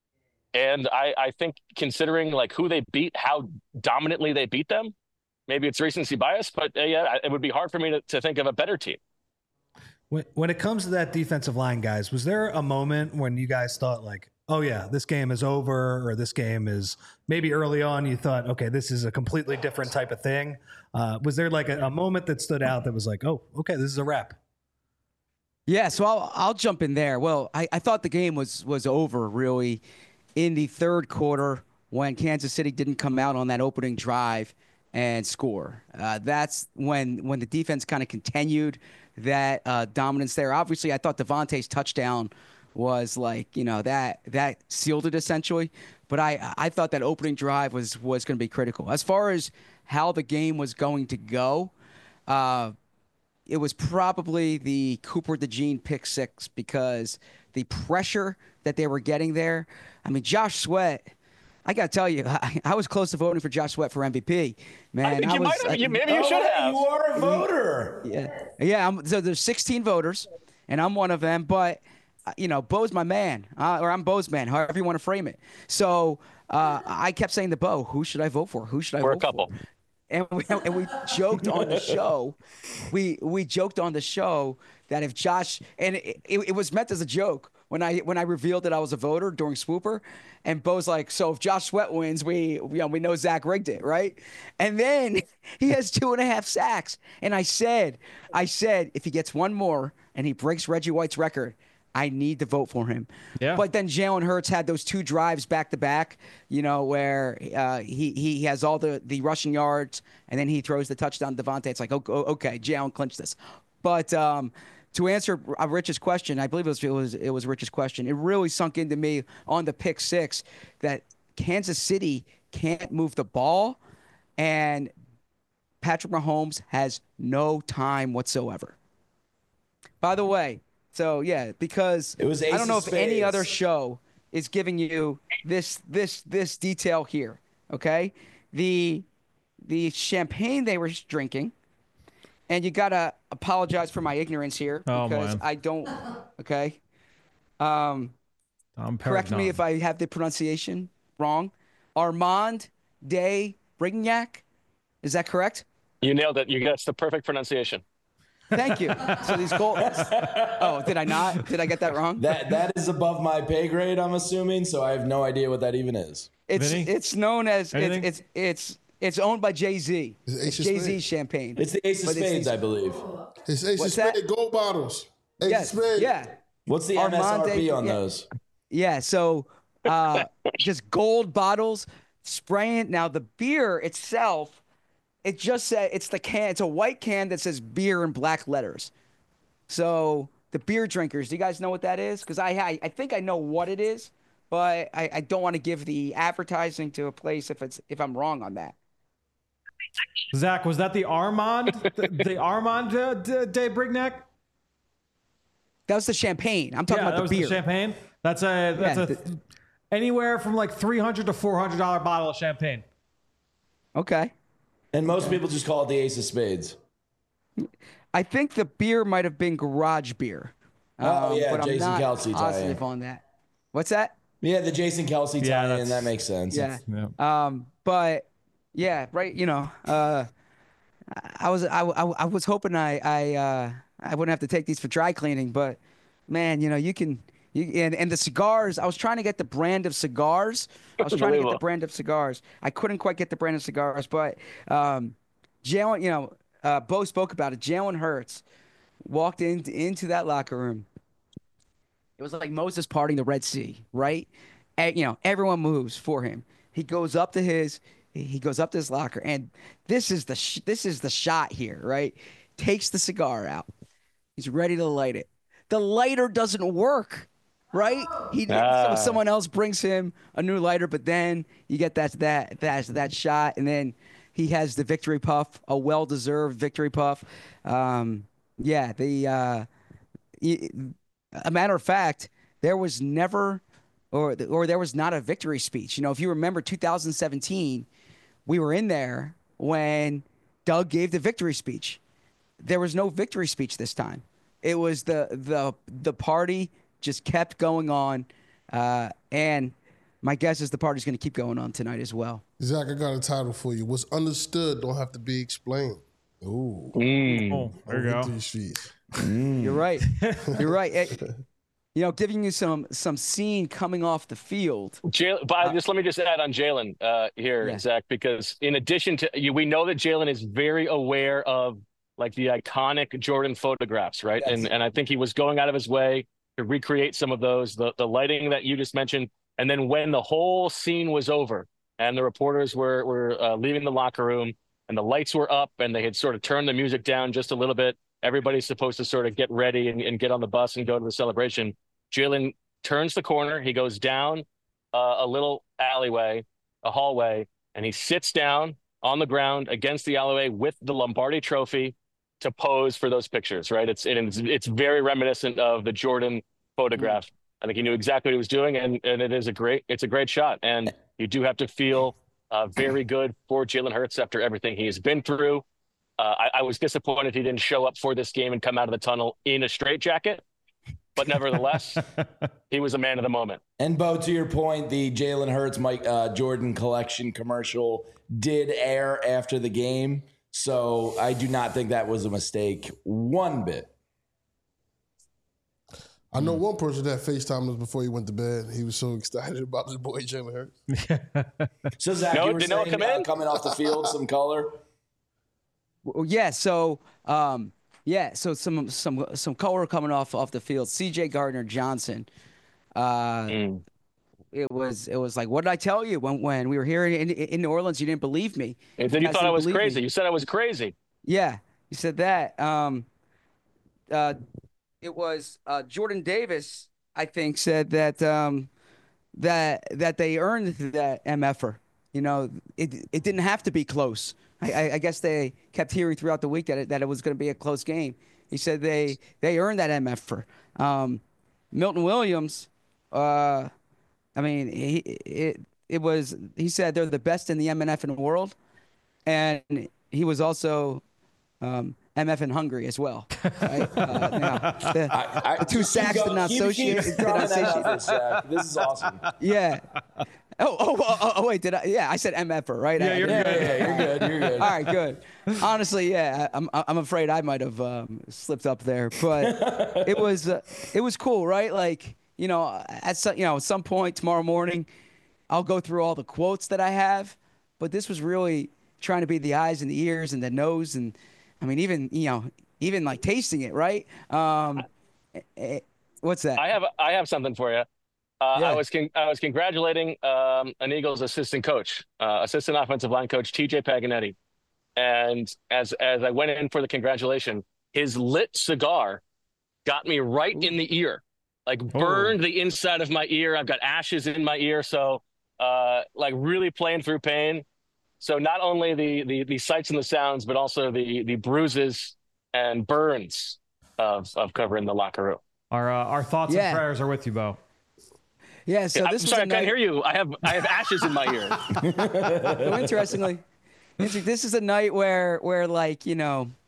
And I think considering like who they beat, how dominantly they beat them, maybe it's recency bias, but yeah, it would be hard for me to think of a better team. When it comes to that defensive line, guys, was there a moment when you guys thought like, oh yeah, this game is over, or this game is maybe early on you thought, okay, this is a completely different type of thing? Was there like a moment that stood out that was like, oh, okay, this is a wrap? Yeah, so I'll jump in there. Well, I thought the game was over really in the third quarter when Kansas City didn't come out on that opening drive and score. That's when the defense kind of continued that dominance there. Obviously, I thought Devontae's touchdown was like, that sealed it essentially. But I thought that opening drive was going to be critical. As far as how the game was going to go, it was probably the Cooper DeJean pick six, because the pressure that they were getting there. I mean, Josh Sweat, I got to tell you, I was close to voting for Josh Sweat for MVP. Man, I think you might have. Maybe you should have. You are a voter. Yeah. So there's 16 voters, and I'm one of them. But Bo's my man, or I'm Bo's man, however you want to frame it. So I kept saying to Bo, who should I vote for? Who should I vote for? A couple. And we joked on the show. We joked on the show that if Josh, and it was meant as a joke when I revealed that I was a voter during Swooper, and Bo's like, so if Josh Sweat wins, we know Zach rigged it, right? And then he has 2.5 sacks, and I said if he gets one more and he breaks Reggie White's record, I need to vote for him. Yeah. But then Jalen Hurts had those 2 drives back to back, where he has all the rushing yards, and then he throws the touchdown to Devontae. It's like, okay, Jalen clinched this. But to answer Rich's question, I believe it was Rich's question. It really sunk into me on the pick six that Kansas City can't move the ball, and Patrick Mahomes has no time whatsoever. By the way. So yeah, because I don't know if any other show is giving you this detail here. Okay, the champagne they were drinking, and you gotta apologize for my ignorance here because I don't. Okay, correct me if I have the pronunciation wrong. Armand de Brignac, is that correct? You nailed it. That's the perfect pronunciation. Thank you. So these goals. Oh, did I not? Did I get that wrong? That is above my pay grade, I'm assuming. So I have no idea what that even is. It's known as it's owned by Jay-Z. Jay-Z champagne. It's the Ace of Spades, I believe. It's Ace of Spades gold bottles. Yes. Yeah. What's the MSRP on those? Yeah. So just gold bottles, spraying. Now the beer itself. It just said it's the can. It's a white can that says beer in black letters. So the beer drinkers, do you guys know what that is? Because I think I know what it is, but I don't want to give the advertising to a place if I'm wrong on that. Zach, was that the Armand the Armand de Brignac? That was the champagne. I'm talking about the beer. The champagne. That's anywhere from like $300 to $400 bottle of champagne. Okay. And most people just call it the Ace of Spades. I think the beer might have been garage beer. But Jason I'm not Kelce positive on that. What's that? Yeah, the Jason Kelce tie-in. That makes sense. Yeah. But yeah, right. I was hoping I wouldn't have to take these for dry cleaning, but man, you can. And the cigars, I was trying to get the brand of cigars. I couldn't quite get the brand of cigars, but Jalen, Bo spoke about it. Jalen Hurts walked into that locker room. It was like Moses parting the Red Sea, right? And, everyone moves for him. He goes up to his locker, and this is the shot here, right? Takes the cigar out. He's ready to light it. The lighter doesn't work. Right? So someone else brings him a new lighter, but then you get that shot, and then he has the victory puff, a well-deserved victory puff. A matter of fact, there was never, or there was not a victory speech. If you remember 2017, we were in there when Doug gave the victory speech. There was no victory speech this time. It was the party just kept going on, and my guess is the party's going to keep going on tonight as well. Zach, I got a title for you. What's understood don't have to be explained. Oh, there you go. You're right. You're right. Giving you some scene coming off the field. But let me just add on Jalen here, Zach, because in addition to we know that Jalen is very aware of like the iconic Jordan photographs, right? Yes. And I think he was going out of his way to recreate some of those, the lighting that you just mentioned. And then when the whole scene was over and the reporters were leaving the locker room and the lights were up and they had sort of turned the music down just a little bit, everybody's supposed to sort of get ready and get on the bus and go to the celebration. Jalen turns the corner. He goes down a little alleyway, a hallway, and he sits down on the ground against the alleyway with the Lombardi Trophy to pose for those pictures, right? It's very reminiscent of the Jordan photograph. I think he knew exactly what he was doing, and it's a great shot. And you do have to feel very good for Jalen Hurts after everything he has been through. I was disappointed he didn't show up for this game and come out of the tunnel in a straitjacket, but nevertheless, he was a man of the moment. And Bo, to your point, the Jalen Hurts Mike Jordan collection commercial did air after the game, so I do not think that was a mistake one bit. I know one person that FaceTimed us before he went to bed. He was so excited about his boy Jalen Hurts. So Zach, you were saying coming off the field, some color. Well, yeah. So so some color coming off the field. C.J. Gardner-Johnson. It was like, what did I tell you when we were here in New Orleans? You didn't believe me. And then you thought I was crazy. You said I was crazy. Yeah, you said that. It was Jordan Davis, I think, said that that they earned that MFer. It didn't have to be close. I guess they kept hearing throughout the week that it was going to be a close game. He said they earned that MFer. Milton Williams, he said they're the best in the MNF in the world, and he was also MF in Hungary as well. Right? The two sacks did not associate. This is awesome. Yeah. Oh, wait, did I? Yeah, I said MFer, right? Yeah, you're good. You're good. All right, good. Honestly, yeah, I'm afraid I might have slipped up there, but it was cool, right? Like, at some point tomorrow morning, I'll go through all the quotes that I have, but this was really trying to be the eyes and the ears and the nose, and I mean, even like tasting it, right? What's that? I have something for you. I was congratulating an Eagles assistant coach, assistant offensive line coach TJ Paganetti, and as I went in for the congratulation, his lit cigar got me right in the ear, like burned the inside of my ear. I've got ashes in my ear, so like really playing through pain. So not only the sights and the sounds, but also the bruises and burns of covering the locker room. Our thoughts and prayers are with you, Bo. Yeah, so I'm sorry, I can't hear you. I have ashes in my ear. So interestingly, this is a night where like, you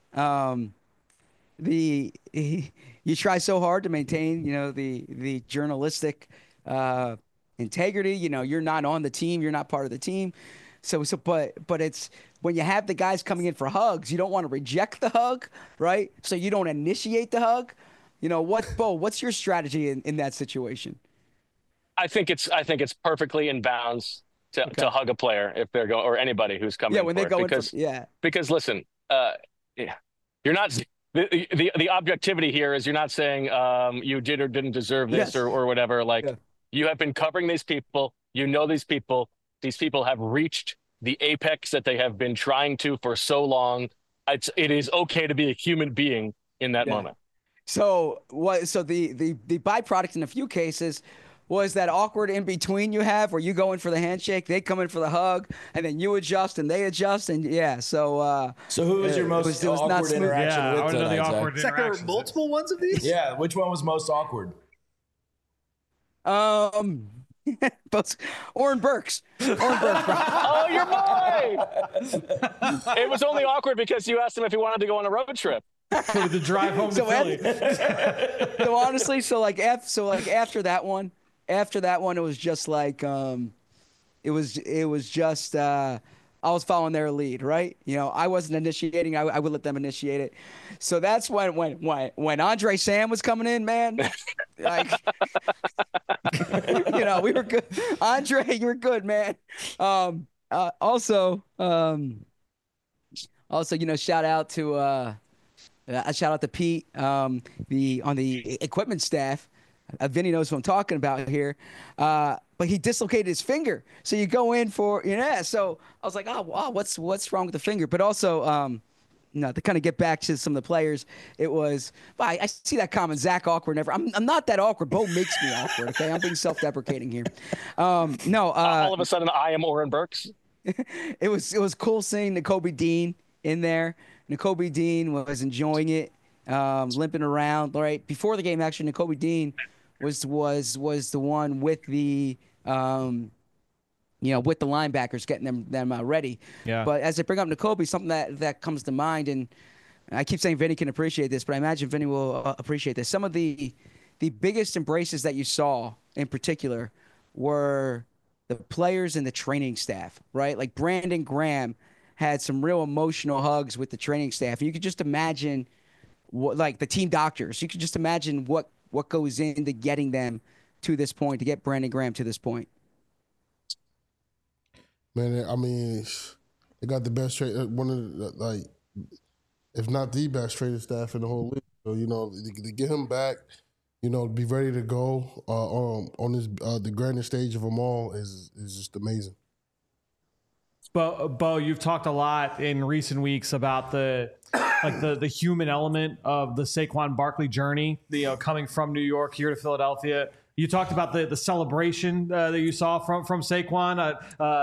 try so hard to maintain, the journalistic integrity. You're not on the team, you're not part of the team. But it's when you have the guys coming in for hugs, you don't want to reject the hug, right? So you don't initiate the hug. Bo, what's your strategy in that situation? I think it's perfectly in bounds to hug a player if they're going, or anybody who's coming. Yeah, when they go because listen, you're not the objectivity here is you're not saying you did or didn't deserve this or whatever. Like you have been covering these people, these people. These people have reached the apex that they have been trying to for so long. It is okay to be a human being in that moment. So the byproduct in a few cases was that awkward in between you have where you go in for the handshake, they come in for the hug, and then you adjust and they adjust, and so who was your most awkward interaction with? I want to know the awkward interaction. There were multiple ones of these. Yeah, which one was most awkward? Oren Burks. Oh, your boy! It was only awkward because you asked him if he wanted to go on a road trip. The drive home to Philly. So honestly, after that one, after that one, it was just like it was just I was following their lead, right? You know, I wasn't initiating. I would let them initiate it. So that's when Andre Sam was coming in, man. Like, you know, we were good. Andre, you were good, man. Also, you know, shout out to Pete, on the equipment staff. Vinny knows what I'm talking about here. But he dislocated his finger. So you go in for, so I was like, oh, wow, what's wrong with the finger? But also, to kind of get back to some of the players, it was, I see that comment, Zach awkward never. I'm not that awkward. Bo makes me awkward, okay? I'm being self-deprecating here. All of a sudden, I am Oren Burks. It was cool seeing Nakobe Dean in there. Nakobe Dean was enjoying it, limping around. Right before the game, actually, Nakobe Dean was the one with the with the linebackers getting them ready. Yeah. But as I bring up Nakobe, something that comes to mind, and I keep saying Vinny can appreciate this, but I imagine Vinny will appreciate this. Some of the biggest embraces that you saw in particular were the players and the training staff, right? Like Brandon Graham had some real emotional hugs with the training staff. You could just imagine like the team doctors. You could just imagine what goes into getting them to this point, to get Brandon Graham to this point. Man, I mean, they got the best one of the, if not the best training staff in the whole league. So, to get him back, be ready to go on this the grandest stage of them all is just amazing. Bo, you've talked a lot in recent weeks about the human element of the Saquon Barkley journey, coming from New York here to Philadelphia. You talked about the celebration that you saw from Saquon.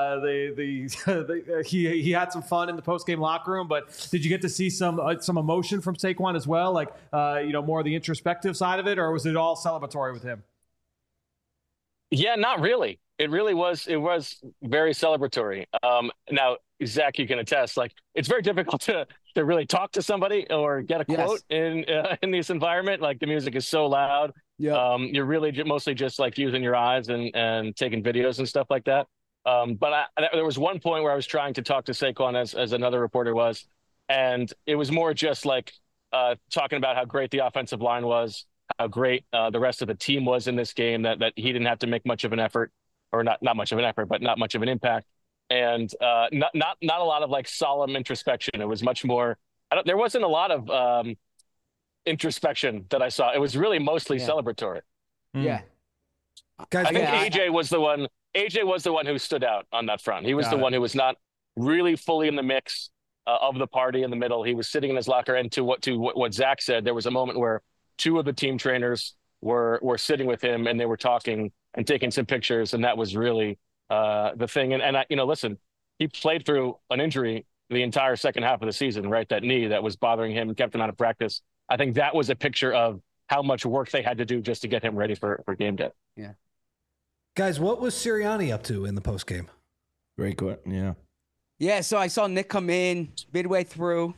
He had some fun in the post-game locker room, but did you get to see some emotion from Saquon as well, like more of the introspective side of it, or was it all celebratory with him? Yeah, not really. It really was. It was very celebratory. Now, Zach, you can attest. Like, it's very difficult to really talk to somebody or get a quote in this environment. Like, the music is so loud. Yeah. You're really mostly just like using your eyes and taking videos and stuff like that. But there was one point where I was trying to talk to Saquon as another reporter was, and it was more just like talking about how great the offensive line was, how great the rest of the team was in this game, that he didn't have to make much of an effort. Or not much of an effort, but not much of an impact, and not a lot of like solemn introspection. It was much more. There wasn't a lot of introspection that I saw. It was really mostly celebratory. Yeah, guys, I think AJ was the one. AJ was the one who stood out on that front. He was the one who was not really fully in the mix of the party in the middle. He was sitting in his locker, and to what Zach said, there was a moment where two of the team trainers were sitting with him, and they were talking and taking some pictures, and that was really the thing. And I, listen, he played through an injury the entire second half of the season, right? That knee that was bothering him and kept him out of practice. I think that was a picture of how much work they had to do just to get him ready for game day. Yeah. Guys, what was Sirianni up to in the postgame? Great question. Yeah. Yeah, so I saw Nick come in midway through.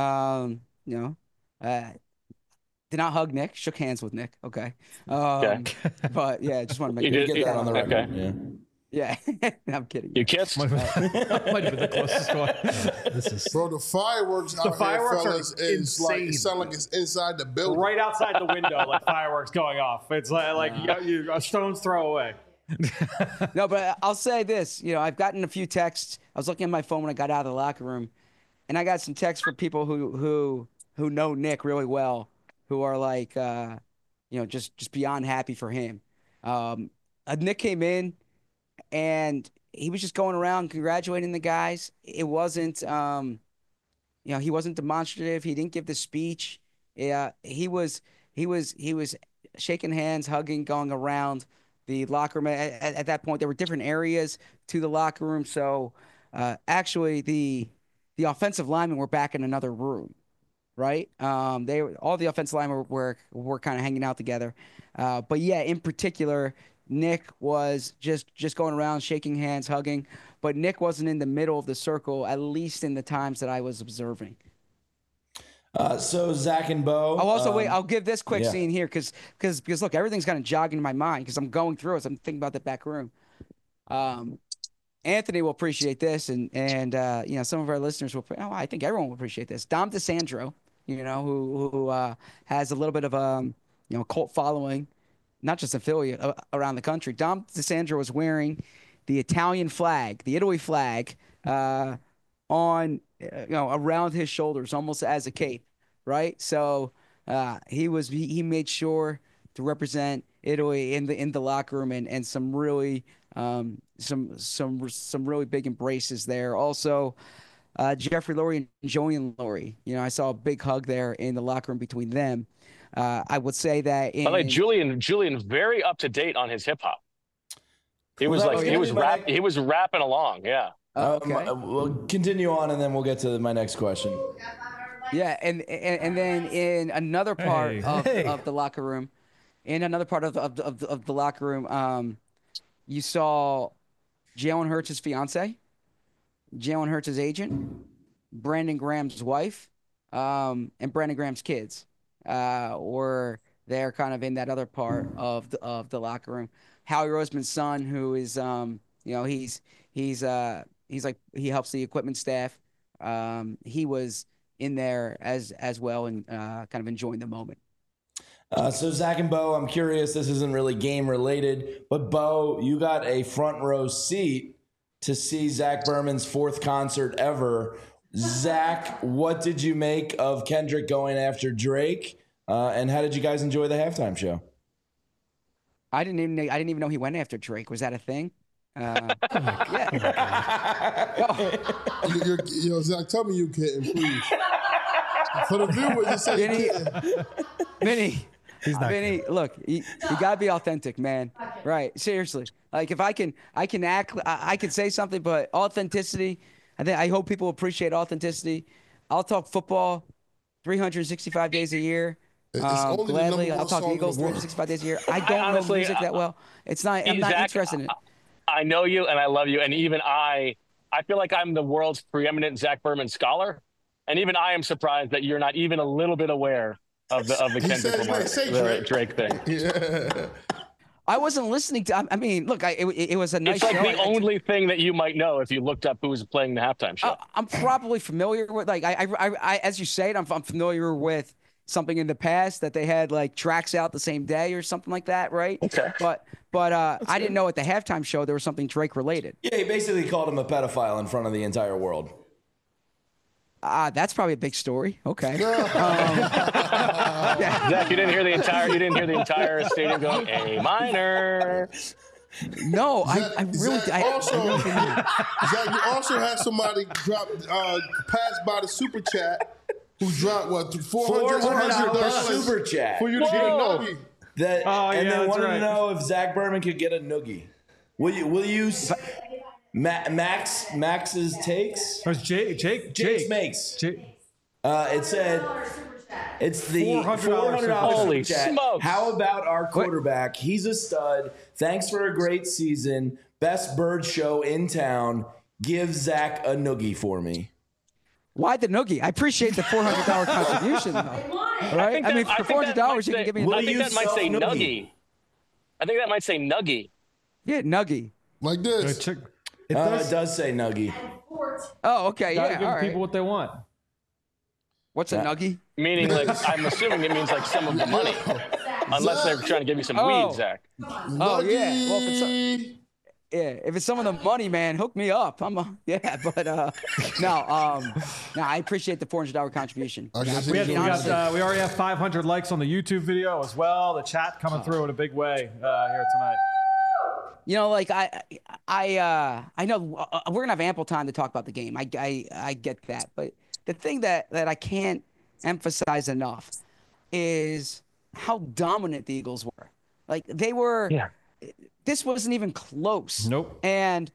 Did not hug Nick. Shook hands with Nick. Okay. But yeah, just want to get that on the record. Okay. Yeah. I'm kidding. You kissed? Might have been the closest one. Bro, the fireworks out fireworks here, fellas, is like, it sounds like it's inside the building. Right outside the window, like fireworks going off. It's like you a stone's throw away. No, but I'll say this. I've gotten a few texts. I was looking at my phone when I got out of the locker room, and I got some texts from people who know Nick really well, who are like, just beyond happy for him. Nick came in, and he was just going around congratulating the guys. It wasn't, he wasn't demonstrative. He didn't give the speech. He was shaking hands, hugging, going around the locker room. At that point, there were different areas to the locker room. So actually, the offensive linemen were back in another room. Right. All the offensive linemen were kind of hanging out together. But yeah, in particular, Nick was just going around, shaking hands, hugging. But Nick wasn't in the middle of the circle, at least in the times that I was observing. So Zach and Bo. Oh, also wait, I'll give this quick yeah. scene here because look, everything's kind of jogging in my mind because I'm going through it. So I'm thinking about the back room. Anthony will appreciate this, and you know, some of our listeners will. Oh, I think everyone will appreciate this. Dom DeSandro, you know, who has a little bit of you know, cult following, not just affiliate around the country. Dom DeSandro was wearing the Italian flag, the Italy flag, on you know, around his shoulders, almost as a cape, right? So he made sure to represent Italy in the locker room, and some really some really big embraces there. Also, Jeffrey Lurie and Julian Lurie, you know, I saw a big hug there in the locker room between them. I would say that Julian very up to date on his hip hop. He was he was rapping along. Yeah. Okay. We'll continue on, and then we'll get to my next question. Yeah, and then in another part of the locker room, the locker room, you saw Jalen Hurts' fiance, Jalen Hurts' agent, Brandon Graham's wife, and Brandon Graham's kids were there, kind of in that other part of the locker room. Howie Roseman's son, who is you know, he's like, he helps the equipment staff. He was in there as well, and kind of enjoying the moment. So Zach and Bo, I'm curious, this isn't really game related, but Bo, you got a front row seat to see Zach Berman's 4th concert ever. Zach, what did you make of Kendrick going after Drake? And how did you guys enjoy the halftime show? I didn't even know he went after Drake. Was that a thing? Yeah. Yo, Zach, tell me you kidding, please. For the viewers, just say Vinny, look, you gotta be authentic, man. Right? Seriously. Like, if I can act, I can say something, but authenticity. I hope people appreciate authenticity. I'll talk football 365 days a year. Gladly, I'll talk Eagles 365 days a year. I don't know music that well. It's not. I'm not interested in it. I know you, and I love you, and even I feel like I'm the world's preeminent Zach Berman scholar, and even I am surprised that you're not even a little bit aware of the Kendrick Lamar, the Drake thing. Yeah. I wasn't listening to. I mean, look, it was a nice. It's like show. the only thing that you might know if you looked up who was playing the halftime show. I'm probably familiar with, like, I as you say it, I'm familiar with something in the past that they had like tracks out the same day or something like that, right? Okay. But I didn't know at the halftime show there was something Drake related. Yeah, he basically called him a pedophile in front of the entire world. That's probably a big story. Okay. Yeah. Zach, you didn't hear the entire stadium going A minor. No, Zach, I really Zach, you also had somebody drop pass by the super chat who dropped what, $400 super chat for you to get a nuggie. And they wanted to know if Zach Berman could get a noogie. Will you Max's takes? Or Jake's makes. It said it's the $400 Holy super chat. smokes. How about our quarterback? He's a stud. Thanks for a great season. Best bird show in town. Give Zach a noogie for me. Why the noogie? I appreciate the $400 contribution, though. Right? I mean, for $400, you can give me. I think that might say nuggie. I think that might say nuggie. Yeah, nuggie. Like this. It does say nuggie. Oh, okay. Yeah. Give all right. people what they want. What's a nuggie? Meaning, like, I'm assuming it means like some of the money, unless they're trying to give you some weed, Zach. Oh yeah. Well, if it's some of the money, man, hook me up. But no, I appreciate the $400 contribution. We already have 500 likes on the YouTube video as well. The chat coming through in a big way here tonight. You know, like I know we're gonna have ample time to talk about the game. I get that, but the thing that I can't emphasize enough is how dominant the Eagles were. Like, they were. Yeah. This wasn't even close. Nope. And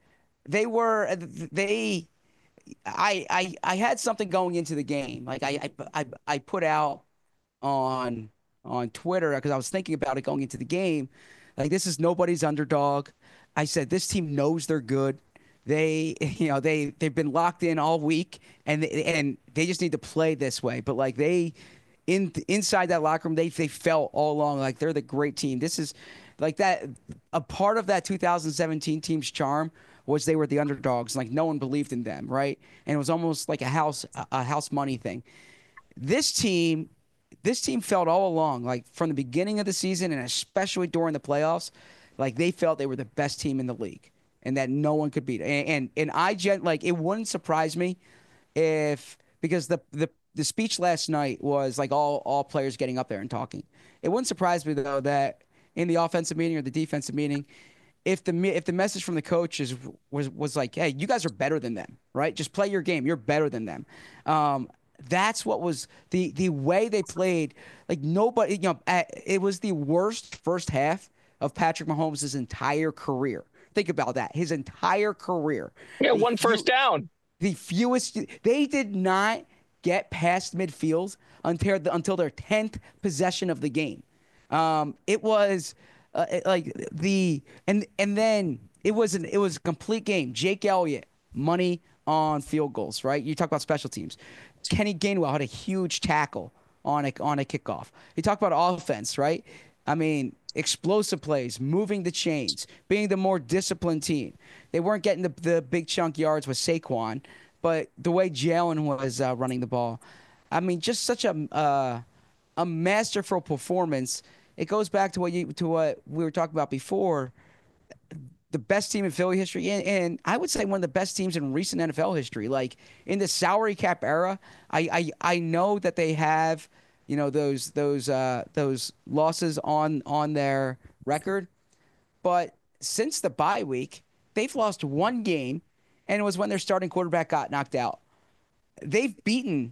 I had something going into the game. Like I put out on Twitter, because I was thinking about it going into the game. Like, this is nobody's underdog. I said, this team knows they're good. they've been locked in all week, and they just need to play this way. But like inside that locker room, they felt all along like they're the great team. This is like that. A part of that 2017 team's charm was they were the underdogs. Like no one believed in them, right? And it was almost like a house money thing. This team felt all along, like from the beginning of the season and especially during the playoffs, like they felt they were the best team in the league and that no one could beat. And it wouldn't surprise me because the speech last night was like all players getting up there and talking. It wouldn't surprise me though that in the offensive meeting or the defensive meeting, if the message from the coach was like, hey, you guys are better than them, right? Just play your game. You're better than them. That's what was the way they played. Like nobody, it was the worst first half of Patrick Mahomes' entire career. Think about that. His entire career. Yeah, one first down. The fewest. They did not get past midfield until their 10th possession of the game. It was and then it was a complete game. Jake Elliott, money on field goals, right? You talk about special teams. Kenny Gainwell had a huge tackle on a kickoff. You talk about offense, right? I mean, explosive plays, moving the chains, being the more disciplined team. They weren't getting the big chunk yards with Saquon, but the way Jalen was running the ball, I mean, just such a masterful performance. It goes back to what we were talking about before. The best team in Philly history, and I would say one of the best teams in recent NFL history. Like in the salary cap era, I know that they have, those losses on their record, but since the bye week, they've lost one game, and it was when their starting quarterback got knocked out. They've beaten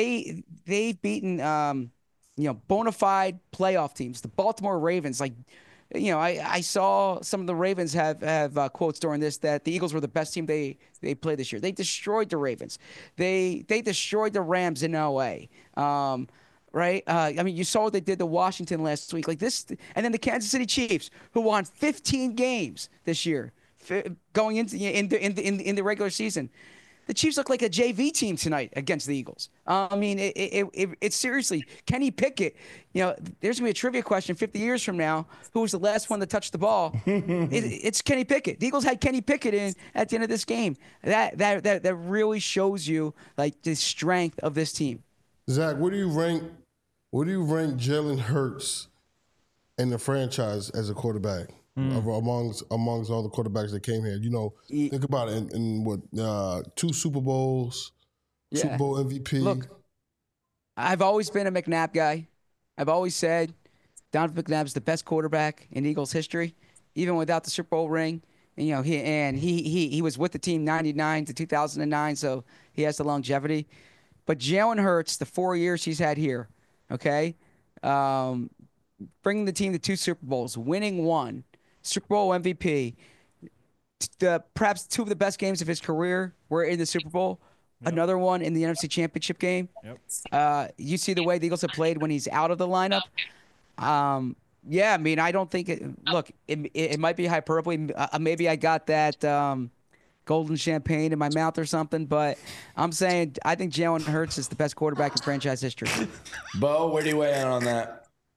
bona fide playoff teams, the Baltimore Ravens. Like, I saw some of the Ravens have quotes during this that the Eagles were the best team they played this year. They destroyed the Ravens. They destroyed the Rams in L.A. Right? I mean, you saw what they did to Washington last week. Like this, and then the Kansas City Chiefs, who won 15 games this year, going into the regular season. The Chiefs look like a JV team tonight against the Eagles. I mean, it's seriously, Kenny Pickett, there's going to be a trivia question 50 years from now. Who was the last one to touch the ball? It's Kenny Pickett. The Eagles had Kenny Pickett in at the end of this game. That really shows you like the strength of this team. Zach, where do you rank Jalen Hurts in the franchise as a quarterback? Amongst all the quarterbacks that came here, think about it. In what 2 Super Bowls, Super Bowl MVP. Look, I've always been a McNabb guy. I've always said Donovan McNabb's the best quarterback in Eagles history, even without the Super Bowl ring. And he was with the team 99 to 2009, so he has the longevity. But Jalen Hurts, the 4 years he's had here, okay, bringing the team to 2 Super Bowls, winning 1. Super Bowl MVP, perhaps 2 of the best games of his career were in the Super Bowl. Yep. Another one in the NFC Championship game. Yep. You see the way the Eagles have played when he's out of the lineup. I mean, I don't think it might be hyperbole. Maybe I got that golden champagne in my mouth or something, but I'm saying I think Jalen Hurts is the best quarterback in franchise history. Bo, where do you weigh in on that?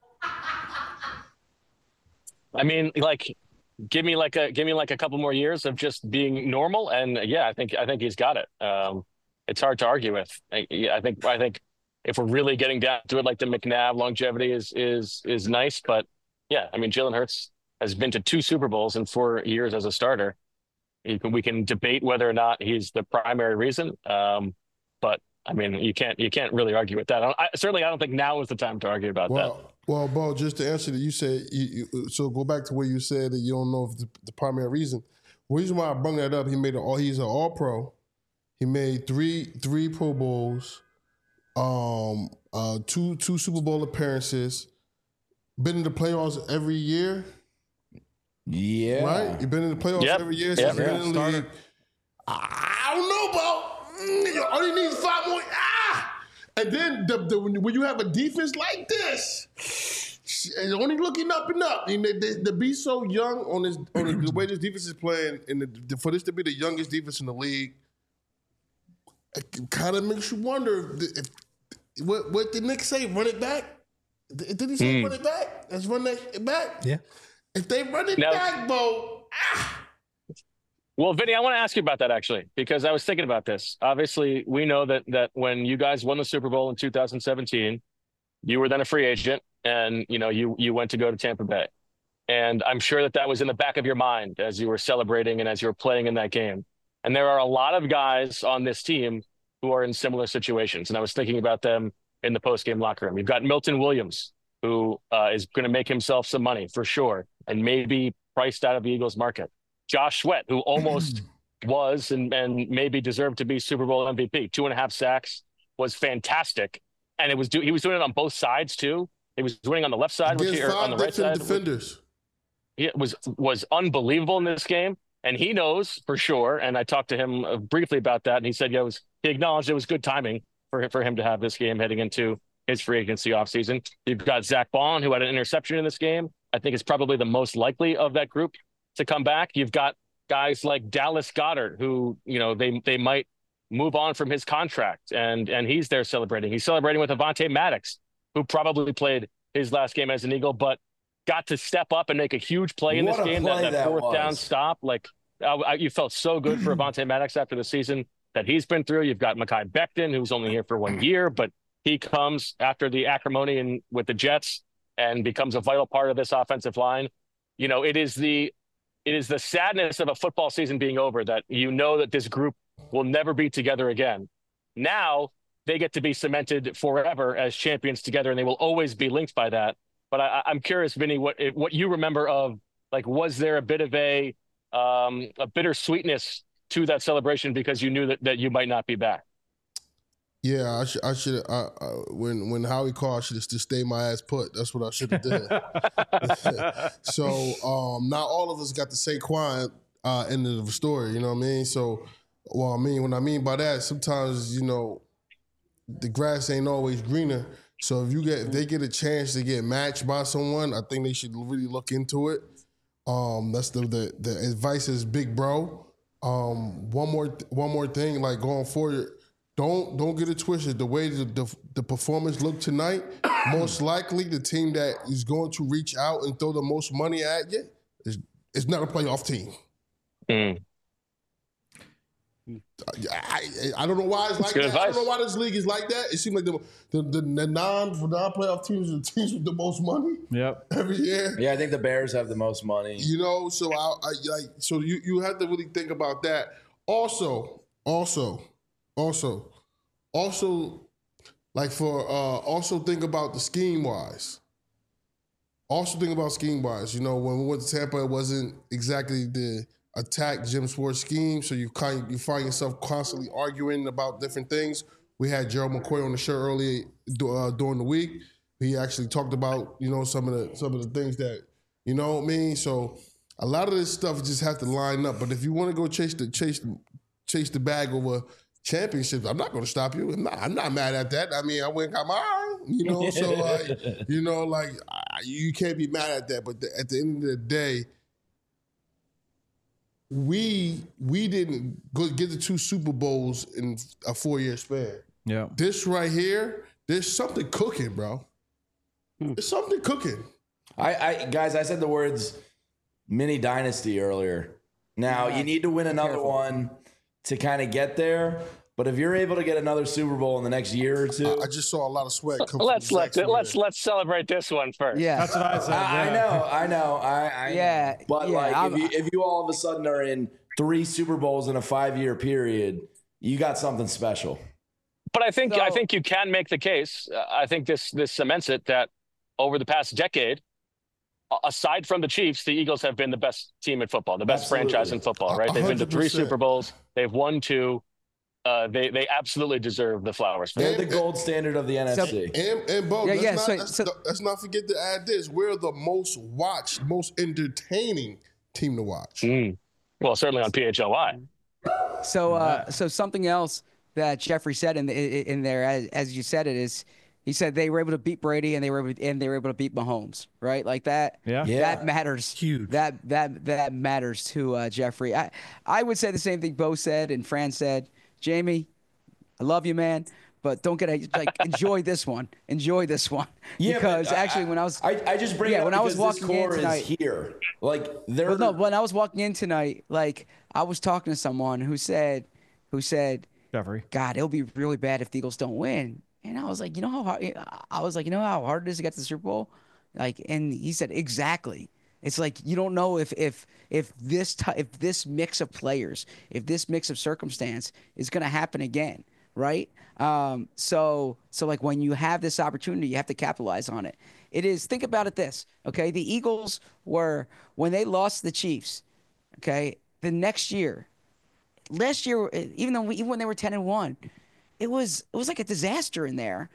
I mean, like, give me like a couple more years of just being normal, and I think he's got it. It's hard to argue with. I think if we're really getting down to it, like the McNabb longevity is nice, but I mean, Jalen Hurts has been to 2 Super Bowls in 4 years as a starter. We can debate whether or not he's the primary reason, but I mean, you can't really argue with that. I don't think now is the time to argue about that. Well, Bo, just to answer that, you said so. Go back to where you said that you don't know if the primary reason. The reason why I brought that up, he's an All-Pro. He made three Pro Bowls, 2 Super Bowl appearances. Been in the playoffs every year. Yeah, right. You've been in the playoffs every year since you've been in the league. I don't know, Bo. All he needs 5 more. And then when you have a defense like this, And only looking up and up. And to be so young on the way this defense is playing, and for this to be the youngest defense in the league, it kind of makes you wonder what did Nick say? Run it back? Did he say run it back? Let's run that back. Yeah. If they run it back, Bo. Well, Vinny, I want to ask you about that actually, because I was thinking about this. Obviously, we know that when you guys won the Super Bowl in 2017, you were then a free agent, and you went to go to Tampa Bay, and I'm sure that was in the back of your mind as you were celebrating and as you were playing in that game. And there are a lot of guys on this team who are in similar situations, and I was thinking about them in the post-game locker room. You've got Milton Williams, who is going to make himself some money for sure, and maybe priced out of the Eagles market. Josh Sweat, who almost was and maybe deserved to be Super Bowl MVP. 2.5 sacks, was fantastic. And he was doing it on both sides too. He was winning on the left side, or on the right side. Defenders. It was unbelievable in this game. And he knows for sure. And I talked to him briefly about that. And he said, he acknowledged it was good timing for him to have this game heading into his free agency offseason. You've got Zach Bond, who had an interception in this game. I think is probably the most likely of that group to come back. You've got guys like Dallas Goedert, who, they might move on from his contract, and he's there celebrating. He's celebrating with Avonte Maddox, who probably played his last game as an Eagle, but got to step up and make a huge play in this game. That fourth down stop, you felt so good for Avonte Maddox after the season that he's been through. You've got Mekhi Becton, who's only here for 1 year, but he comes after the acrimony with the Jets and becomes a vital part of this offensive line. It is the sadness of a football season being over that that this group will never be together again. Now they get to be cemented forever as champions together, and they will always be linked by that. But I'm curious, Vinny, what you remember of, was there a bit of a bittersweetness to that celebration because you knew that you might not be back? Yeah, I should. When Howie called, I should have just stayed my ass put. That's what I should have did. So not all of us got the Saquon end of the story. You know what I mean? So, what I mean by that, sometimes the grass ain't always greener. So if they get a chance to get matched by someone, I think they should really look into it. That's the advice is big bro. One more thing, going forward. Don't get it twisted. The way the performance looked tonight, most likely the team that is going to reach out and throw the most money at you is not a playoff team. I don't know why it's like that. Advice. I don't know why this league is like that. It seems like the non-playoff teams are the teams with the most money. Yep. Every year. Yeah, I think the Bears have the most money. So so you have to really think about that. Also, think about the scheme wise. When we went to Tampa, it wasn't exactly the attack Jim Schwartz scheme. So you find yourself constantly arguing about different things. We had Gerald McCoy on the show earlier during the week. He actually talked about some of the things that what I mean. So a lot of this stuff just have to line up. But if you want to go chase the bag over championships, I'm not going to stop you. I'm not mad at that. I mean, I went and got mine, so you can't be mad at that. But at the end of the day, we didn't get the 2 Super Bowls in a 4-year span. Yeah, this right here, there's something cooking, bro. There's something cooking. Guys, I said the words mini dynasty earlier. Now you need to win another one to kind of get there. But if you're able to get another Super Bowl in the next year or two, I just saw a lot of sweat. Let's celebrate this one first. Yeah, that's what I said. I know. Yeah, but if you all of a sudden are in 3 Super Bowls in a 5-year period, you got something special. But I think you can make the case. I think this cements it that over the past decade, aside from the Chiefs, the Eagles have been the best team in football, the best franchise in football. Right? They've been to 3 Super Bowls. They've won 2. They absolutely deserve the flowers. They're the gold standard of the NFC. And Bo, let's not forget to add this. We're the most watched, most entertaining team to watch. Well, certainly on PHLY. So something else that Jeffrey said in there, as you said it, is He said they were able to beat Brady and they were able to beat Mahomes, right? Like that. Yeah. That matters. Huge. That matters to Jeffrey. I would say the same thing Bo said and Fran said. Jamie, I love you, man, but don't get enjoy this one. Enjoy this one. Yeah, because actually, when I was just bring it up when I was because walking in tonight, is here. Like when I was walking in tonight, like I was talking to someone who said, Jeffrey, God, it'll be really bad if the Eagles don't win. And I was like, you know how hard? I was like, you know how hard it is to get to the Super Bowl? Like, and he said, exactly. It's like you don't know if this mix of players, if this mix of circumstance is going to happen again, right? So like when you have this opportunity, you have to capitalize on it. It is. Think about it this, okay? The Eagles were when they lost the Chiefs, okay. The next year, last year, even when they were 10-1. It was like a disaster in there.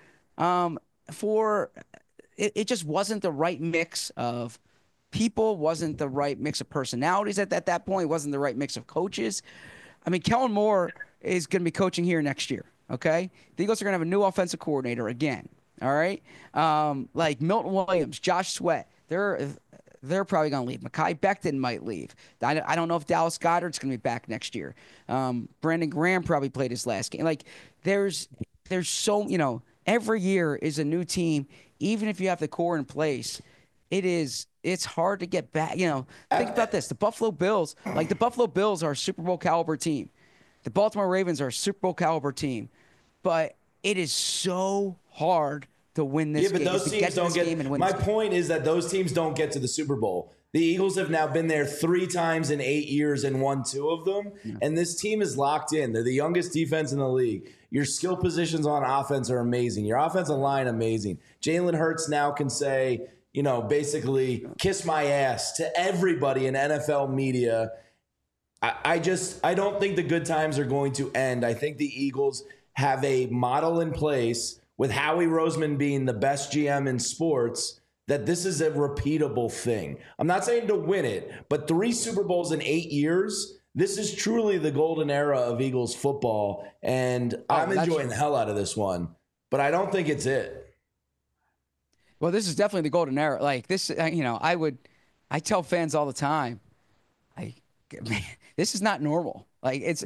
It just wasn't the right mix of people, wasn't the right mix of personalities at that point, wasn't the right mix of coaches. I mean, Kellen Moore is going to be coaching here next year, okay? The Eagles are going to have a new offensive coordinator again, all right? Like Milton Williams, Josh Sweat, they're probably going to leave. Mekhi Becton might leave. I don't know if Dallas Goedert's going to be back next year. Brandon Graham probably played his last game. Like, there's so, every year is a new team. Even if you have the core in place, it's hard to get back. Think about this. The Buffalo Bills are a Super Bowl caliber team. The Baltimore Ravens are a Super Bowl caliber team. But it is so hard to win this game. Yeah, but those teams don't get. My point is that those teams don't get to the Super Bowl. The Eagles have now been there 3 times in 8 years and won 2 of them. Yeah. And this team is locked in. They're the youngest defense in the league. Your skill positions on offense are amazing. Your offensive line, amazing. Jalen Hurts now can say, basically kiss my ass to everybody in NFL media. I don't think the good times are going to end. I think the Eagles have a model in place with Howie Roseman being the best GM in sports, that this is a repeatable thing. I'm not saying to win it, but 3 Super Bowls in 8 years, this is truly the golden era of Eagles football, and I'm enjoying the hell out of this one, but I don't think it's it. Well, this is definitely the golden era. Like this, I tell fans all the time, man, this is not normal. Like it's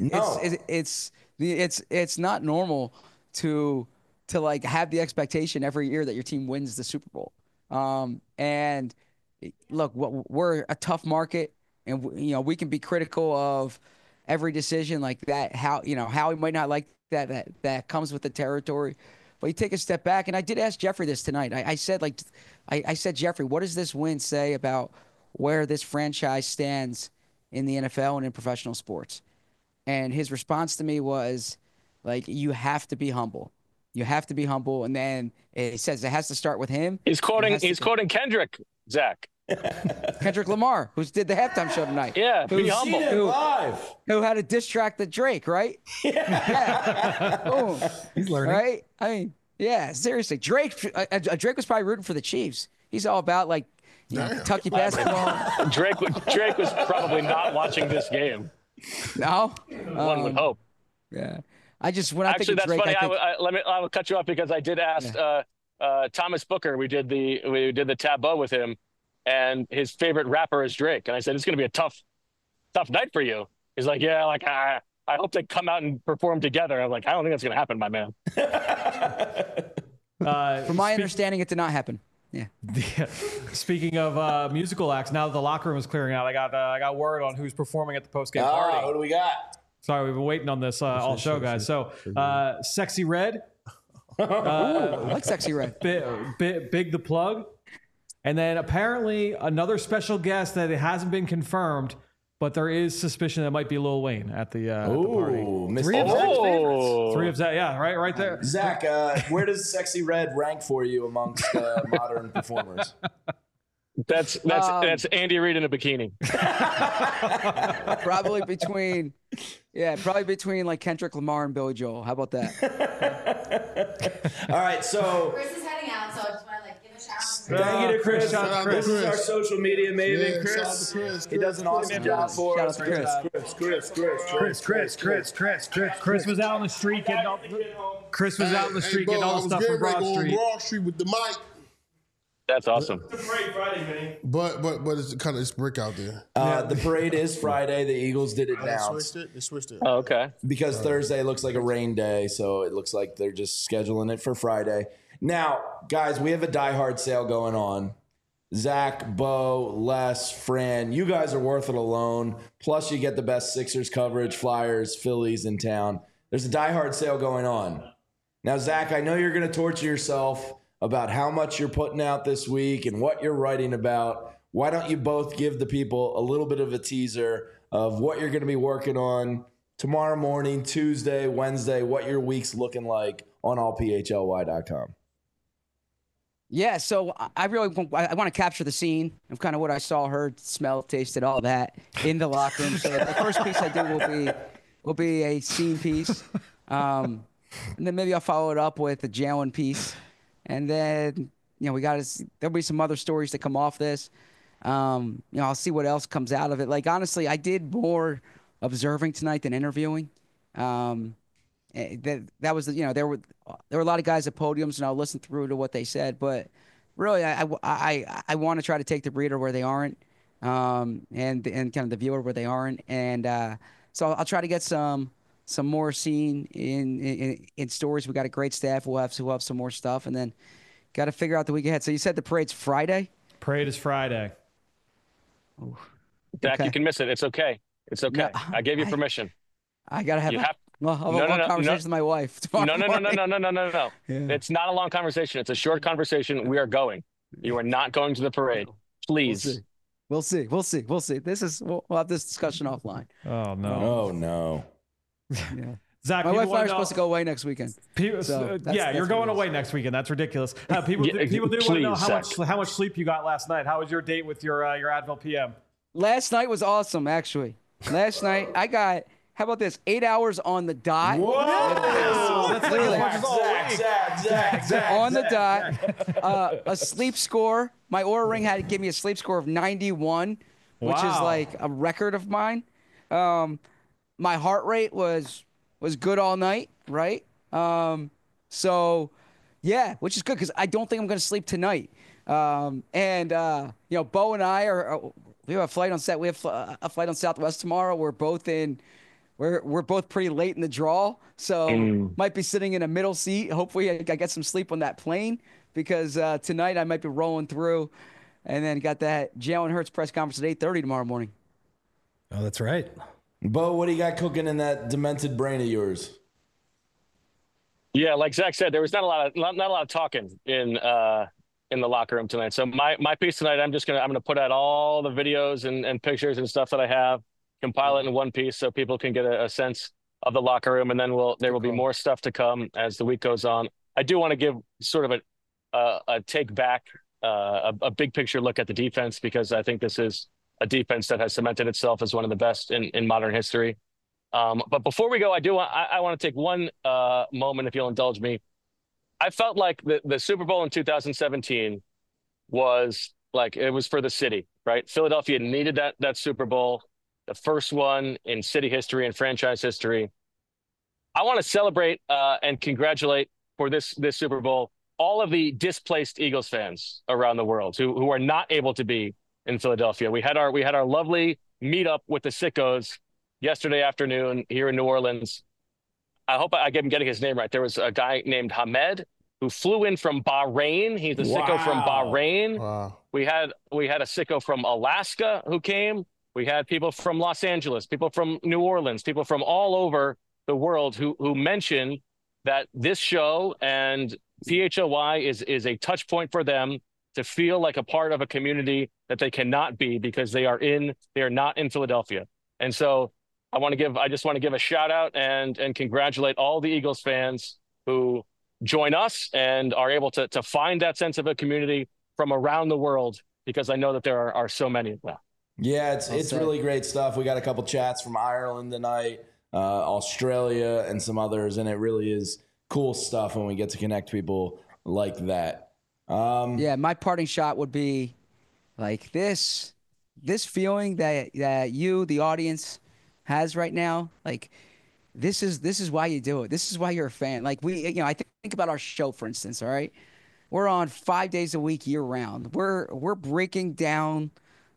not normal to like have the expectation every year that your team wins the Super Bowl. And look, we're a tough market, and we can be critical of every decision like that. How we might not like that comes with the territory. But you take a step back, and I did ask Jeffrey this tonight. I said, Jeffrey, what does this win say about where this franchise stands in the NFL and in professional sports? And his response to me was, like, you have to be humble. You have to be humble, and then it says it has to start with him. He's quoting Kendrick, Zach. Kendrick Lamar, who did the halftime show tonight. Yeah, be humble. Who had a diss track to Drake, right? Yeah. Boom. He's learning. Right? I mean, yeah, seriously. Drake was probably rooting for the Chiefs. He's all about, like, Kentucky basketball. Drake was probably not watching this game. No? One would hope. Yeah. I think of Drake, funny. I will cut you off because I did ask Thomas Booker. We did the tableau with him, and his favorite rapper is Drake. And I said, it's going to be a tough night for you. He's like, yeah, like I hope they come out and perform together. I'm like, I don't think that's going to happen, my man. From my understanding, it did not happen. Yeah. Speaking of musical acts, now that the locker room is clearing out, I got word on who's performing at the post-game party. What do we got? Sorry, we've been waiting on this all show, guys. So, Sexy Red. I like Sexy Red. Big the Plug. And then apparently another special guest that it hasn't been confirmed, but there is suspicion that might be Lil Wayne at the party. Three of Zach, yeah, right there. Zach, where does Sexy Red rank for you amongst modern performers? That's Andy Reid in a bikini. Probably between like Kendrick Lamar and Billy Joel. How about that? All right, so Chris is heading out, so I just want to give a shout out. Thank you to Chris. Shout out to This Chris. is our social media maven, Yeah, Chris. shout out to Chris. He does an awesome job for us. Chris was out on the street getting all Chris was out in the street getting all the stuff from Broad Street. Broad Street with the mic. That's awesome. The parade Friday, Vinny. But it's kind of brick out there. The parade is Friday. The Eagles did announce. They switched it. Oh, okay. Because Thursday looks like a rain day, so it looks like they're just scheduling it for Friday. Now, guys, we have a Die Hard sale going on. Zach, Bo, Les, Fran, you guys are worth it alone. Plus, you get the best Sixers coverage, Flyers, Phillies in town. There's a Die Hard sale going on. Now, Zach, I know you're going to torture yourself about how much you're putting out this week and what you're writing about. Why don't you both give the people a little bit of a teaser of what you're going to be working on tomorrow morning, Tuesday, Wednesday, what your week's looking like on allphly.com? Yeah, so I want to capture the scene of kind of what I saw, heard, smelled, tasted, all that in the locker room. So the first piece I do will be a scene piece, and then maybe I'll follow it up with a Jalen piece, and then there'll be some other stories that come off this. I'll see what else comes out of it. Like honestly, I did more observing tonight than interviewing. That was there were a lot of guys at podiums, and I'll listen through to what they said. But really, I want to try to take the reader where they aren't, and kind of the viewer where they aren't, and so I'll try to get some more scene in stories. We got a great staff. We'll have some more stuff, and then got to figure out the week ahead. So you said the parade's Friday? Parade is Friday. Ooh. Zach, Okay. you can miss it. It's okay. It's okay. No, I gave you permission. I gotta have. I'll have No, a long conversation with my wife tomorrow No. morning. No. Yeah. It's not a long conversation. It's a short conversation. We are going. You are not going to the parade. Please. We'll see. We'll have this discussion offline. Oh no. Oh no. Yeah. Zach, My people wife and I wanna are know- supposed to go away next weekend. People, So that's you're what going it is. away next weekend. That's ridiculous. People do want to know how much sleep you got last night. How was your date with your Advil PM? Last night was awesome, actually. Last night I got. How about this? 8 hours on the dot. Whoa! That's Literally. Zach. On the dot. A sleep score. My Oura Ring had to give me a sleep score of 91, which is Wow. like a record of mine. My heart rate was good all night, right? So, yeah, which is good because I don't think I'm going to sleep tonight. Bo and I we have a flight on set. We have a flight on Southwest tomorrow. We're both pretty late in the draw, so might be sitting in a middle seat. Hopefully, I get some sleep on that plane because tonight I might be rolling through, and then got that Jalen Hurts press conference at 8:30 tomorrow morning. Oh, that's right. Bo, what do you got cooking in that demented brain of yours? Yeah, like Zach said, there was not a lot of talking in the locker room tonight. So my piece tonight, I'm gonna put out all the videos and pictures and stuff that I have, compile it in one piece so people can get a sense of the locker room, and then there will be more stuff to come as the week goes on. I do want to give sort of a take back, a big picture look at the defense, because I think this is a defense that has cemented itself as one of the best in modern history. But before we go, I want to take one moment, if you'll indulge me. I felt like the Super Bowl in 2017 was like, it was for the city, right? Philadelphia needed that Super Bowl, the first one in city history and franchise history. I want to celebrate and congratulate for this Super Bowl all of the displaced Eagles fans around the world who are not able to be in Philadelphia. We had our lovely meetup with the Sickos yesterday afternoon here in New Orleans. I hope I'm getting his name right. There was a guy named Hamed who flew in from Bahrain. He's a sicko from Bahrain. Wow. We had a sicko from Alaska who came. We had people from Los Angeles, people from New Orleans, people from all over the world who mentioned that this show and PHLY is a touch point for them to feel like a part of a community that they cannot be because they are not in Philadelphia. And so I just want to give a shout out and congratulate all the Eagles fans who join us and are able to find that sense of a community from around the world, because I know that there are so many. Well, yeah, it's really great stuff. We got a couple chats from Ireland tonight, Australia, and some others, and it really is cool stuff when we get to connect people like that. Yeah, my parting shot would be like this feeling that you, the audience, has right now. Like, this is why you do it. This is why you're a fan. Like I think about our show, for instance. All right, we're on 5 days a week, year round. We're breaking down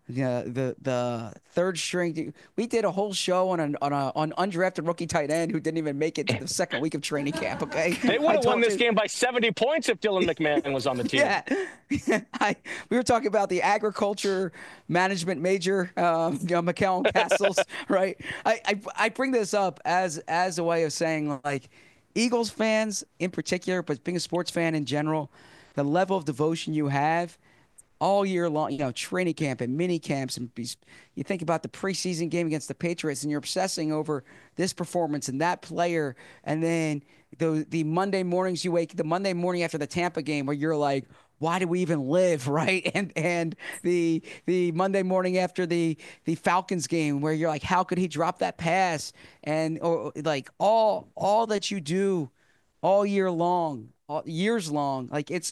the third string. We did a whole show on undrafted rookie tight end who didn't even make it to the second week of training camp. Okay, they would have won this game by 70 points if Dylan McMahon was on the team. Yeah, we were talking about the agriculture management major, McCallum Castles, right? I bring this up as a way of saying, like, Eagles fans in particular, but being a sports fan in general, the level of devotion you have all year long, training camp and mini camps, and you think about the preseason game against the Patriots, and you're obsessing over this performance and that player, and then the Monday mornings the Monday morning after the Tampa game, where you're like, why do we even live, right? And the Monday morning after the Falcons game, where you're like, how could he drop that pass? And or like all that you do all year long, years long, like it's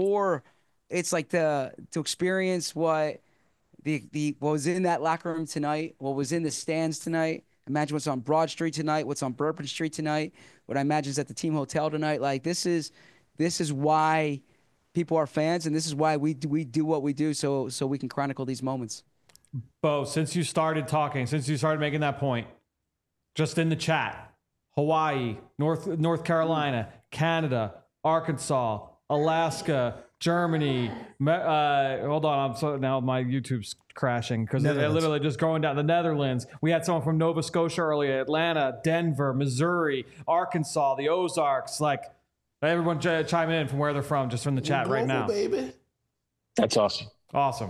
like to experience what what was in that locker room tonight, what was in the stands tonight. Imagine what's on Broad Street tonight, what's on Bourbon Street tonight, what I imagine is at the team hotel tonight. Like this is why people are fans, and this is why we do what we do, so we can chronicle these moments. Bo, since you started talking, since you started making that point, just in the chat, Hawaii, North Carolina, Canada, Arkansas, Alaska, Germany. Hold on, now my YouTube's crashing because they're literally just going down. The Netherlands. We had someone from Nova Scotia earlier. Atlanta, Denver, Missouri, Arkansas, the Ozarks. Like everyone chime in from where they're from, just from the chat right now. Baby. That's awesome. Awesome.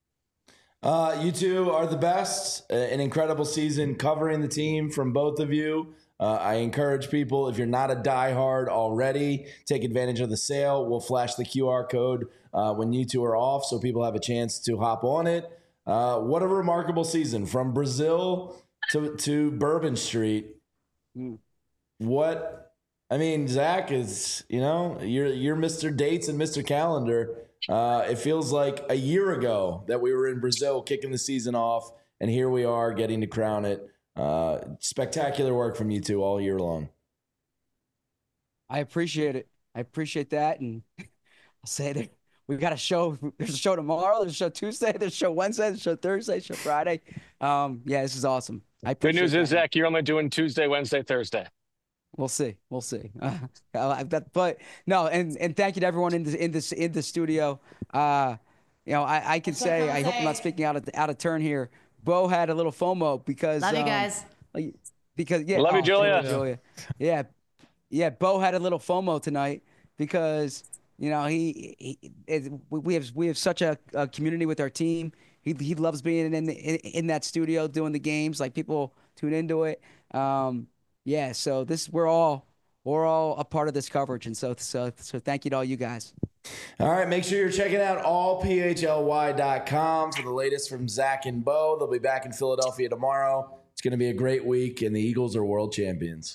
You two are the best. An incredible season covering the team from both of you. I encourage people, if you're not a diehard already, take advantage of the sale. We'll flash the QR code when you two are off so people have a chance to hop on it. What a remarkable season. From Brazil to Bourbon Street. Zach is, you're Mr. Dates and Mr. Calendar. It feels like a year ago that we were in Brazil kicking the season off, and here we are getting to crown it. Spectacular work from you two all year long. I appreciate it. I appreciate that. And I'll say that we've got a show. There's a show tomorrow. There's a show Tuesday. There's a show Wednesday. There's a show Thursday. There's a show Friday. This is awesome. Good news is, Zach, you're only doing Tuesday, Wednesday, Thursday. We'll see. But no, and thank you to everyone in the studio. I can say, I hope I'm not speaking out of turn here. Bo had a little FOMO because love you guys. Love you, Julia. Yeah. Bo had a little FOMO tonight because we have such a community with our team. He loves being in that studio doing the games. Like people tune into it. So we're all a part of this coverage, and so thank you to all you guys. All right, make sure you're checking out allphly.com for the latest from Zach and Bo. They'll be back in Philadelphia tomorrow. It's going to be a great week, and the Eagles are world champions.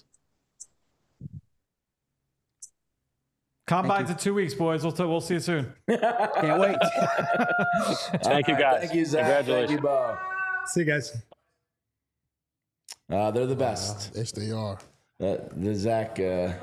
Combine's in 2 weeks, boys. We'll see you soon. Can't wait. Thank you, guys. Thank you, Zach. Congratulations. Thank you, Bo. See you guys. They're the best. Yes, they are. The Zach.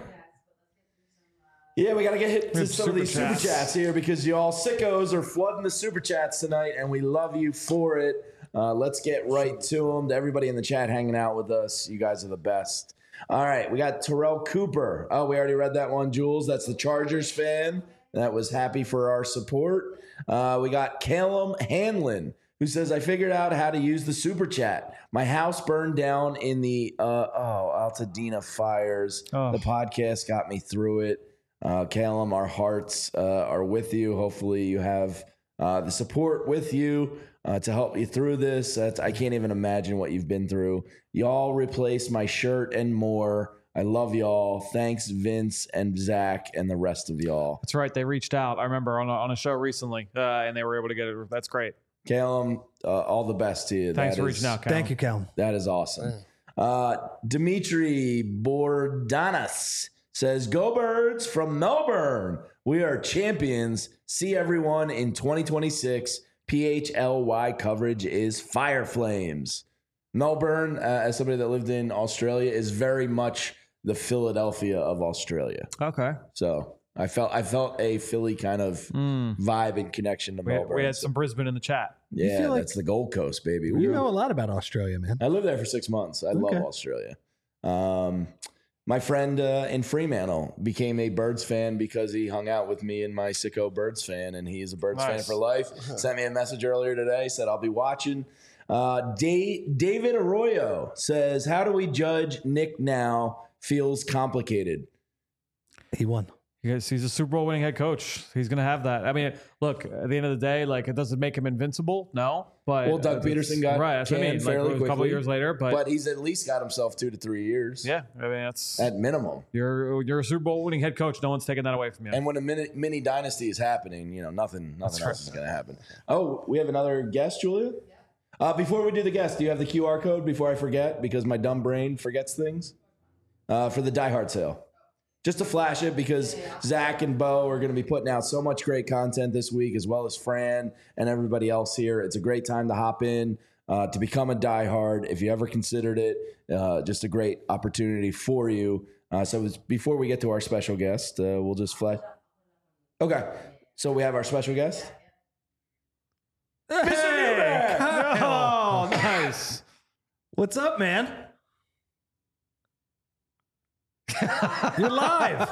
We got to get hit to some of these super chats here because y'all sickos are flooding the super chats tonight, and we love you for it. Let's get right to them. To everybody in the chat hanging out with us, you guys are the best. All right, we got Terrell Cooper. Oh, we already read that one, Jules. That's the Chargers fan. That was happy for our support. We got Callum Hanlon, who says, I figured out how to use the super chat. My house burned down in the Altadena fires. Oh. The podcast got me through it. Callum, our hearts are with you. Hopefully you have the support with you to help you through this. I can't even imagine what you've been through. Y'all replace my shirt and more. I love y'all. Thanks, Vince and Zach and the rest of y'all. That's right. They reached out. I remember on a show recently, and they were able to get it. That's great. Callum, all the best to you. Thanks for reaching out, Callum. Thank you, Callum. That is awesome. Dimitri Bordanas says, Go Birds from Melbourne. We are champions. See everyone in 2026. PHLY coverage is Fire Flames. Melbourne, as somebody that lived in Australia, is very much the Philadelphia of Australia. Okay. So I felt a Philly kind of vibe and connection to Melbourne. We had some Brisbane in the chat. Yeah, that's the Gold Coast, baby. You know a lot about Australia, man. I lived there for 6 months. I love Australia. My friend in Fremantle became a Birds fan because he hung out with me and my sicko Birds fan, and he is a Birds fan for life. Sent me a message earlier today, said I'll be watching. David Arroyo says, how do we judge Nick now? Feels complicated. He won. He's a Super Bowl winning head coach. He's going to have that. I mean, look, at the end of the day, like, it doesn't make him invincible. No. But Doug Peterson got that's what I mean. fairly quickly. A couple of years later, but he's at least got himself 2 to 3 years. Yeah, I mean, that's at minimum. You're a Super Bowl winning head coach. No one's taking that away from you. And when a mini dynasty is happening, nothing else is going to happen. Oh, we have another guest, Julia. Before we do the guest, do you have the QR code? Before I forget, because my dumb brain forgets things. For the Die Hard sale. Just to flash it, because Zach and Bo are going to be putting out so much great content this week, as well as Fran and everybody else here. It's a great time to hop in, to become a Die Hard. If you ever considered it, just a great opportunity for you. So before we get to our special guest, we'll just flash. Okay, so we have our special guest. Hey! Oh, nice. What's up, man? You're live.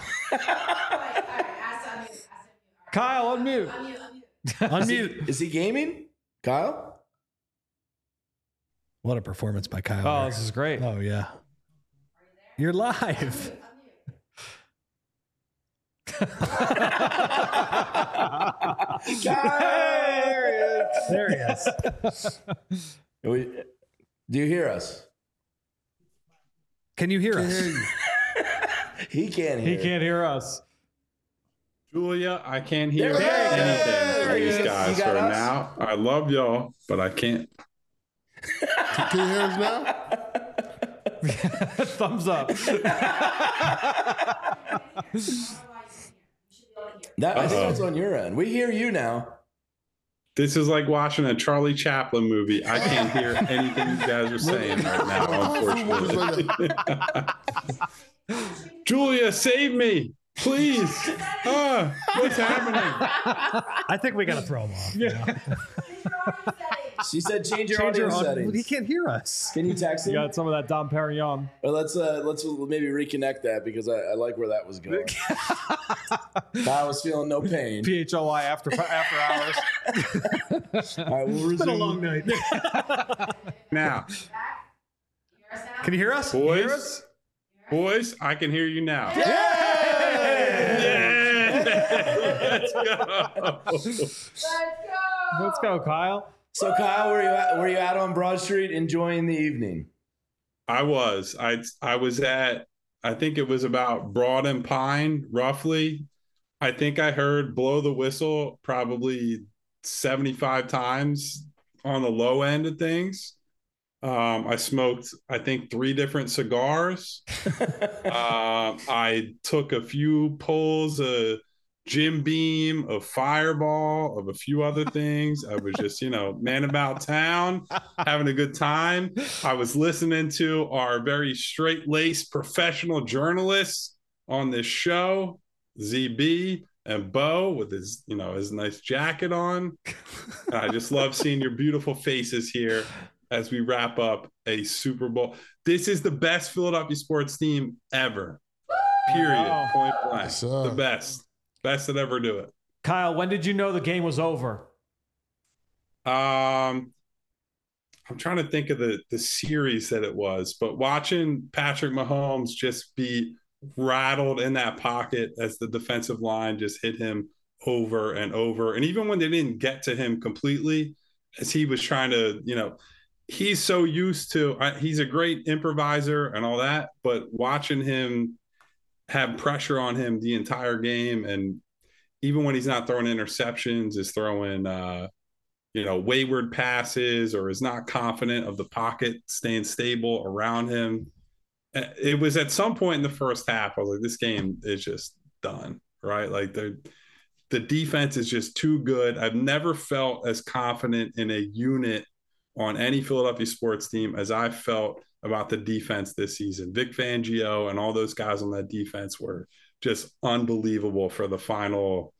Kyle, unmute. Unmute. Is he gaming? Kyle? What a performance by Kyle. Oh, this is great. Oh, yeah. You're live. There he is. Do you hear us? Can you hear us? He can't hear. He can't hear us. Julia, I can't hear anything. These guys right us? now. I love y'all, but I can't. Can you hear us now? Thumbs up. I think that's on your end. We hear you now. This is like watching a Charlie Chaplin movie. I can't hear anything you guys are saying right now, unfortunately. Julia, save me, please. What's happening? I think we got to throw him off. Yeah. She said change your audio settings. He can't hear us. Can you text him? You got some of that Dom Perignon. Or let's maybe reconnect that, because I like where that was going. I was feeling no pain. PHLY after hours. All right, we'll resume. It's been a long night. Now, can you hear us? Boys, I can hear you now. Let's go. Let's go, Kyle. So, Kyle, were you out on Broad Street enjoying the evening? I was. I was at, I think it was about Broad and Pine, roughly. I think I heard blow the whistle probably 75 times on the low end of things. I smoked, I think, 3 different cigars. I took a few pulls of Jim Beam, of Fireball, of a few other things. I was just, man about town, having a good time. I was listening to our very straight-laced professional journalists on this show, ZB and Bo, with his, his nice jacket on. And I just love seeing your beautiful faces here as we wrap up a Super Bowl. This is the best Philadelphia sports team ever. Period. Point blank. Yes, the best. Best that ever do it. Kyle, when did you know the game was over? I'm trying to think of the series that it was, but watching Patrick Mahomes just be rattled in that pocket as the defensive line just hit him over and over. And even when they didn't get to him completely, as he was trying to, he's so used to, he's a great improviser and all that, but watching him have pressure on him the entire game, and even when he's not throwing interceptions, is throwing wayward passes, or is not confident of the pocket staying stable around him. It was at some point in the first half, I was like, this game is just done, right? Like the defense is just too good. I've never felt as confident in a unit on any Philadelphia sports team as I felt about the defense this season. Vic Fangio and all those guys on that defense were just unbelievable for the final,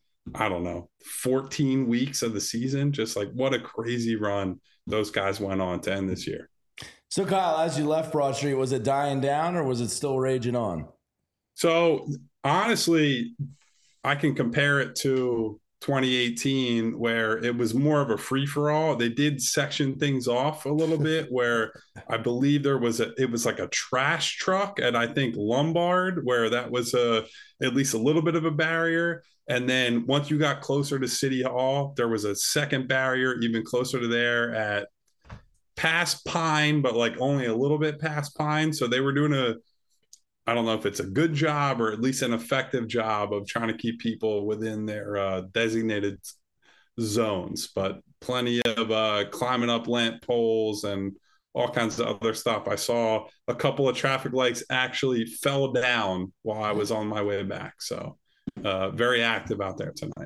14 weeks of the season. Just like what a crazy run those guys went on to end this year. So, Kyle, as you left Broad Street, was it dying down or was it still raging on? So, honestly, I can compare it to 2018, where it was more of a free-for-all. They did section things off a little bit, where I believe it was like a trash truck at, I think, Lombard, where that was at least a little bit of a barrier. And then once you got closer to City Hall, there was a second barrier even closer to there at past Pine, but like only a little bit past Pine. So they were doing I don't know if it's a good job or at least an effective job of trying to keep people within their designated zones, but plenty of climbing up lamp poles and all kinds of other stuff. I saw a couple of traffic lights actually fell down while I was on my way back. So very active out there tonight.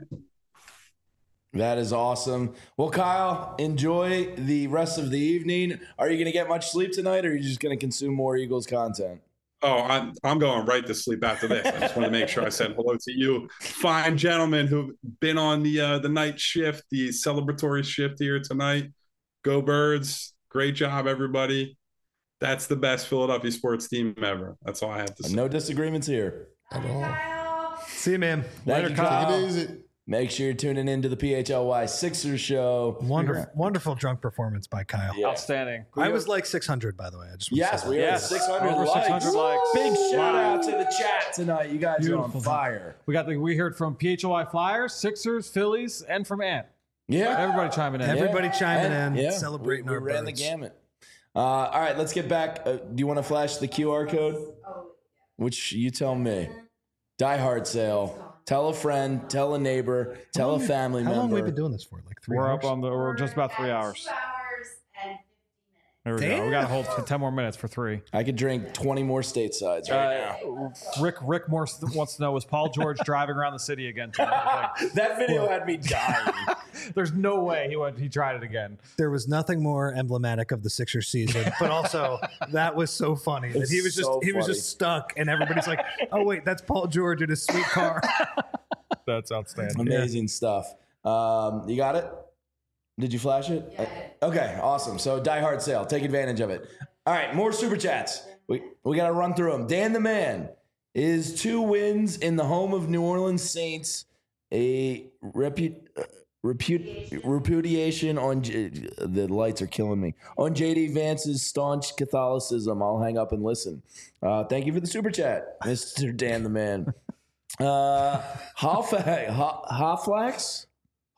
That is awesome. Well, Kyle, enjoy the rest of the evening. Are you going to get much sleep tonight, or are you just going to consume more Eagles content? Oh, I'm going right to sleep after this. I just want to make sure I said hello to you, fine gentlemen who've been on the night shift, the celebratory shift here tonight. Go Birds. Great job, everybody. That's the best Philadelphia sports team ever. That's all I have to say. No disagreements here. At all. See you, man. Later, Kyle. Take it easy. Make sure you're tuning into the PHLY Sixers show. Wonderful drunk performance by Kyle. Yeah. Outstanding. I was like 600, by the way. I just we had 600 over likes. 600 likes. Big shout out to the chat tonight. You guys are on fire. We heard from PHLY Flyers, Sixers, Phillies, and from Ant. Yeah, everybody chiming in. Everybody chiming in, celebrating our ran birds. the gamut. All right, let's get back. Do you want to flash the QR code? Which you tell me. Die Hard sale. Tell a friend, tell a neighbor, tell a family member. How long have we been doing this for? Like 3 We're hours? we're just about 3 hours. 2 hours and 50 minutes. There we go. We got to hold for 10 more minutes for 3. I could drink 20 more statesides right now. Rick Morse wants to know, was Paul George driving around the city again tonight? That video had me dying. There's no way he tried it again. There was nothing more emblematic of the Sixers season, but also that was so funny that he was just stuck, and everybody's like, "Oh wait, that's Paul George in his sweet car." That's outstanding. Amazing stuff. You got it? Did you flash it? Yeah. Okay, awesome. So Die Hard sale. Take advantage of it. All right, more super chats. We got to run through them. Dan the Man, is 2 wins in the home of New Orleans Saints a repudiation on the lights are killing me on JD Vance's staunch Catholicism? I'll hang up and listen. Thank you for the super chat, Mr. Dan the Man. Hallflax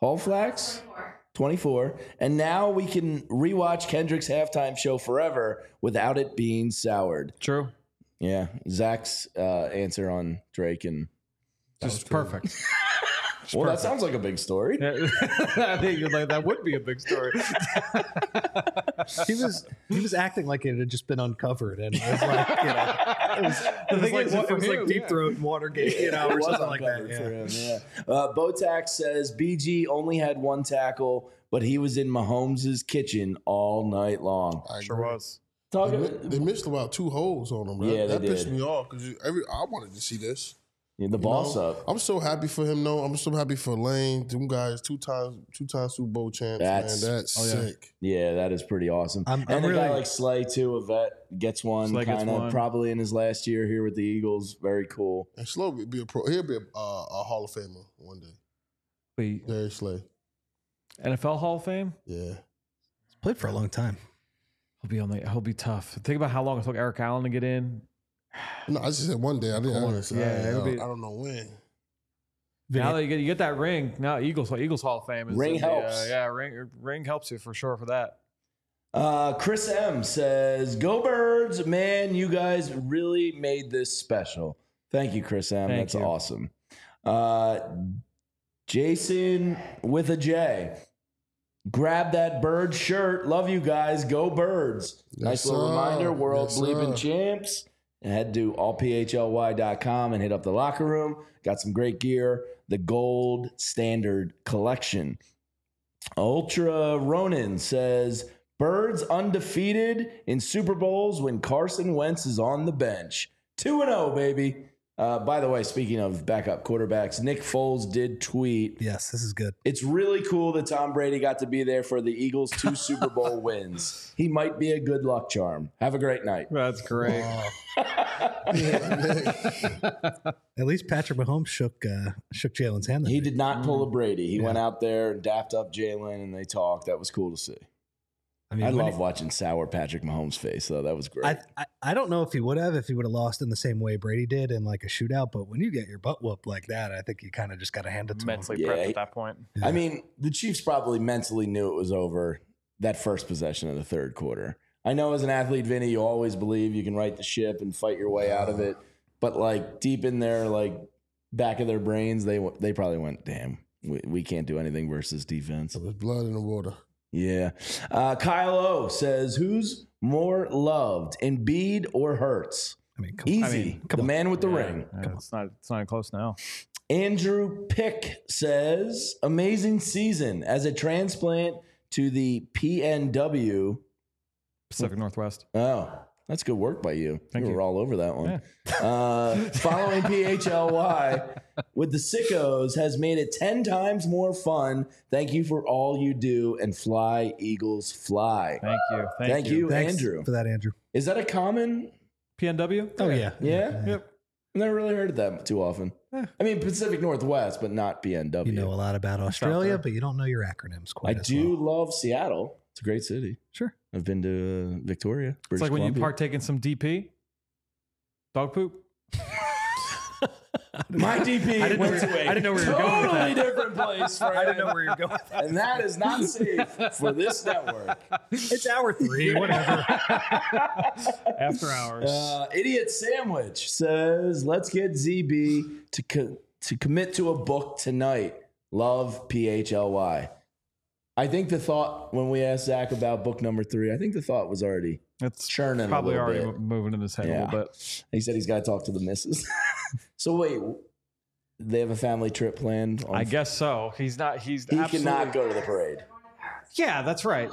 24, and now we can rewatch Kendrick's halftime show forever without it being soured. True. Yeah, Zach's answer on Drake and just perfect. Well, that sounds like a big story. I think that would be a big story. He was acting like it had just been uncovered, and it was like, it was like Deep Throat and Watergate, or something like that. For him, Botax says BG only had 1 tackle, but he was in Mahomes' kitchen all night long. Sure was. They missed about 2 holes on him. Yeah, that they pissed did. me off because I wanted to see this. Yeah, the boss up. I'm so happy for him, though. I'm so happy for Lane. Them guys, 2 times Super Bowl champs, man. That's sick. Yeah, that is pretty awesome. I'm and a really, guy like Slay, too, a vet, gets one kind of probably in his last year here with the Eagles. Very cool. And Slay will be a pro. He'll be a Hall of Famer one day. Wait, Darius Slay. NFL Hall of Fame? Yeah. He's played for a long time. He'll be tough. Think about how long it took Eric Allen to get in. No, I just said one day. I didn't. I don't know when. Now that you get that ring, now Eagles Hall of Fame. Ring helps. Ring helps you for sure for that. Chris M says, "Go Birds, man! You guys really made this special. Thank you, Chris M. That's awesome." Jason with a J. Grab that bird shirt. Love you guys. Go Birds. Nice little reminder. World Bleeping Champs. And head to allphly.com and hit up the locker room. Got some great gear. The Gold Standard Collection. Ultra Ronin says, Birds undefeated in Super Bowls when Carson Wentz is on the bench. 2-0, baby. By the way, speaking of backup quarterbacks, Nick Foles did tweet. Yes, this is good. It's really cool that Tom Brady got to be there for the Eagles' 2 Super Bowl wins. He might be a good luck charm. Have a great night. That's great. At least Patrick Mahomes shook Jalen's hand. He did not pull a Brady. He went out there and dapped up Jalen, and they talked. That was cool to see. I love watching sour Patrick Mahomes' face, though. That was great. I don't know if he would have lost in the same way Brady did in like a shootout, but when you get your butt whooped like that, I think you kind of just got to hand it to mentally him. prepped at that point. I mean, the Chiefs probably mentally knew it was over that first possession of the third quarter. I know as an athlete, Vinny, you always believe you can right the ship and fight your way out of it, but like deep in their like back of their brains, they probably went, "Damn, we can't do anything versus defense." There's blood in the water. Yeah. Kyle O says, who's more loved, Embiid or Hurts? Easy. The man with the ring. It's not even close now. Andrew Pick says, amazing season as a transplant to the PNW. Pacific Northwest. Oh, that's good work by you. Thank you. Were all over that one. Yeah. Following PHLY with the Sickos has made it 10 times more fun. Thank you for all you do, and fly, Eagles, fly. Thank you. Thank you, Thanks Andrew. for that, Andrew. Is that a common PNW? Oh, yeah. Yeah? Yep. I've never really heard of that too often. I mean, Pacific Northwest, but not PNW. You know a lot about Australia, but you don't know your acronyms quite I as do well. love Seattle. It's a great city. Sure. I've been to Victoria. It's British like when you Columbia. partake in some DP. Dog poop. My DP I didn't know where you were going with totally that. different place. I didn't know where you're going with that. And that is not safe for this network. It's hour 3, whatever. After hours. Idiot Sandwich says, let's get ZB to commit to a book tonight. Love, PHLY. I think the thought, when we asked Zach about book number 3, I think the thought was already churning Probably a little already bit. moving in his head a little bit. He said he's got to talk to the missus. So wait, they have a family trip planned? I guess so. He cannot go to the parade. Yeah, that's right.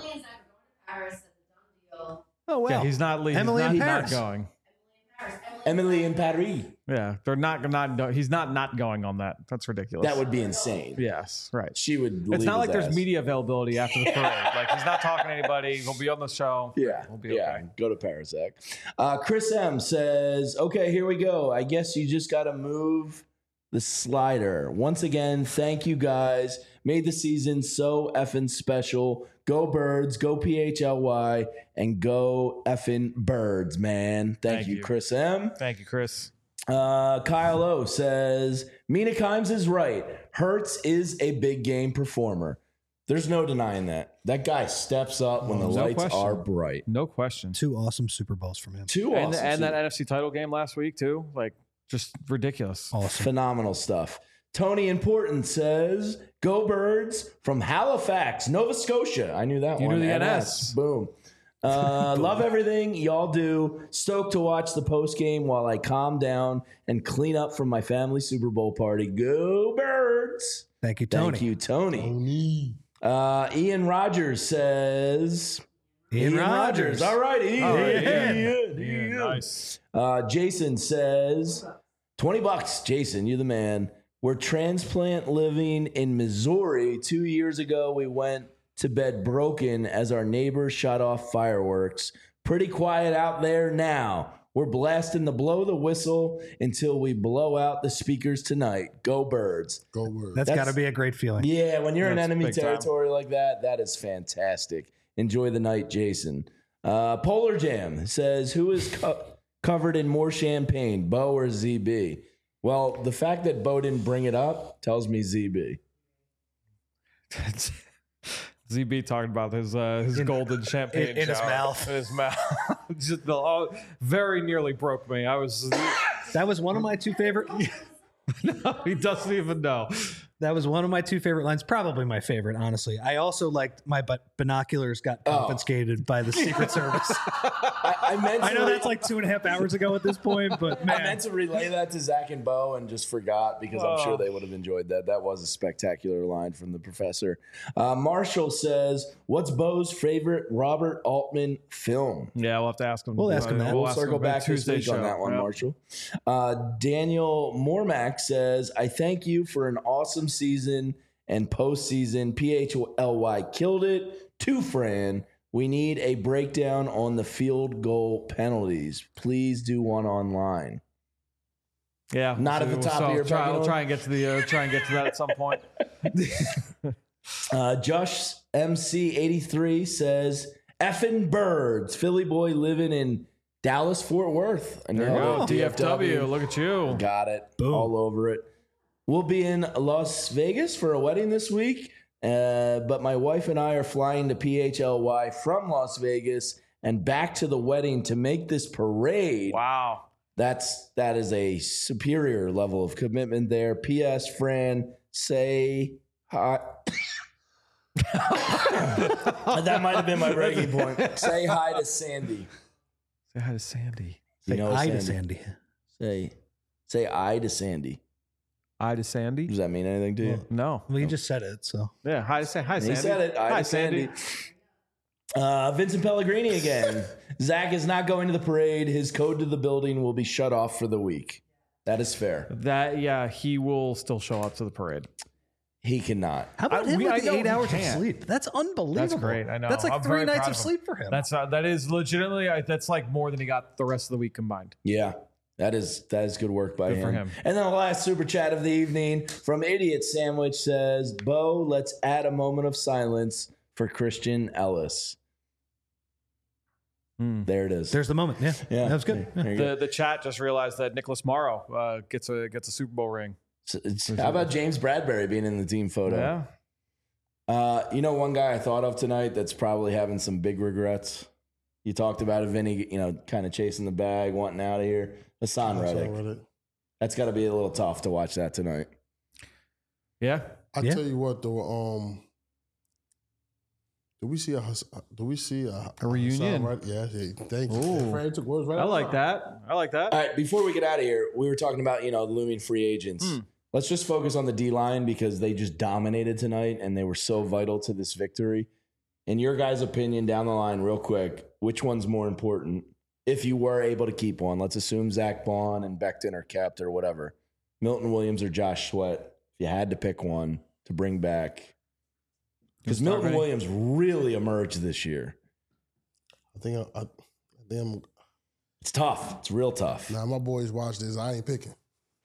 Oh, well. Yeah, he's not leaving. Emily he's in not Paris. going. Emily in Paris. Yeah, they're not. He's not going on that. That's ridiculous. That would be insane. Yes, right. She would. It's not like his there's ass. media availability after the parade. Like he's not talking to anybody. He'll be on the show. Yeah, we'll be okay. Go to Paris, Zach. Chris M says, "Okay, here we go. I guess you just got to move the slider once again. Thank you guys. Made the season so effing special. Go Birds, go PHLY, and go effing Birds, man. Thank you, Chris M. Thank you, Chris. Kyle O says, Mina Kimes is right. Hurts is a big game performer. There's no denying that. That guy steps up when the lights are bright. No question. 2 awesome Super Bowls from him. And that NFC title game last week too. Like just ridiculous. Awesome. Phenomenal stuff. Tony Important says, go Birds from Halifax, Nova Scotia. I knew that You one. knew the NS. Boom. Love everything y'all do. Stoked to watch the post game while I calm down and clean up from my family Super Bowl party. Go Birds. Thank you, Tony. Thank you, Tony. Ian Rogers says... Ian Rogers. All right, Ian. Ian. Nice. Jason says, $20. Jason, you're the man. We're transplant living in Missouri. 2 years ago, we went to bed broken as our neighbors shot off fireworks. Pretty quiet out there now. We're blasting the blow the whistle until we blow out the speakers tonight. Go Birds. Go Birds. That's got to be a great feeling. Yeah, when you're in That's enemy big time. territory like that, that is fantastic. Enjoy the night, Jason. Polar Jam says, who is covered in more champagne, Bo or ZB? Well, the fact that Bo didn't bring it up tells me ZB. ZB talking about his golden champagne in his shower. mouth. In his mouth. Just very nearly broke me. That was one of my 2 favorite. No, he doesn't even know. That was one of my two favorite lines, probably my favorite, honestly. I also liked my binoculars got confiscated by the Secret Service. I know that's like 2.5 hours ago at this point, but man. I meant to relay that to Zach and Bo and just forgot because I'm sure they would have enjoyed that. That was a spectacular line from the professor. Marshall says, what's Bo's favorite Robert Altman film? Yeah, we'll have to ask him. We'll ask him that. We'll circle back Tuesday this week on that one, Marshall. Daniel Mormack says, I thank you for an awesome season and postseason. PHLY killed it. To Fran, we need a breakdown on the field goal penalties. Please do one online. Yeah, not at the top of your I'll try and get to that at some point. Josh MC83 says, effing birds. Philly boy living in Dallas, Fort Worth. There you go. DFW. Look at you. Got it. Boom. All over it. We'll be in Las Vegas for a wedding this week, but my wife and I are flying to PHLY from Las Vegas and back to the wedding to make this parade. Wow. That is a superior level of commitment there. P.S. Fran, say hi. That might have been my breaking point. Say hi to Sandy. Say hi to Sandy. Say hi to Sandy. Say I to Sandy. I to Sandy? Does that mean anything to you? No. Well, you just said it, so. Yeah, hi Sandy. He said it. Hi, Sandy. Vincent Pellegrini again. Zach is not going to the parade. His code to the building will be shut off for the week. That is fair. He will still show up to the parade. He cannot. How about him with the 8 hours of sleep? That's unbelievable. That's great. I know. That's like I'm 3 very nights proud of sleep for him. That is legitimately. That's like more than he got the rest of the week combined. Yeah. That is good work by Good for him. And then the last super chat of the evening from Idiot Sandwich says, Bo, let's add a moment of silence for Christian Ellis. There it is. There's the moment. Yeah. That was good. Yeah. The chat just realized that Nicholas Morrow gets a Super Bowl ring. How about James Bradbury being in the team photo? Yeah. One guy I thought of tonight that's probably having some big regrets. You talked about it, Vinny, kind of chasing the bag, wanting out of here. Hassan Reddick. That's got to be a little tough to watch that tonight. Yeah. I tell you what, though. Do we see a reunion? Right? Yeah. Thank you. Fran took words right I like that. All right. Before we get out of here, we were talking about the looming free agents. Let's just focus on the D line because they just dominated tonight and they were so vital to this victory. In your guys' opinion, down the line, real quick, which one's more important? If you were able to keep one, let's assume Zach Bond and Becton are kept or whatever. Milton Williams or Josh Sweat, if you had to pick one to bring back. Because Milton Williams really emerged this year. I think it's tough. It's real tough. Now, my boys watch this. I ain't picking.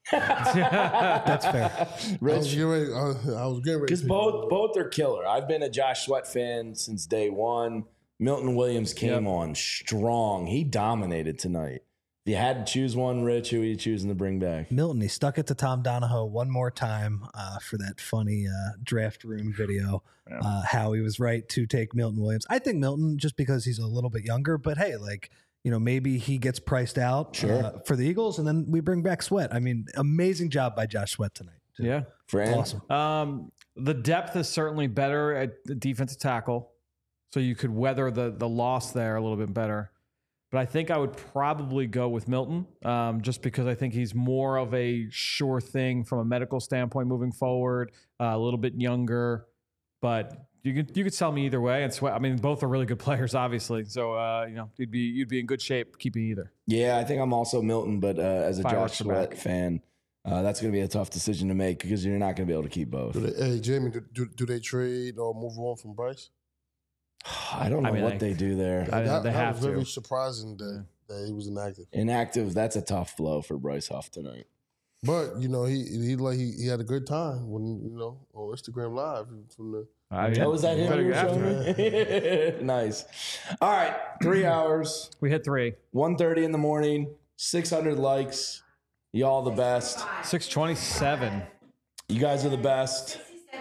That's fair. Rich, I was getting ready. Because both are killer. I've been a Josh Sweat fan since day one. Milton Williams came on strong. He dominated tonight. If you had to choose one, Rich, who are you choosing to bring back? Milton, he stuck it to Tom Donahoe one more time for that funny draft room video, how he was right to take Milton Williams. I think Milton, just because he's a little bit younger, but hey, maybe he gets priced out for the Eagles, and then we bring back Sweat. I mean, amazing job by Josh Sweat tonight. Too. Yeah. Fran? Awesome. The depth is certainly better at the defensive tackle, so you could weather the loss there a little bit better. But I think I would probably go with Milton just because I think he's more of a sure thing from a medical standpoint moving forward, a little bit younger. But you could sell me either way. And Sweat, I mean, both are really good players, obviously. So, you'd be in good shape keeping either. Yeah, I think I'm also Milton, but as a Josh Sweat fan, that's going to be a tough decision to make because you're not going to be able to keep both. Jamie, do they trade or move on from Bryce? I don't know what they do there. That was very surprising that he was inactive. Inactive, that's a tough blow for Bryce Huff tonight. But he had a good time when on Instagram Live from the. Was that him? You were showing me? Nice. All right, 3 hours. We hit 3. 1:30 in the morning. 600 likes. Y'all the best. 627. You guys are the best.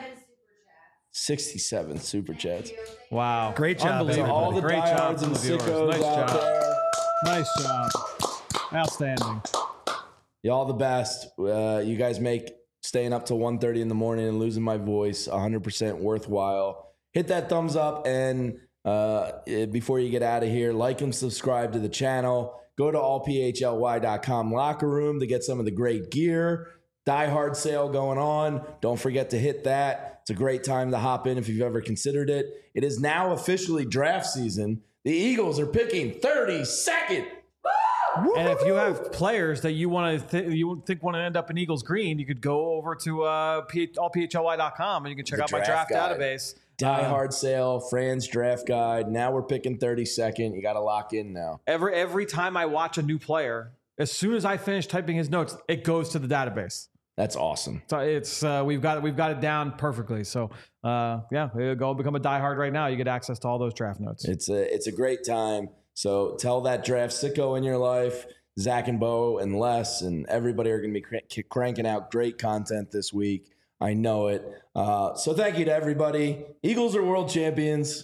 67 super chats. Wow. Great job, Unbelievable. All the Great job diehards and to the viewers. sickos Nice out job. there. Nice job. Outstanding. Y'all the best. You guys make staying up till 1:30 in the morning and losing my voice, 100% worthwhile. Hit that thumbs up, and before you get out of here, like and subscribe to the channel. Go to allphly.com locker room to get some of the great gear. Die Hard sale going on. Don't forget to hit that. It's a great time to hop in if you've ever considered it. It is now officially draft season. The Eagles are picking 32nd. And if you have players that you want to you think want to end up in Eagles green, you could go over to allphly.com and you can check out my draft database. Die Hard sale, Fran's draft guide. Now we're picking 32nd. You got to lock in now. Every time I watch a new player, as soon as I finish typing his notes, it goes to the database. That's awesome. So it's we've got it down perfectly. So go become a Die Hard right now. You get access to all those draft notes. It's a great time. So tell that draft sicko in your life, Zach and Bo and Les and everybody are going to be cranking out great content this week. I know it. So thank you to everybody. Eagles are world champions.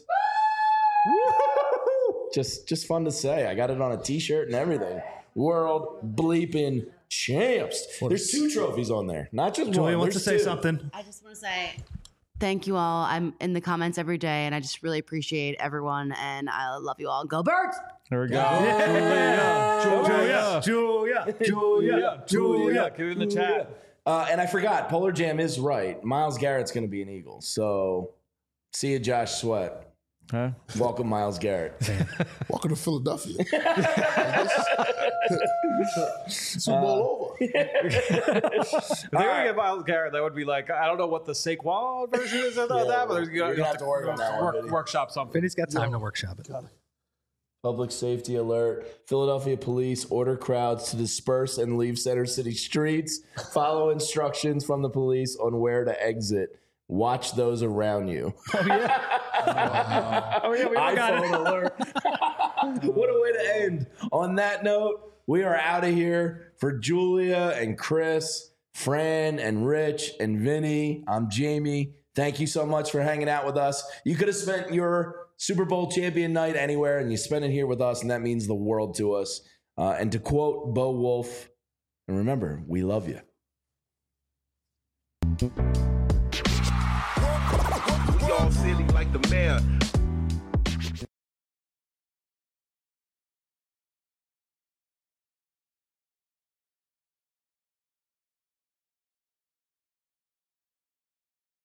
Just fun to say. I got it on a T-shirt and everything. World bleeping champs. There's 2 trophies on there, not just Julia one. wants to say something. I just want to say thank you all. I'm in the comments every day, and I just really appreciate everyone, and I love you all. Go Birds! There we go. Julia. Get it in the chat. And I forgot, Polar Jam is right. Myles Garrett's going to be an Eagle. So see you, Josh Sweat. Huh? Welcome, Myles Garrett. Welcome to Philadelphia. Super Bowl over. If they were to get Myles Garrett, that would be like, I don't know what the Saquon version is of that, but you're going to have to work on that one. Workshop something. Vinny's got time to workshop it. Public safety alert. Philadelphia police order crowds to disperse and leave Center City streets. Follow instructions from the police on where to exit. Watch those around you. Oh, yeah. We all got it. Alert. What a way to end. On that note, we are out of here. For Julia and Chris, Fran and Rich and Vinny, I'm Jamie. Thank you so much for hanging out with us. You could have spent your Super Bowl champion night anywhere, and you spent it here with us, and that means the world to us. And to quote Bo Wolf, and remember, we love you. We all silly like the mayor.